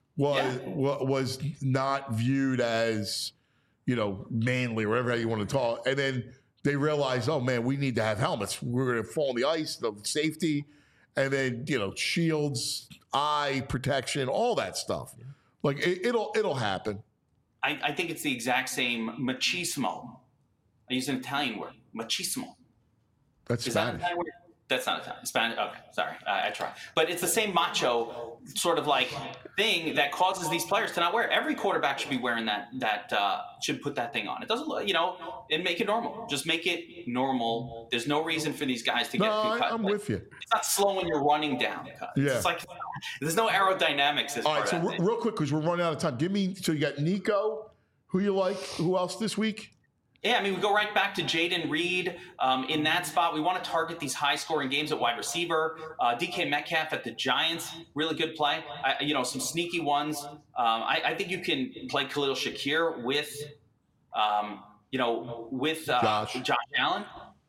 Was not viewed as, manly or whatever you want to call it. And then they realized, oh, man, we need to have helmets. We're going to fall on the ice, the safety, and then, shields, eye protection, all that stuff. Yeah. Like, it'll happen. I think it's the exact same machismo. I use an Italian word, machismo. That's Spanish. That's not Italian. Spanish. Okay, sorry. I try. But it's the same macho sort of like thing that causes these players to not wear it. Every quarterback should be wearing that should put that thing on. It doesn't, and make it normal. Just make it normal. There's no reason for these guys to get cut. I'm with you. It's not slowing your running down. Yeah. It's like there's no aerodynamics. All right, so real quick, because we're running out of time. So you got Nico, who you like? Who else this week? Yeah, I mean, we go right back to Jaden Reed in that spot. We want to target these high-scoring games at wide receiver. DK Metcalf at the Giants, really good play. Some sneaky ones. I think you can play Khalil Shakir with, Josh Allen.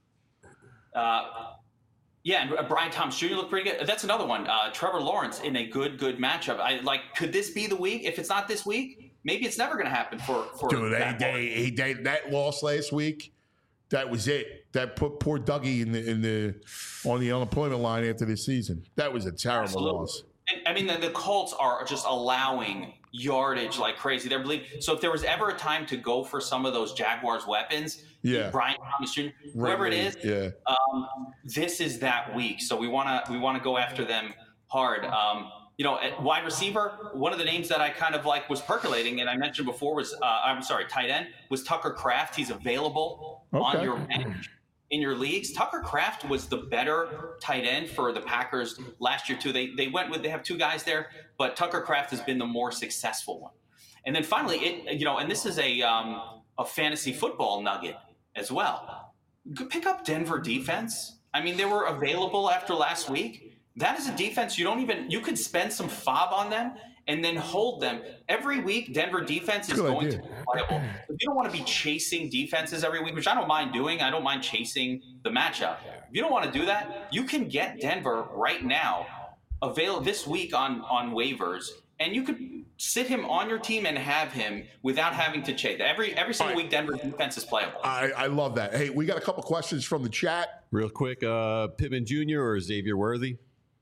And Brian Thomas Jr. looked pretty good. That's another one. Trevor Lawrence in a good matchup. Could this be the week? If it's not this week, maybe it's never going to happen for Dude, that loss last week, that was it. That put poor Dougie on the unemployment line after this season. That was a terrible loss. I mean, the Colts are just allowing yardage like crazy. They're bleeding. So if there was ever a time to go for some of those Jaguars weapons, Brian Thomas Jr., whoever it is, this is that week. So we want to go after them hard. At wide receiver, one of the names that I kind of like was percolating, and I mentioned before was, tight end, was Tucker Kraft. He's available on your bench in your leagues. Tucker Kraft was the better tight end for the Packers last year, too. They have two guys there, but Tucker Kraft has been the more successful one. And then finally, and this is a fantasy football nugget as well. Pick up Denver defense. I mean, they were available after last week. That is a defense you could spend some FOB on them and then hold them. Every week, Denver defense is going to be playable. If you don't want to be chasing defenses every week, which I don't mind doing, I don't mind chasing the matchup. If you don't want to do that, you can get Denver right now, available this week on waivers, and you could sit him on your team and have him without having to chase. Every single week, Denver defense is playable. I love that. Hey, we got a couple questions from the chat. Real quick, Pittman Jr. or Xavier Worthy?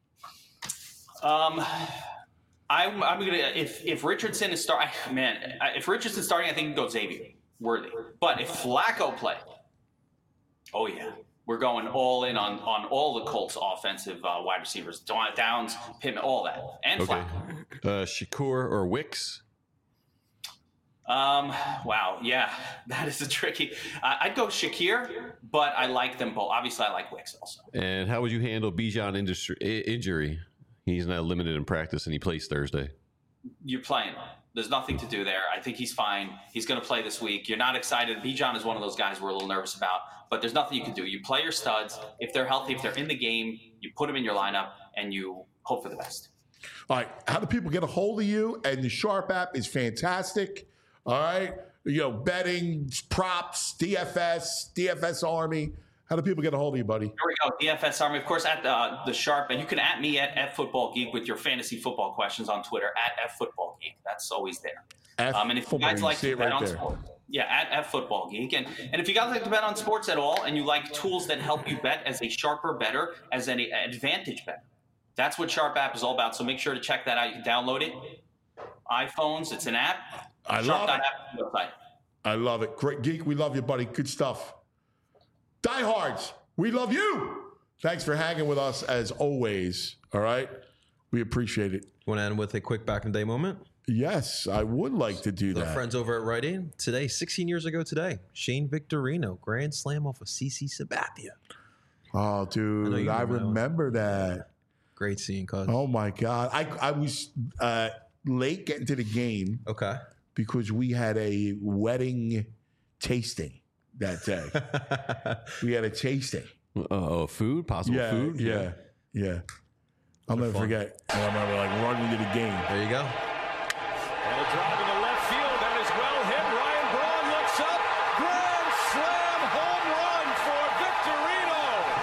I'm gonna if Richardson is starting, if Richardson's starting, I think you can go Xavier Worthy. But if Flacco play, oh yeah, we're going all in on all the Colts offensive wide receivers, Downs, Pittman, all that, and Flacco. Shakur or Wicks? Wow, yeah, that is a tricky. I'd go Shakir, but I like them both. Obviously, I like Wicks also. And how would you handle Bijan injury? He's now limited in practice, and he plays Thursday. You're playing. There's nothing to do there. I think he's fine. He's going to play this week. You're not excited. Bijan is one of those guys we're a little nervous about, but there's nothing you can do. You play your studs. If they're healthy, if they're in the game, you put them in your lineup, and you hope for the best. All right. How do people get a hold of you? And the Sharp app is fantastic. All right. Betting, props, DFS Army. How do people get a hold of you, buddy? Here we go. DFS Army, of course, at the Sharp. And you can at me at FFootballGeek with your fantasy football questions on Twitter at FFootballGeek. That's always there. And if you guys like to bet on sports, Yeah, at Football Geek. And if you guys like to bet on sports at all and you like tools that help you bet as a sharper bettor, as an advantage bet, that's what Sharp app is all about. So make sure to check that out. You can download it. iPhones, it's an app. I love it. I love it. Great Geek, we love you, buddy. Good stuff. Diehards, we love you. Thanks for hanging with us as always. All right? We appreciate it. Want to end with a quick back in the day moment? Yes, I would like to do that. Our friends over at Rite Aid. Today, 16 years ago today, Shane Victorino, grand slam off of CC Sabathia. Oh, dude, I remember that. Great scene, cuz. Oh, my God. I was late getting to the game. Okay. Because we had a wedding tasting that day. We had a tasting. Food? Possible food? Yeah. I'll never forget. I remember running to the game. There you go. And a drive in the left field. That is well hit. Ryan Braun looks up. Grand slam home run for Victorino.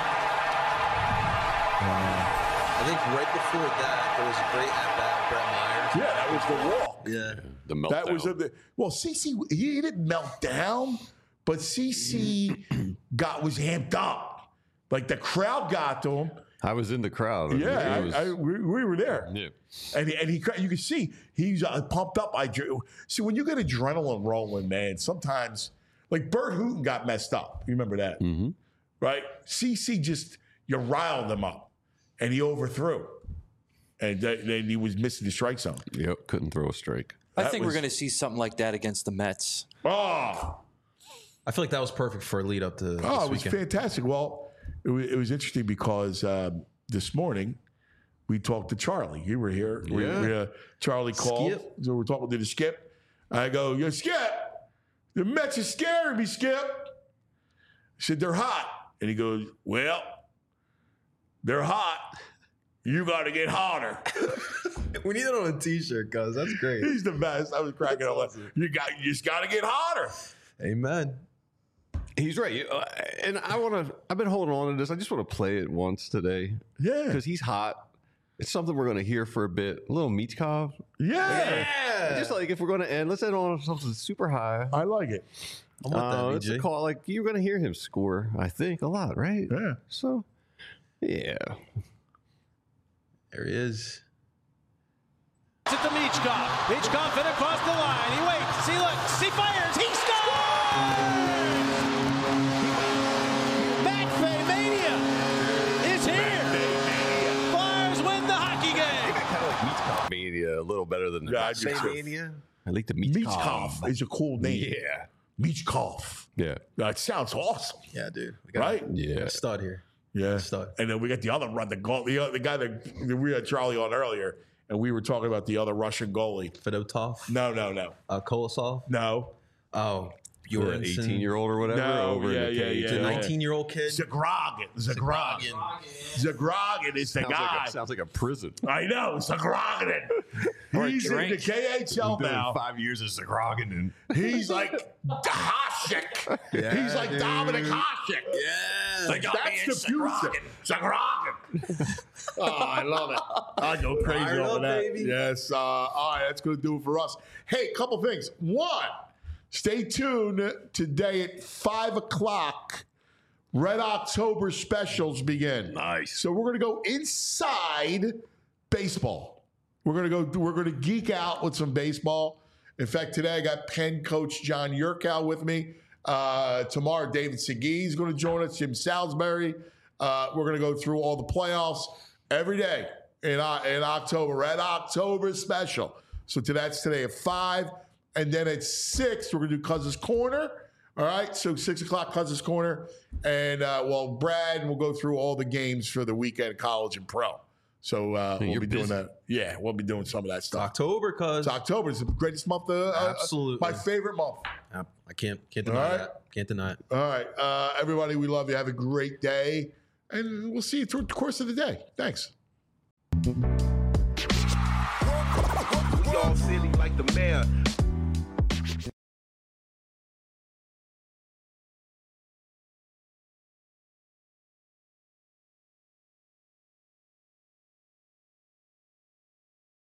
I think right before that, there was a great at-bat, Brett Myers. Yeah, that was the walk. Yeah. The meltdown. That was CC, he didn't melt down, but CC was amped up. Like the crowd got to him. I was in the crowd. Yeah, we were there. Yeah. And you could see he's pumped up. See, when you get adrenaline rolling, man, sometimes, like Bert Hooton got messed up. You remember that? Mm-hmm. Right? CC you riled him up, and he overthrew. And then he was missing the strike zone. Yep, couldn't throw a strike. I think we're going to see something like that against the Mets. Oh. I feel like that was perfect for a lead up to this it was weekend. Fantastic. Well, it was interesting because this morning we talked to Charlie. You were here. Yeah. Charlie called. Skip. So we're talking to the Skip. I go, yo, Skip, the Mets are scaring me, Skip. I said, they're hot. And he goes, well, they're hot. You got to get hotter. We need it on a T-shirt, cuz. That's great. He's the best. I was cracking up. Awesome. You just got to get hotter. Amen. He's right. And I've been holding on to this. I just want to play it once today. Yeah. Because he's hot. It's something we're going to hear for a bit. A little Michkov. Yeah. Just like if we're going to end, let's end on something super high. I like it. I want that, it's a call. Like, you're going to hear him score, I think, a lot, right? Yeah. So, yeah. There he is. It's to Michkov. Michkov in across the line. He waits. He looks. He fires. He scores! McVay-mania is here. Flyers win the hockey game. I kind of like Michkov mania a little better than the McVay-mania. I like the Michkov. Michkov is a cool name. Yeah. Michkov. Yeah. That sounds awesome. Yeah, dude. We Right? Yeah. a stud here. Yeah. Stud. And then we got the other run, the guy that we had Charlie on earlier, and we were talking about the other Russian goalie. Fedotov. No. Kolosov. No. Oh, The Bjornsson. 18-year-old or whatever. No, over in the yeah, cage. yeah. The 19-year-old kid. Zagragin is the guy. Sounds like a prison. I know, Zagragin. He's in the KHL now. 5 years of Zagragin. He's like Hasek. Yeah, He's like dude. Dominic Hasek. Yeah. That's the future. Zagragin. Oh, I love it. I go crazy Fired over up, that. baby. Yes. All right, that's going to do it for us. Hey, a couple things. One, stay tuned today at 5 o'clock. Red October specials begin. Nice. So we're going to go inside baseball. We're going to geek out with some baseball. In fact, today I got Penn coach John Yurkow with me. Tomorrow, David Segui is going to join us. Jim Salisbury. We're going to go through all the playoffs every day in October. Red October special. So that's today at 5. And then at 6, we're going to do Cousins Corner. All right, so 6 o'clock, Cousins Corner. And, Brad will go through all the games for the weekend, college and pro. So we'll be doing that. Yeah, we'll be doing some of that stuff. October, cuz. It's October. It's the greatest month. Absolutely. My favorite month. I can't deny that. Can't deny it. All right. Everybody, we love you. Have a great day. And we'll see you through the course of the day. Thanks. We all silly like the mayor.